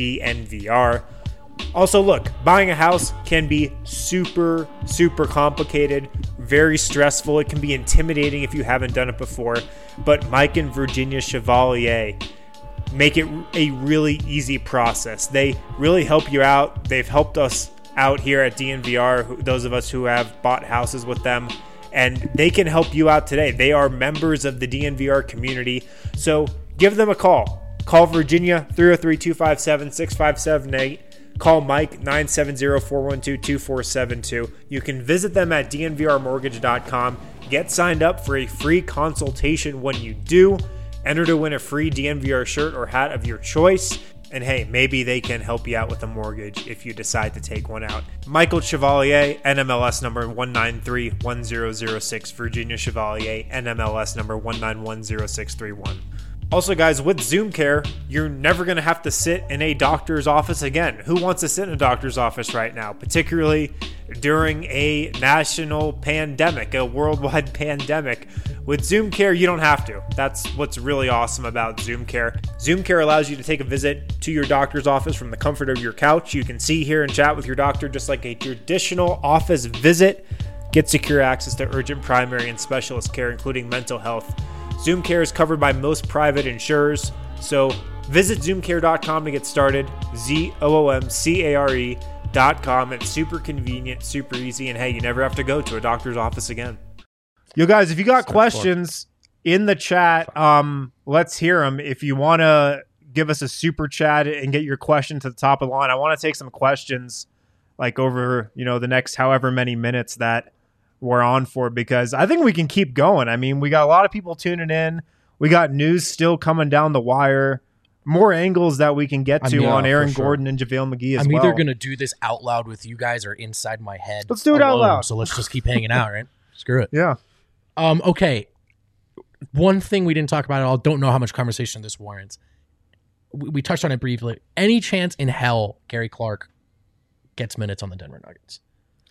DNVR. Also, look, buying a house can be super, super complicated, very stressful. It can be intimidating if you haven't done it before. But Mike and Virginia Chevalier make it a really easy process. They really help you out. They've helped us out here at D N V R, who- those of us who have bought houses with them, and they can help you out today. They are members of the D N V R community, so give them a call. Call Virginia, three oh three, two five seven, six five seven eight. Call Mike, nine seven zero, four one two, two four seven two. You can visit them at D N V R mortgage dot com. Get signed up for a free consultation when you do. Enter to win a free D N V R shirt or hat of your choice. And hey, maybe they can help you out with a mortgage if you decide to take one out. Michael Chevalier, N M L S number one nine three one zero zero six. Virginia Chevalier, N M L S number one nine one zero six three one. Also, guys, with Zoom Care, you're never going to have to sit in a doctor's office again. Who wants to sit in a doctor's office right now, particularly during a national pandemic, a worldwide pandemic? With Zoom Care, you don't have to. That's what's really awesome about Zoom Care. Zoom Care allows you to take a visit to your doctor's office from the comfort of your couch. You can see, hear, and chat with your doctor just like a traditional office visit. Get secure access to urgent primary and specialist care, including mental health. Zoom Care is covered by most private insurers, so visit zoom care dot com to get started. Z O O M C A R E dot com. It's super convenient, super easy, and hey, you never have to go to a doctor's office again. Yo, guys, if you got questions in the chat, um, let's hear them. If you want to give us a super chat and get your question to the top of the line, I want to take some questions like over, you know, the next however many minutes that we're on for, because I think we can keep going. I mean, we got a lot of people tuning in. We got news still coming down the wire. More angles that we can get I to mean, on yeah, Aaron for sure. Gordon and JaVale McGee as I'm well. either going to do this out loud with you guys or inside my head. Let's do it out alone, loud. So let's just keep hanging out, right? Screw it. Yeah. Um. Okay. One thing we didn't talk about at all. Don't know how much conversation this warrants. We, we touched on it briefly. Any chance in hell Gary Clark gets minutes on the Denver Nuggets?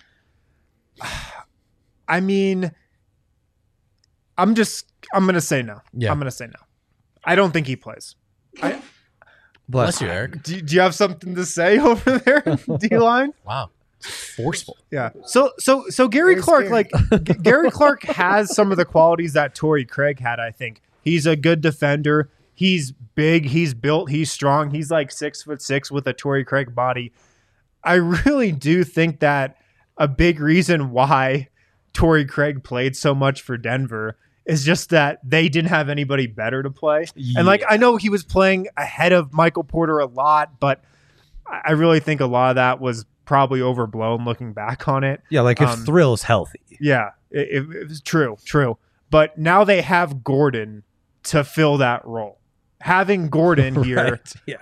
I mean, I'm just, I'm going to say no. Yeah. I'm going to say no. I don't think he plays. I, Bless you, Eric. do, do you have something to say over there, D-line? Wow. Forceful. Yeah. So, so, so Gary Very Clark, scary. like G- Gary Clark has some of the qualities that Torrey Craig had, I think. He's a good defender. He's big. He's built. He's strong. He's like six foot six with a Torrey Craig body. I really do think that a big reason why Torrey Craig played so much for Denver is just that they didn't have anybody better to play. Yeah. And like, I know he was playing ahead of Michael Porter a lot, but I really think a lot of that was probably overblown looking back on it. Yeah, like if um, Thrill's healthy. Yeah, it, it, it was true, true. But now they have Gordon to fill that role. Having Gordon here, right. yeah.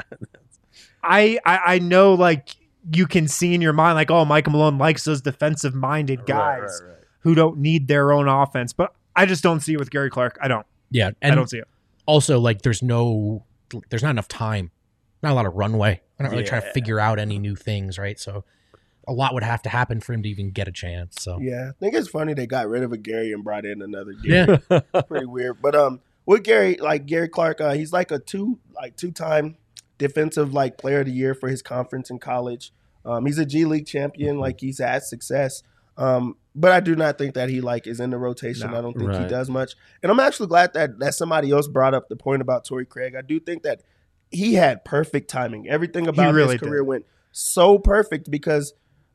I, I I know like you can see in your mind like, oh, Michael Malone likes those defensive-minded guys right, right, right. who don't need their own offense. But I just don't see it with Gary Clark. I don't. Yeah, and I don't see it. Also, like, there's no, there's not enough time, not a lot of runway. I'm not really Yeah. trying to figure out any new things, right? So a lot would have to happen for him to even get a chance. So Yeah, I think it's funny they got rid of a Gary and brought in another Gary. yeah, Pretty weird. But um, with Gary, like Gary Clark, uh, he's like a two, like two-time defensive like player of the year for his conference in college. Um, he's a G League champion. Like he's had success. Um, but I do not think that he like is in the rotation. No, I don't think he right. does much. And I'm actually glad that that somebody else brought up the point about Torrey Craig. I do think that he had perfect timing. Everything about really his career did. went so perfect because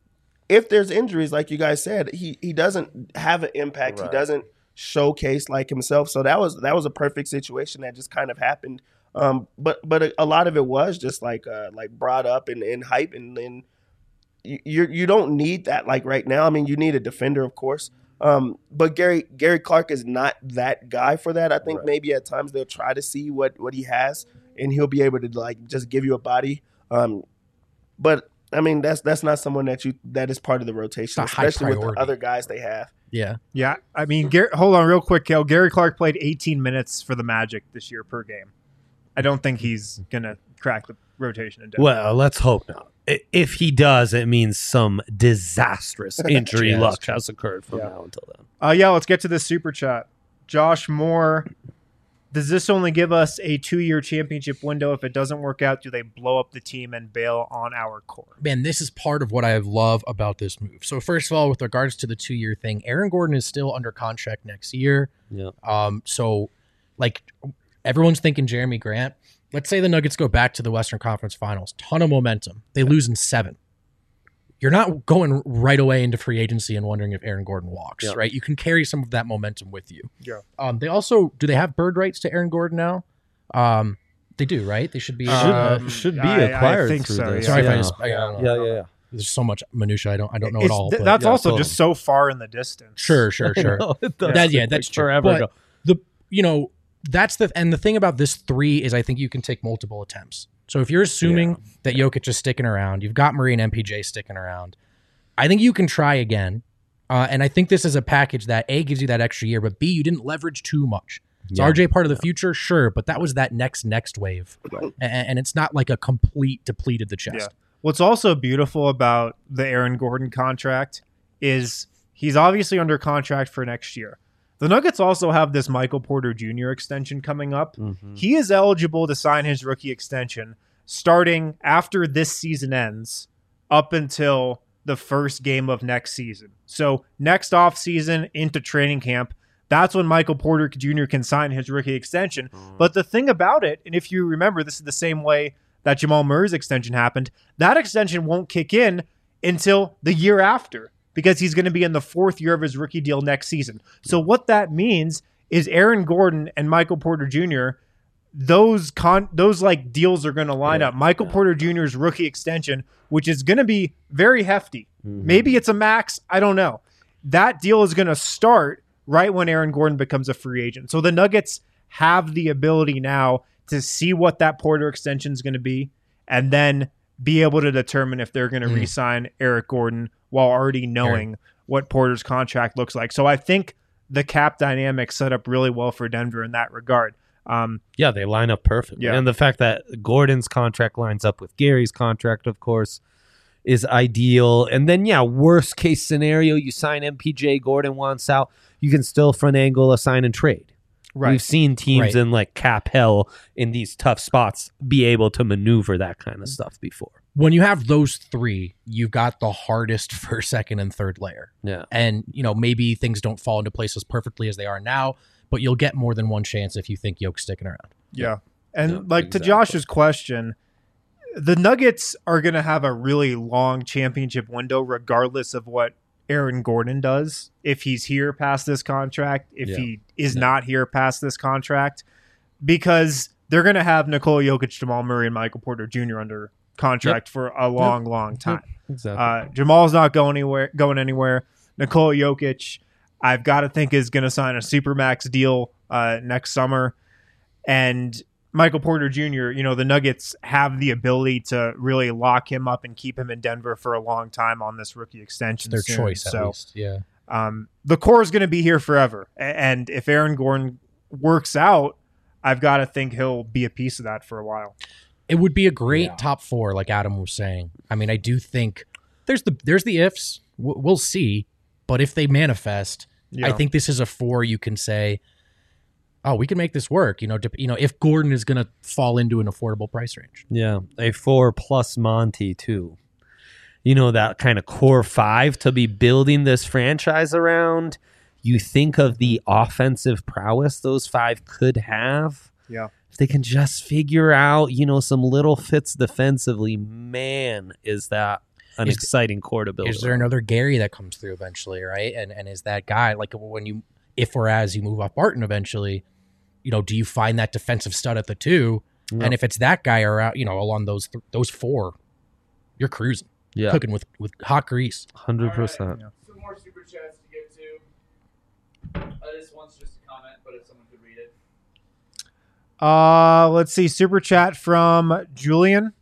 if there's injuries, like you guys said, he he doesn't have an impact. Right. He doesn't showcase like himself. So that was that was a perfect situation that just kind of happened. Um, but but a, a lot of it was just like uh, like brought up and, and hype and then you you you don't need that like right now. I mean, you need a defender, of course. Um, but Gary Gary Clark is not that guy for that. I think Right. maybe at times they'll try to see what what he has, and he'll be able to like just give you a body. Um, but I mean, that's that's not someone that you that is part of the rotation, It's a high especially with the priority. other guys they have. yeah. Yeah, I mean, Gary, hold on real quick, Kale. Gary Clark played eighteen minutes for the Magic this year per game. I don't think he's going to crack the rotation in Denver. Well, let's hope not. I- If he does, it means some disastrous injury Yeah, luck that's true. has occurred from Yeah. now until then. Uh, yeah, let's get to this super chat. Josh Moore, does this only give us a two-year championship window? If it doesn't work out, do they blow up the team and bail on our core? Man, this is part of what I love about this move. So first of all, with regards to the two-year thing, Aaron Gordon is still under contract next year. Yeah. Um, so like everyone's thinking Jeremy Grant. Let's say the Nuggets go back to the Western Conference Finals. Ton of momentum. They lose in seven. You're not going right away into free agency and wondering if Aaron Gordon walks, Yeah. right? You can carry some of that momentum with you. Yeah. Um, they also, do they have bird rights to Aaron Gordon now? Um, they do, right? They should be. uh, Um, should be I- I acquired think through so, this. yeah. sorry if I yeah. just, I, I don't yeah, know. yeah, yeah. There's so much minutia. I don't, I don't know it It's- all. th- but- that's yeah, also totally. just so far in the distance. Sure, sure, sure. No, it does. That, yeah, Like that's true. forever But ago. the you know that's the and the thing about this three is I think you can take multiple attempts. So if you're assuming that Jokic is sticking around, you've got Murray and M P J sticking around. I think you can try again, uh, and I think this is a package that A gives you that extra year, but B you didn't leverage too much. Is Yeah. R J part of the future? Sure, but that was that next next wave, Right. and, and it's not like a complete depleted the chest. Yeah. What's also beautiful about the Aaron Gordon contract is he's obviously under contract for next year. The Nuggets also have this Michael Porter Junior extension coming up. Mhm. He is eligible to sign his rookie extension starting after this season ends up until the first game of next season. So next offseason into training camp, that's when Michael Porter Junior can sign his rookie extension. But the thing about it, and if you remember, this is the same way that Jamal Murray's extension happened, that extension won't kick in until the year after because he's going to be in the fourth year of his rookie deal next season. So what that means is Aaron Gordon and Michael Porter Junior, those con those like deals are going to line Yeah, up. Michael yeah. Porter Junior's rookie extension, which is going to be very hefty. Mhm. Maybe it's a max. I don't know. That deal is going to start right when Aaron Gordon becomes a free agent. So the Nuggets have the ability now to see what that Porter extension is going to be and then be able to determine if they're going to Mm. re-sign Eric Gordon while already knowing what Porter's contract looks like. So I think the cap dynamic set up really well for Denver in that regard. Um, Yeah, they line up perfectly. Yeah. And the fact that Gordon's contract lines up with Gary's contract, of course, is ideal. And then, yeah, worst case scenario, you sign M P J, Gordon wants out. You can still front angle a sign and trade. right. We've seen teams Right. in like cap hell in these tough spots be able to maneuver that kind of stuff before. When you have those three, you've got the hardest first, second, and third layer. Yeah. And, you know, maybe things don't fall into place as perfectly as they are now, but you'll get more than one chance if you think Yoke's sticking around. Yeah. And Yeah, like to exactly. Josh's question, the Nuggets are going to have a really long championship window regardless of what Aaron Gordon does if he's here past this contract, if Yeah. he is Yeah. not here past this contract, because they're going to have Nikola Jokic, Jamal Murray, and Michael Porter Junior under contract for a long, long time. Exactly. Uh, Jamal's not going anywhere. Going anywhere. Nikola Jokic, I've got to think is going to sign a supermax deal uh, next summer, and Michael Porter Junior You know, the Nuggets have the ability to really lock him up and keep him in Denver for a long time on this rookie extension. Their soon. choice, at so, least. Yeah. Um, the core is going to be here forever, A- and if Aaron Gordon works out, I've got to think he'll be a piece of that for a while. It would be a great Yeah. top four, like Adam was saying. I mean, I do think there's the there's the ifs. W- We'll see, but if they manifest, Yeah. I think this is a four. You can say, "Oh, we can make this work." You know, dep- you know, if Gordon is going to fall into an affordable price range. Yeah, a four plus Monty too. You know, that kind of core five to be building this franchise around. You think of the offensive prowess those five could have. Yeah. If they can just figure out, you know, some little fits defensively, man, is that an Is- exciting core to build. Is there around. another Gary that comes through eventually, right? And and is that guy like when you if or as you move off Barton eventually, you know, do you find that defensive stud at the two? Yep. And if it's that guy around, you know, along those th- those four, you're cruising, Yeah, cooking with with hot grease. hundred percent. Some more super chats to get to. Uh, this one's just a comment, but if someone could read it. Uh, let's see. Super chat from Julian.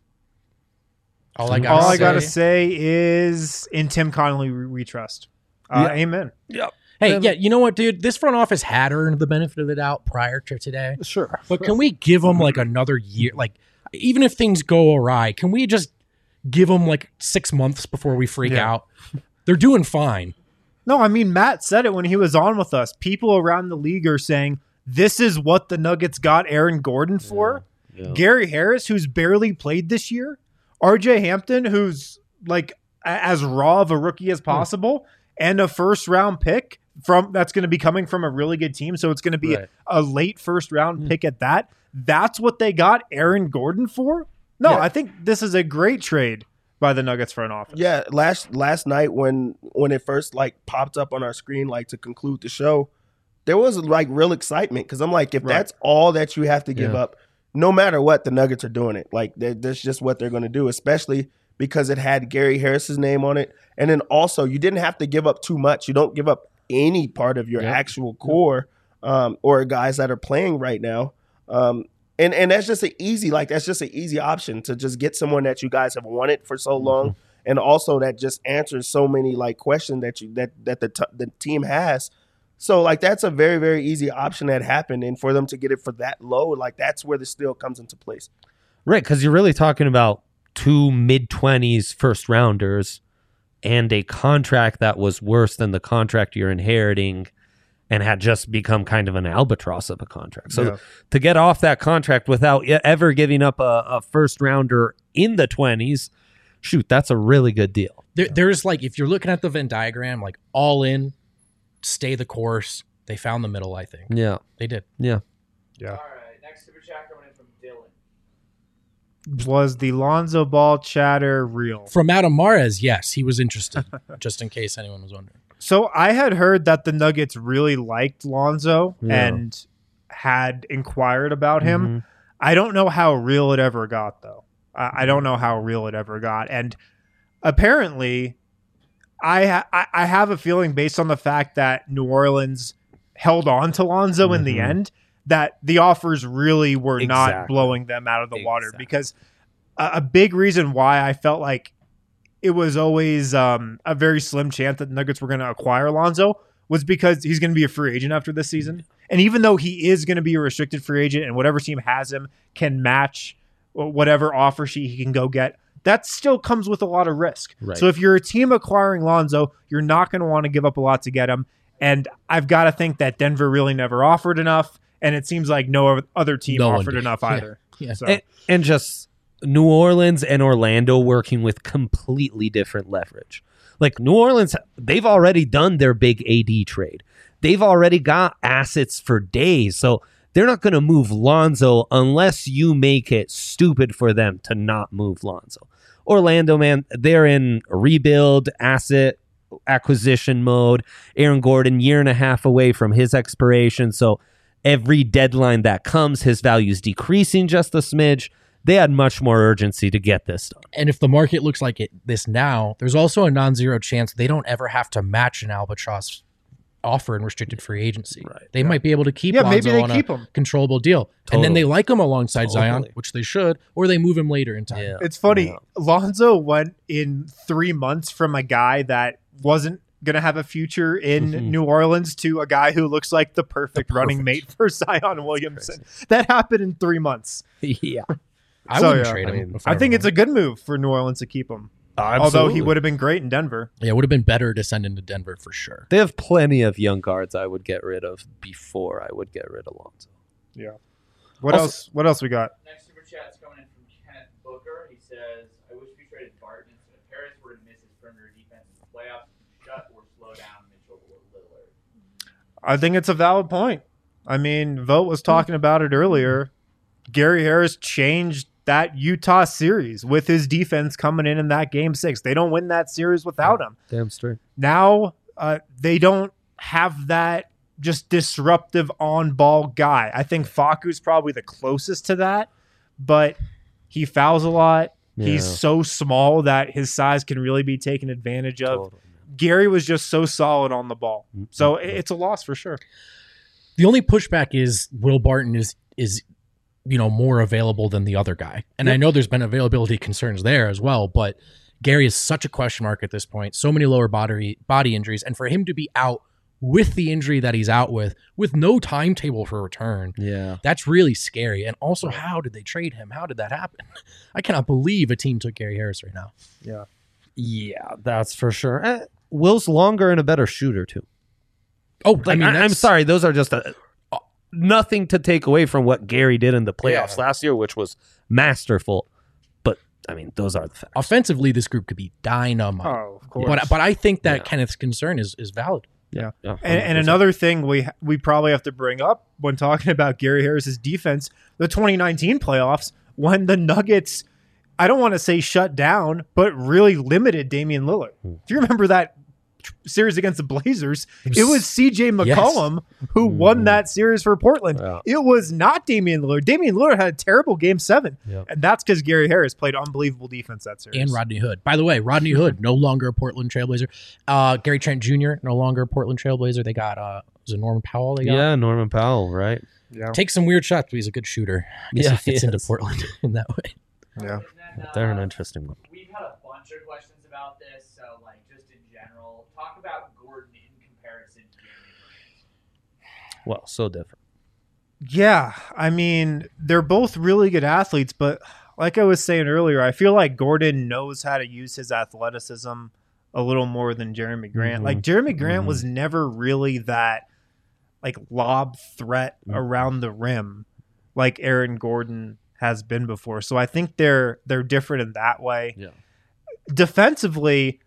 All I got. All I gotta say is in Tim Connolly we, we trust. Uh, Yeah. Amen. Hey, yeah, you know what, dude? This front office had earned the benefit of the doubt prior to today. Sure. But can we give them like another year? Like, even if things go awry, can we just give them like six months before we freak Yeah. out? They're doing fine. No, I mean Matt said it when he was on with us. People around the league are saying this is what the Nuggets got Aaron Gordon for. Yeah. Gary Harris, who's barely played this year. R J Hampton, who's like a- as raw of a rookie as possible, and a first round pick from that's going to be coming from a really good team. So it's going to be Right. a, a late first round pick at that. That's what they got Aaron Gordon for. No, Yeah. I think this is a great trade by the Nuggets front office. Yeah, last last night when when it first like popped up on our screen, like to conclude the show, there was like real excitement because I'm like, if Right. that's all that you have to give Yeah. up, no matter what, the Nuggets are doing it. Like that- that's just what they're going to do, especially because it had Gary Harris's name on it, and then also you didn't have to give up too much. You don't give up any part of your Yep. actual core um, or guys that are playing right now. Um, and and that's just an easy like that's just an easy option to just get someone that you guys have wanted for so long, and also that just answers so many like questions that you that that the t- the team has. So like that's a very very easy option that happened, and for them to get it for that low, like that's where the steal comes into place. Right, because you're really talking about two mid-twenties first rounders and a contract that was worse than the contract you're inheriting and had just become kind of an albatross of a contract. So Yeah. to get off that contract without e- ever giving up a, a first rounder in the twenties, shoot, that's a really good deal. There, there's like, if you're looking at the Venn diagram, like all in, stay the course. They found the middle, I think. Yeah, They did. yeah. Yeah. All right, next super chat coming in from Dylan. Was the Lonzo Ball chatter real? From Adam Mares, yes, he was interested, just in case anyone was wondering. So I had heard that the Nuggets really liked Lonzo Yeah. and had inquired about him. Mhm. I don't know how real it ever got, though. I, I don't know how real it ever got. And apparently, I, ha- I I have a feeling based on the fact that New Orleans held on to Lonzo in the Mhm. end that the offers really were not Exactly. blowing them out of the water. Exactly. Because a, a big reason why I felt like it was always um, a very slim chance that the Nuggets were going to acquire Lonzo was because he's going to be a free agent after this season. And even though he is going to be a restricted free agent and whatever team has him can match whatever offer sheet he can go get, that still comes with a lot of risk. Right. So if you're a team acquiring Lonzo, you're not going to want to give up a lot to get him. And I've got to think that Denver really never offered enough. And it seems like no other team No one offered did. enough Yeah. either. Yeah. So, And, and just New Orleans and Orlando working with completely different leverage. Like New Orleans, they've already done their big A D trade. They've already got assets for days. So they're not going to move Lonzo unless you make it stupid for them to not move Lonzo. Orlando, man, they're in a rebuild, asset acquisition mode. Aaron Gordon, year and a half away from his expiration. So every deadline that comes, his value is decreasing just a smidge. They had much more urgency to get this done. And if the market looks like it this now, there's also a non-zero chance they don't ever have to match an Albatross offer in restricted free agency. Right. They yeah. might be able to keep yeah, Lonzo maybe they on keep a him. controllable deal. Totally. And then they like him alongside Totally. Zion, which they should, or they move him later in time. Yeah. It's funny. Yeah. Lonzo went in three months from a guy that wasn't going to have a future in Mhm. New Orleans to a guy who looks like the perfect, The running perfect. mate for Zion Williamson. That happened in three months. Yeah. I So, wouldn't yeah, trade I him. mean, if I think were it's a him. good move for New Orleans to keep him. Although he would have been great in Denver. Yeah, it would have been better to send him to Denver for sure. They have plenty of young guards I would get rid of before I would get rid of Lonzo. Yeah. What Also- else? What else we got? Next super chat is coming in from Kenneth Booker. He says, I wish we traded Barton instead of Harris were to miss his perimeter defense in the playoffs, shut or slow down Mitchell or Lillard. I think it's a valid point. I mean, Vogt was talking about it earlier. Gary Harris changed that Utah series with his defense coming in in that game six. They don't win that series without him. Damn straight. Now uh, they don't have that just disruptive on-ball guy. I think Facu's probably the closest to that, but he fouls a lot. He's Yeah. so small that his size can really be taken advantage of. Totally. Gary was just so solid on the ball. Mm-hmm. So it- it's a loss for sure. The only pushback is Will Barton is is you know more available than the other guy, and I know there's been availability concerns there as well. But Gary is such a question mark at this point. So many lower body body injuries, and for him to be out with the injury that he's out with, with no timetable for return, Yeah. that's really scary. And also, how did they trade him? How did that happen? I cannot believe a team took Gary Harris right now. Yeah. Yeah, that's for sure. Eh, Will's longer and a better shooter too. Oh, Like, I mean, I, I'm that's- sorry, those are just a, uh, nothing to take away from what Gary did in the playoffs Yeah. last year, which was masterful. But I mean, those are the facts. Offensively, this group could be dynamite. Oh, of course. But but I think that Yeah. Kenneth's concern is is valid. Yeah. Yeah, And, and another thing we we probably have to bring up when talking about Gary Harris's defense, the twenty nineteen playoffs, when the Nuggets, I don't want to say shut down, but really limited Damian Lillard. Hmm. If you remember that tr- series against the Blazers, it was C J McCollum who won that series for Portland. Yeah. It was not Damian Lillard. Damian Lillard had a terrible game seven. Yeah. And that's because Gary Harris played unbelievable defense that series. And Rodney Hood. By the way, Rodney Hood, no longer a Portland Trailblazer. Uh, Gary Trent Junior, no longer a Portland Trailblazer. They got, uh, was it Norman Powell they got? Yeah, Norman Powell, right? Yeah. Takes some weird shots, but he's a good shooter. I guess Yeah, he fits he into is. Portland in that way. Yeah. And then, They're an uh, interesting one. We've had a bunch of questions about this, so like just in general, talk about Gordon in comparison to Jeremy Grant. Well, so different. Yeah, I mean, they're both really good athletes, but like I was saying earlier, I feel like Gordon knows how to use his athleticism a little more than Jeremy Grant. Mhm. Like Jeremy Grant Mhm. was never really that like lob threat Mhm. around the rim like Aaron Gordon has been before. So I think they're they're different in that way. Yeah. Defensively,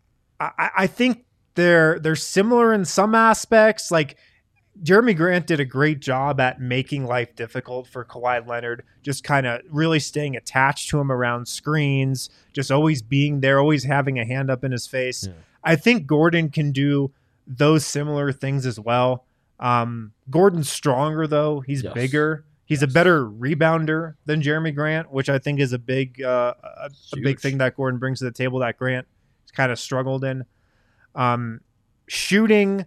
I, I think they're they're similar in some aspects. Like Jeremy Grant did a great job at making life difficult for Kawhi Leonard, just kind of really staying attached to him around screens, just always being there, always having a hand up in his face. Yeah. I think Gordon can do those similar things as well. Um, Gordon's stronger though. He's Yes. bigger. He's a better rebounder than Jeremy Grant, which I think is a big uh, a, a big Huge. thing that Gordon brings to the table that Grant has kind of struggled in. Um, shooting,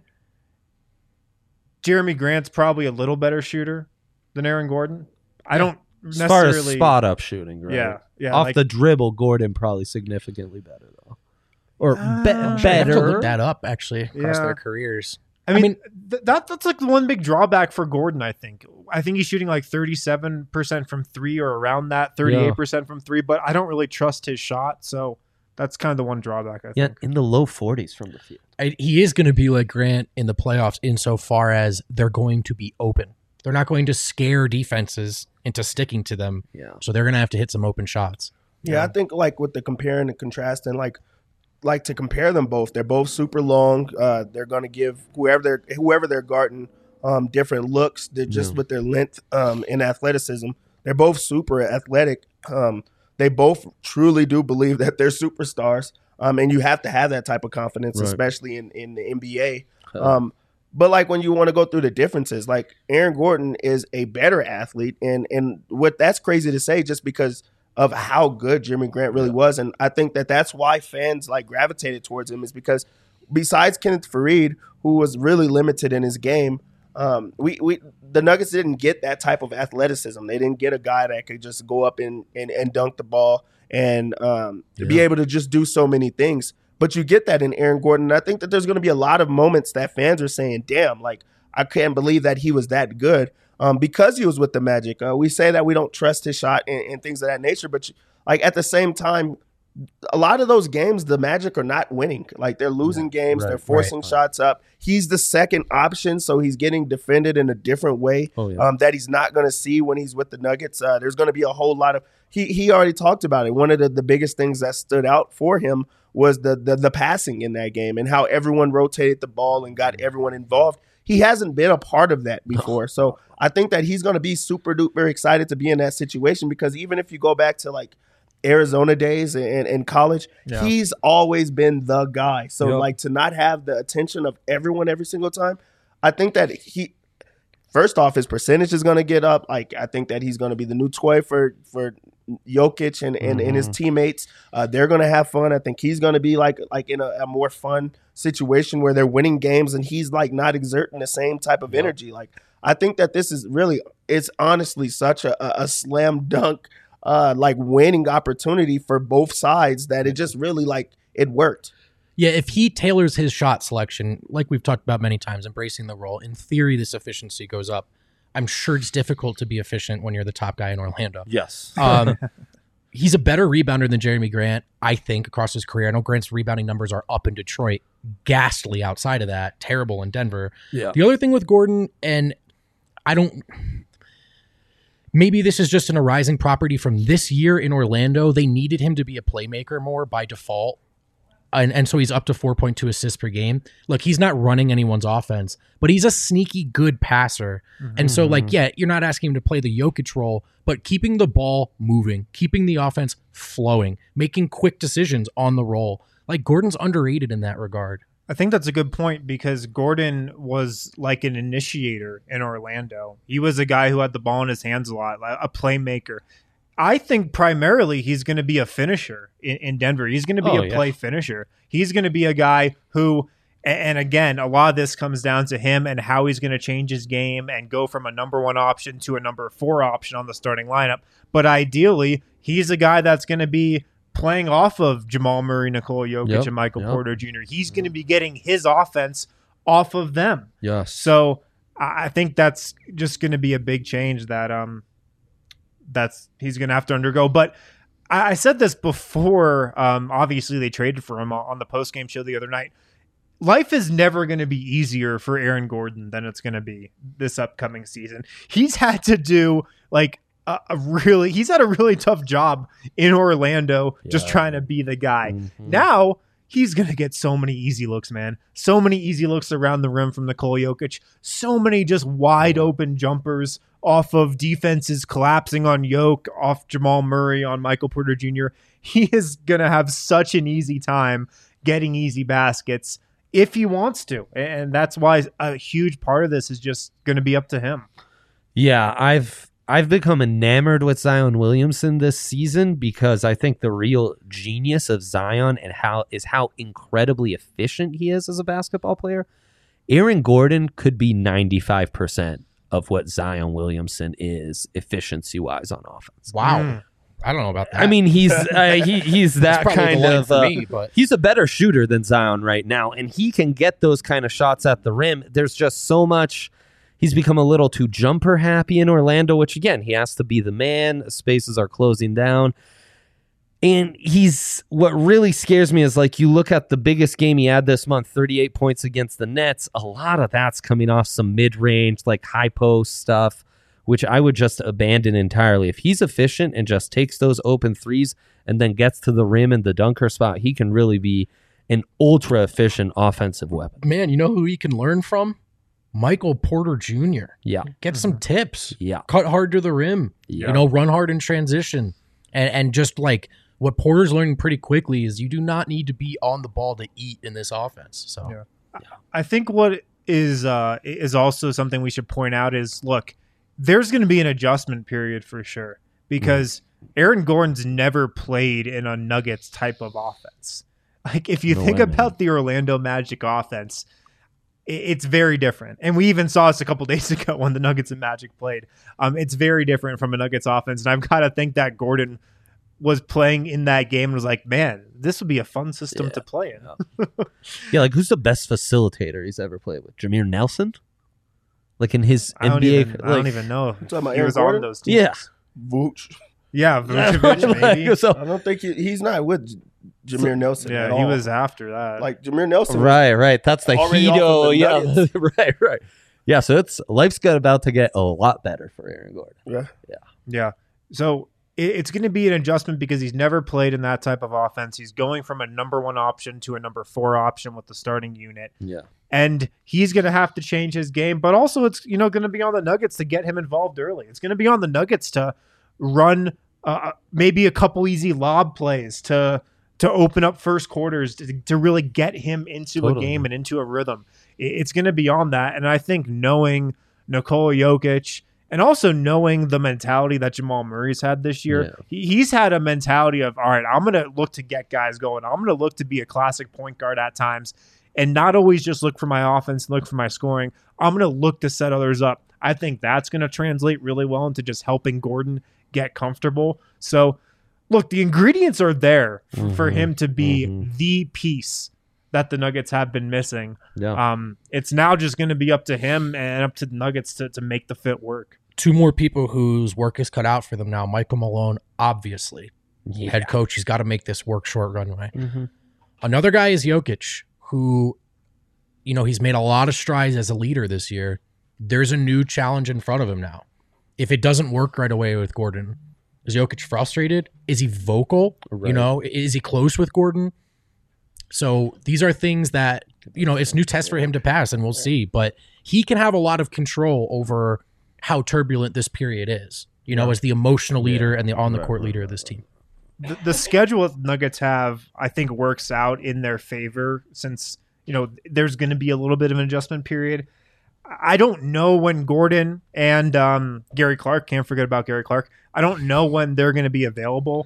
Jeremy Grant's probably a little better shooter than Aaron Gordon. I don't As far as necessarily spot up shooting, right? Yeah, yeah. Off like- the dribble, Gordon probably significantly better though, or be- Uh, I have to better. look that up actually across Yeah. their careers. I mean, mean- th- that that's like the one big drawback for Gordon. I think. I think he's shooting like thirty-seven percent from three or around that, thirty-eight percent from three. But I don't really trust his shot, so that's kind of the one drawback. I Yeah, think. in the low forties from the field. I, he is going to be like Grant in the playoffs insofar as they're going to be open. They're not going to scare defenses into sticking to them. Yeah. So they're going to have to hit some open shots. Yeah, I think like with the comparing and contrasting, like like to compare them both. They're both super long. Uh, they're going to give whoever they're whoever they're guarding um, different looks. They're just Yeah. with their length um, and athleticism. They're both super athletic. Um, They both truly do believe that they're superstars. Um, and you have to have that type of confidence, Right. especially in, in the N B A. Um, but like when you want to go through the differences, like Aaron Gordon is a better athlete. And, and what that's crazy to say just because of how good Jimmy Grant really was. And I think that that's why fans like gravitated towards him, is because besides Kenneth Faried, who was really limited in his game, um, we, we the Nuggets didn't get that type of athleticism. They didn't get a guy that could just go up and, and, and dunk the ball and um, Yeah. be able to just do so many things. But you get that in Aaron Gordon. And I think that there's going to be a lot of moments that fans are saying, damn, like, I can't believe that he was that good um, because he was with the Magic. Uh, we say that we don't trust his shot and, and things of that nature. But, you, like, at the same time, a lot of those games, the Magic are not winning. Like, they're losing games. right, they're forcing right, right. shots up. He's the second option, so he's getting defended in a different way Oh, yeah. um, that he's not going to see when he's with the Nuggets. Uh, there's going to be a whole lot of he, – he already talked about it. One of the, the biggest things that stood out for him was the, the the passing in that game and how everyone rotated the ball and got everyone involved. He hasn't been a part of that before. So I think that he's going to be super duper excited to be in that situation, because even if you go back to like Arizona days in, in college, Yeah. he's always been the guy. So Yep. like to not have the attention of everyone every single time, I think that he, first off, his percentage is going to get up. Like I think that he's going to be the new toy for for Jokic and, and, and his teammates. Uh, they're going to have fun. I think he's going to be like like in a, a more fun situation where they're winning games and he's like not exerting the same type of energy. Like I think that this is really, it's honestly such a, a, a slam dunk uh, like winning opportunity for both sides that it just really like it worked. Yeah, if he tailors his shot selection, like we've talked about many times, embracing the role, in theory, this efficiency goes up. I'm sure it's difficult to be efficient when you're the top guy in Orlando. Yes. Um, he's a better rebounder than Jeremy Grant, I think, across his career. I know Grant's rebounding numbers are up in Detroit, ghastly outside of that, terrible in Denver. Yeah. The other thing with Gordon, and I don't... Maybe this is just an arising property from this year in Orlando. They needed him to be a playmaker more by default. And, and so he's up to four point two assists per game. Look, he's not running anyone's offense, but he's a sneaky good passer. And so, like, yeah, you're not asking him to play the Jokic role, but keeping the ball moving, keeping the offense flowing, making quick decisions on the roll. Like, Gordon's underrated in that regard. I think that's a good point, because Gordon was like an initiator in Orlando. He was a guy who had the ball in his hands a lot, like a playmaker. I think primarily he's going to be a finisher in, in Denver. He's going to be Oh, a yeah. play finisher. He's going to be a guy who, and again, a lot of this comes down to him and how he's going to change his game and go from a number one option to a number four option on the starting lineup. But ideally, he's a guy that's going to be playing off of Jamal Murray, Nikola Jokic, Yep, and Michael yep. Porter Junior He's going to be getting his offense off of them. Yes. So I I think that's just going to be a big change that um that's he's going to have to undergo. But I, I said this before. Um, obviously, they traded for him on the postgame show the other night. Life is never going to be easier for Aaron Gordon than it's going to be this upcoming season. He's had to do like a, a really, he's had a really tough job in Orlando, just Yeah. trying to be the guy. Mhm. Now he's going to get so many easy looks, man. So many easy looks around the rim from Nikola Jokic. So many just wide open jumpers off of defenses collapsing on Jokic, off Jamal Murray, on Michael Porter Junior He is going to have such an easy time getting easy baskets if he wants to. And that's why a huge part of this is just going to be up to him. Yeah, I've I've become enamored with Zion Williamson this season, because I think the real genius of Zion and how is how incredibly efficient he is as a basketball player. Aaron Gordon could be ninety-five percent of what Zion Williamson is efficiency-wise on offense. Wow. Mm. I don't know about that. I mean, he's uh, he he's that That's probably kind the line of for uh, me, but he's a better shooter than Zion right now, and he can get those kind of shots at the rim. There's just so much. He's become a little too jumper happy in Orlando, which again, he has to be the man. Spaces are closing down. And he's, what really scares me is like you look at the biggest game he had this month, thirty-eight points against the Nets. A lot of that's coming off some mid-range, like high post stuff, which I would just abandon entirely. If he's efficient and just takes those open threes and then gets to the rim and the dunker spot, he can really be an ultra efficient offensive weapon. man, you know who he can learn from? Michael Porter Junior Yeah. Get some tips. Yeah. Cut hard to the rim. Yeah. You know, run hard in transition. And and just like what Porter's learning pretty quickly is you do not need to be on the ball to eat in this offense. So yeah. I think what is uh, is also something we should point out is, look, there's going to be an adjustment period for sure because mm. Aaron Gordon's never played in a Nuggets type of offense. Like if you no think way, about man. the Orlando Magic offense, it's very different. And we even saw this a couple days ago when the Nuggets and Magic played. Um, it's very different from a Nuggets offense. And I've got to think that Gordon was playing in that game and was like, man, this would be a fun system yeah. to play in. yeah, like who's the best facilitator he's ever played with? Jameer Nelson? Like in his I N B A? Even, like, I don't even know. He Aaron was Gordon? on those teams. Yeah. Vooch. Yeah, Vucevic maybe. so, I don't think he, he's not with Jameer Nelson. Yeah, at he all. was after that. Like Jameer Nelson. Right, right. That's the Hedo. Yeah, right, right. Yeah, so it's life's got about to get a lot better for Aaron Gordon. Yeah, yeah, yeah. So it, it's going to be an adjustment because he's never played in that type of offense. He's going from a number one option to a number four option with the starting unit. Yeah, and he's going to have to change his game. But also, it's you know going to be on the Nuggets to get him involved early. It's going to be on the Nuggets to run uh, maybe a couple easy lob plays to. to open up first quarters, to, to really get him into totally. a game and into a rhythm. It's going to be on that. And I think knowing Nikola Jokic and also knowing the mentality that Jamal Murray's had this year, yeah. he, he's had a mentality of, all right, I'm going to look to get guys going. I'm going to look to be a classic point guard at times and not always just look for my offense and look for my scoring. I'm going to look to set others up. I think that's going to translate really well into just helping Gordon get comfortable. So, look, the ingredients are there f- mm-hmm. for him to be mm-hmm. the piece that the Nuggets have been missing. Yeah. Um, it's now just going to be up to him and up to the Nuggets to, to make the fit work. Two more people whose work is cut out for them now. Michael Malone, obviously. Yeah. Head coach, he's got to make this work short runway. Mm-hmm. Another guy is Jokic, who, you know, he's made a lot of strides as a leader this year. There's a new challenge in front of him now. If it doesn't work right away with Gordon, is Jokic frustrated? Is he vocal? Right. You know, is he close with Gordon? So these are things that, you know, it's new tests for him to pass, and we'll see. But he can have a lot of control over how turbulent this period is, you know, as the emotional leader and the on-the-court leader of this team. The, the schedule that the Nuggets have, I think, works out in their favor since, you know, there's going to be a little bit of an adjustment period. I don't know when Gordon and um, Gary Clark, can't forget about Gary Clark, I don't know when they're going to be available.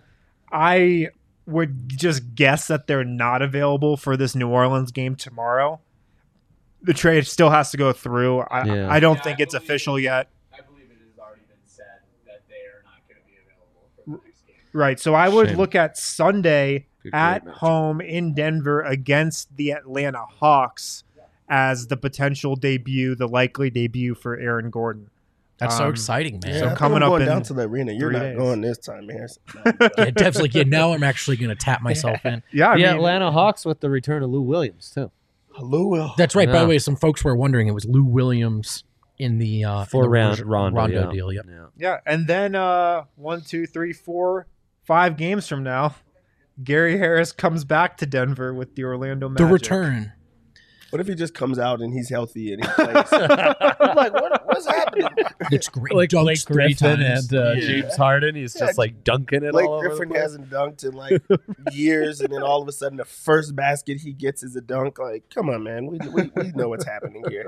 I would just guess that they're not available for this New Orleans game tomorrow. The trade still has to go through. I, Yeah. I don't Yeah, think I it's believe- official yet. I believe it has already been said that they are not going to be available for the next game. Right. So I would Shame. look at Sunday Good at great match. home in Denver against the Atlanta Hawks as the potential debut, the likely debut for Aaron Gordon. That's so Um, exciting, man. Yeah, So I think coming I'm up going in down to the arena. You're three not days. going this time, Harris. Yeah, definitely. Yeah, now I'm actually going to tap myself in. Yeah, I the mean, Atlanta Hawks with the return of Lou Williams too. Hello, Will. That's right. By Yeah. the way, some folks were wondering it was Lou Williams in the uh, Four in the round Rondo, Rondo, yeah. deal. Yep. Yeah. yeah. And then uh, one, two, three, four, five games from now, Gary Harris comes back to Denver with the Orlando Magic. The return. What if he just comes out and he's healthy and he plays? I'm like, what, what's happening? It's great. Like Dunks Blake three Griffin times. and uh, Yeah. James Harden, he's Yeah, just like dunking it Blake all over Griffin the place. hasn't dunked in like years, and then all of a sudden the first basket he gets is a dunk. Like, come on, man, we we, we know what's happening here.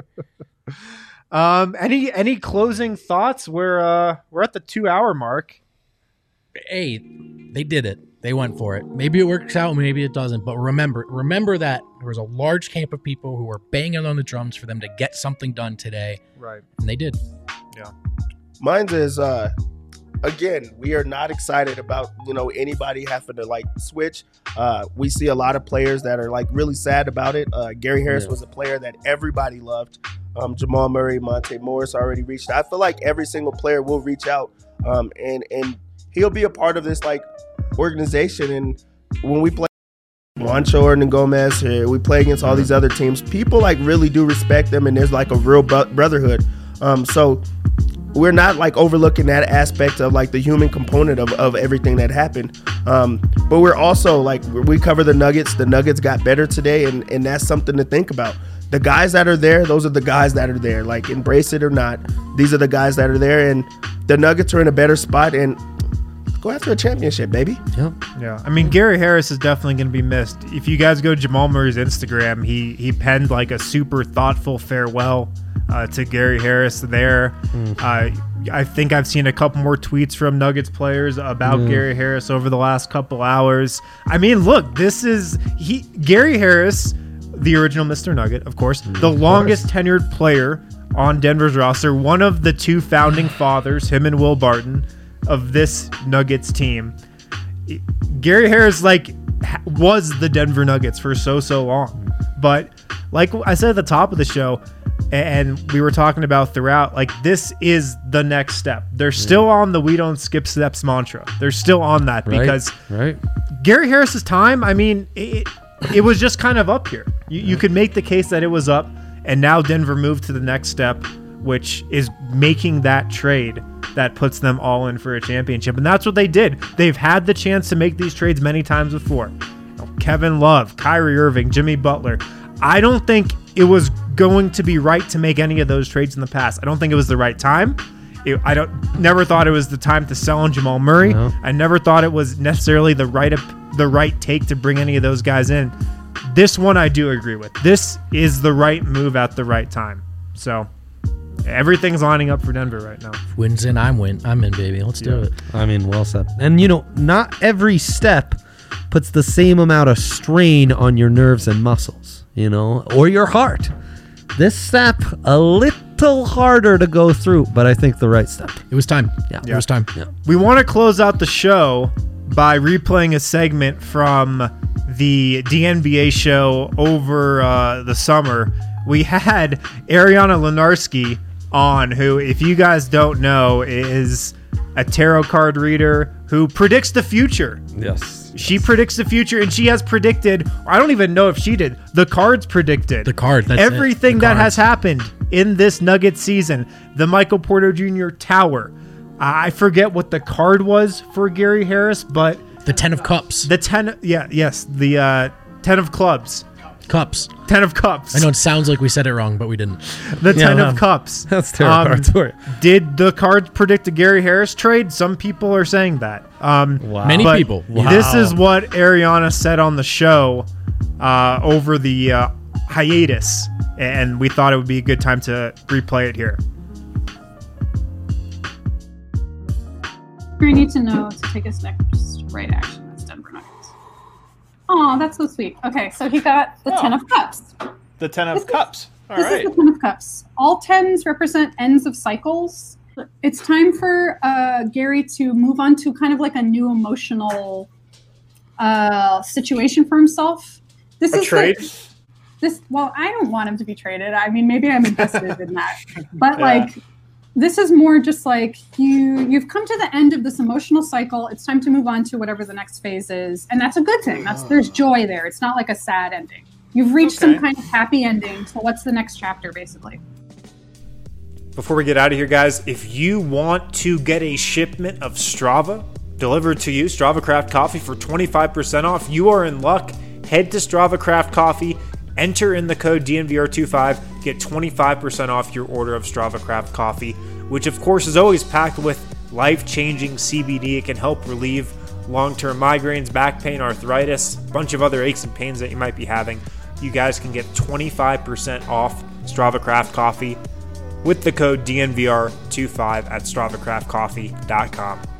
Um, any any closing thoughts? We're uh, we're at the two hour mark. Hey, they did it. They went for it. Maybe it works out, maybe it doesn't. But remember, remember that there was a large camp of people who were banging on the drums for them to get something done today, Right. and they did. Mine's is uh again, we are not excited about, you know, anybody having to like switch. Uh we see a lot of players that are like really sad about it. Uh Gary Harris Yeah. was a player that everybody loved. Um Jamal Murray, Monte Morris already reached. I feel like every single player will reach out um and and he'll be a part of this like organization. And when we play Juancho and Gomez, uh, we play against all these other teams, people like really do respect them, and there's like a real bro- brotherhood. Um so we're not like overlooking that aspect of like the human component of, of everything that happened. Um, but we're also like, we cover the Nuggets. The Nuggets got better today, and, and that's something to think about. The guys that are there, those are the guys that are there. Like, embrace it or not, these are the guys that are there, and the Nuggets are in a better spot. And Go after a championship, baby. Yep. Yeah, I mean, Gary Harris is definitely going to be missed. If you guys go to Jamal Murray's Instagram, he he penned like a super thoughtful farewell uh, to Gary Harris there. Mm. Uh, I think I've seen a couple more tweets from Nuggets players about mm. Gary Harris over the last couple hours. I mean, look, this is he Gary Harris, the original Mister Nugget, of course, mm, the of longest course. tenured player on Denver's roster, one of the two founding fathers, him and Will Barton, of this Nuggets team. Gary Harris like was the Denver Nuggets for so so long, but like I said at the top of the show, and we were talking about throughout, like this is the next step. They're still on the we don't skip steps mantra. They're still on that right, because right. Gary Harris's time, I mean, it, it was just kind of up here. You, you could make the case that it was up, and now Denver moved to the next step, which is making that trade that puts them all in for a championship. And that's what they did. They've had the chance to make these trades many times before. You know, Kevin Love, Kyrie Irving, Jimmy Butler. I don't think it was going to be right to make any of those trades in the past. I don't think it was the right time. It, I don't never thought it was the time to sell on Jamal Murray. No. I never thought it was necessarily the right the right take to bring any of those guys in. This one I do agree with. This is the right move at the right time. So everything's lining up for Denver right now. Wins in, I'm win. I'm in, baby. Let's do yeah. it. I mean, well said. And you know, not every step puts the same amount of strain on your nerves and muscles, you know, or your heart. This step a little harder to go through, but I think the right step. It was time. Yeah, yeah. It was time. Yeah. We want to close out the show by replaying a segment from the D N B A show over uh, the summer. We had Ariana Lenarski on, who, if you guys don't know, is a tarot card reader who predicts the future. Yes. She predicts the future, and she has predicted, I don't even know if she did, the cards predicted. The card, that's everything it. The that cards. has happened in this Nuggets season. The Michael Porter Junior Tower. I forget what the card was for Gary Harris, but the Ten of Cups. The ten, yeah, yes, the uh, Ten of Clubs. Cups. Ten of Cups. I know it sounds like we said it wrong, but we didn't. The yeah, Ten well, of Cups. That's terrible. Um, story. Did the cards predict a Gary Harris trade? Some people are saying that. Um, wow. Many people. Wow. This is what Ariana said on the show uh, over the uh, hiatus, and we thought it would be a good time to replay it here. We need to know to take his next right action. That's Denver Nuggets. Oh, that's so sweet. Okay, so he got the oh. Ten of Cups. The Ten of this Cups. Is, All this right. is the Ten of Cups. All tens represent ends of cycles. It's time for uh, Gary to move on to kind of like a new emotional uh, situation for himself. This a is trade? The, this. Well, I don't want him to be traded. I mean, maybe I'm invested in that, but yeah. like. This is more just like you, you've come to the end of this emotional cycle. It's time to move on to whatever the next phase is. And that's a good thing. That's There's joy there. It's not like a sad ending. You've reached okay. some kind of happy ending. So what's the next chapter, basically? Before we get out of here, guys, if you want to get a shipment of Strava delivered to you, Strava Craft Coffee, for twenty-five percent off, you are in luck. Head to Strava Craft Coffee. Enter in the code D N V R twenty-five, get twenty-five percent off your order of Strava Craft Coffee, which of course is always packed with life-changing C B D. It can help relieve long-term migraines, back pain, arthritis, a bunch of other aches and pains that you might be having. You guys can get twenty-five percent off Strava Craft Coffee with the code D N V R twenty-five at strava craft coffee dot com.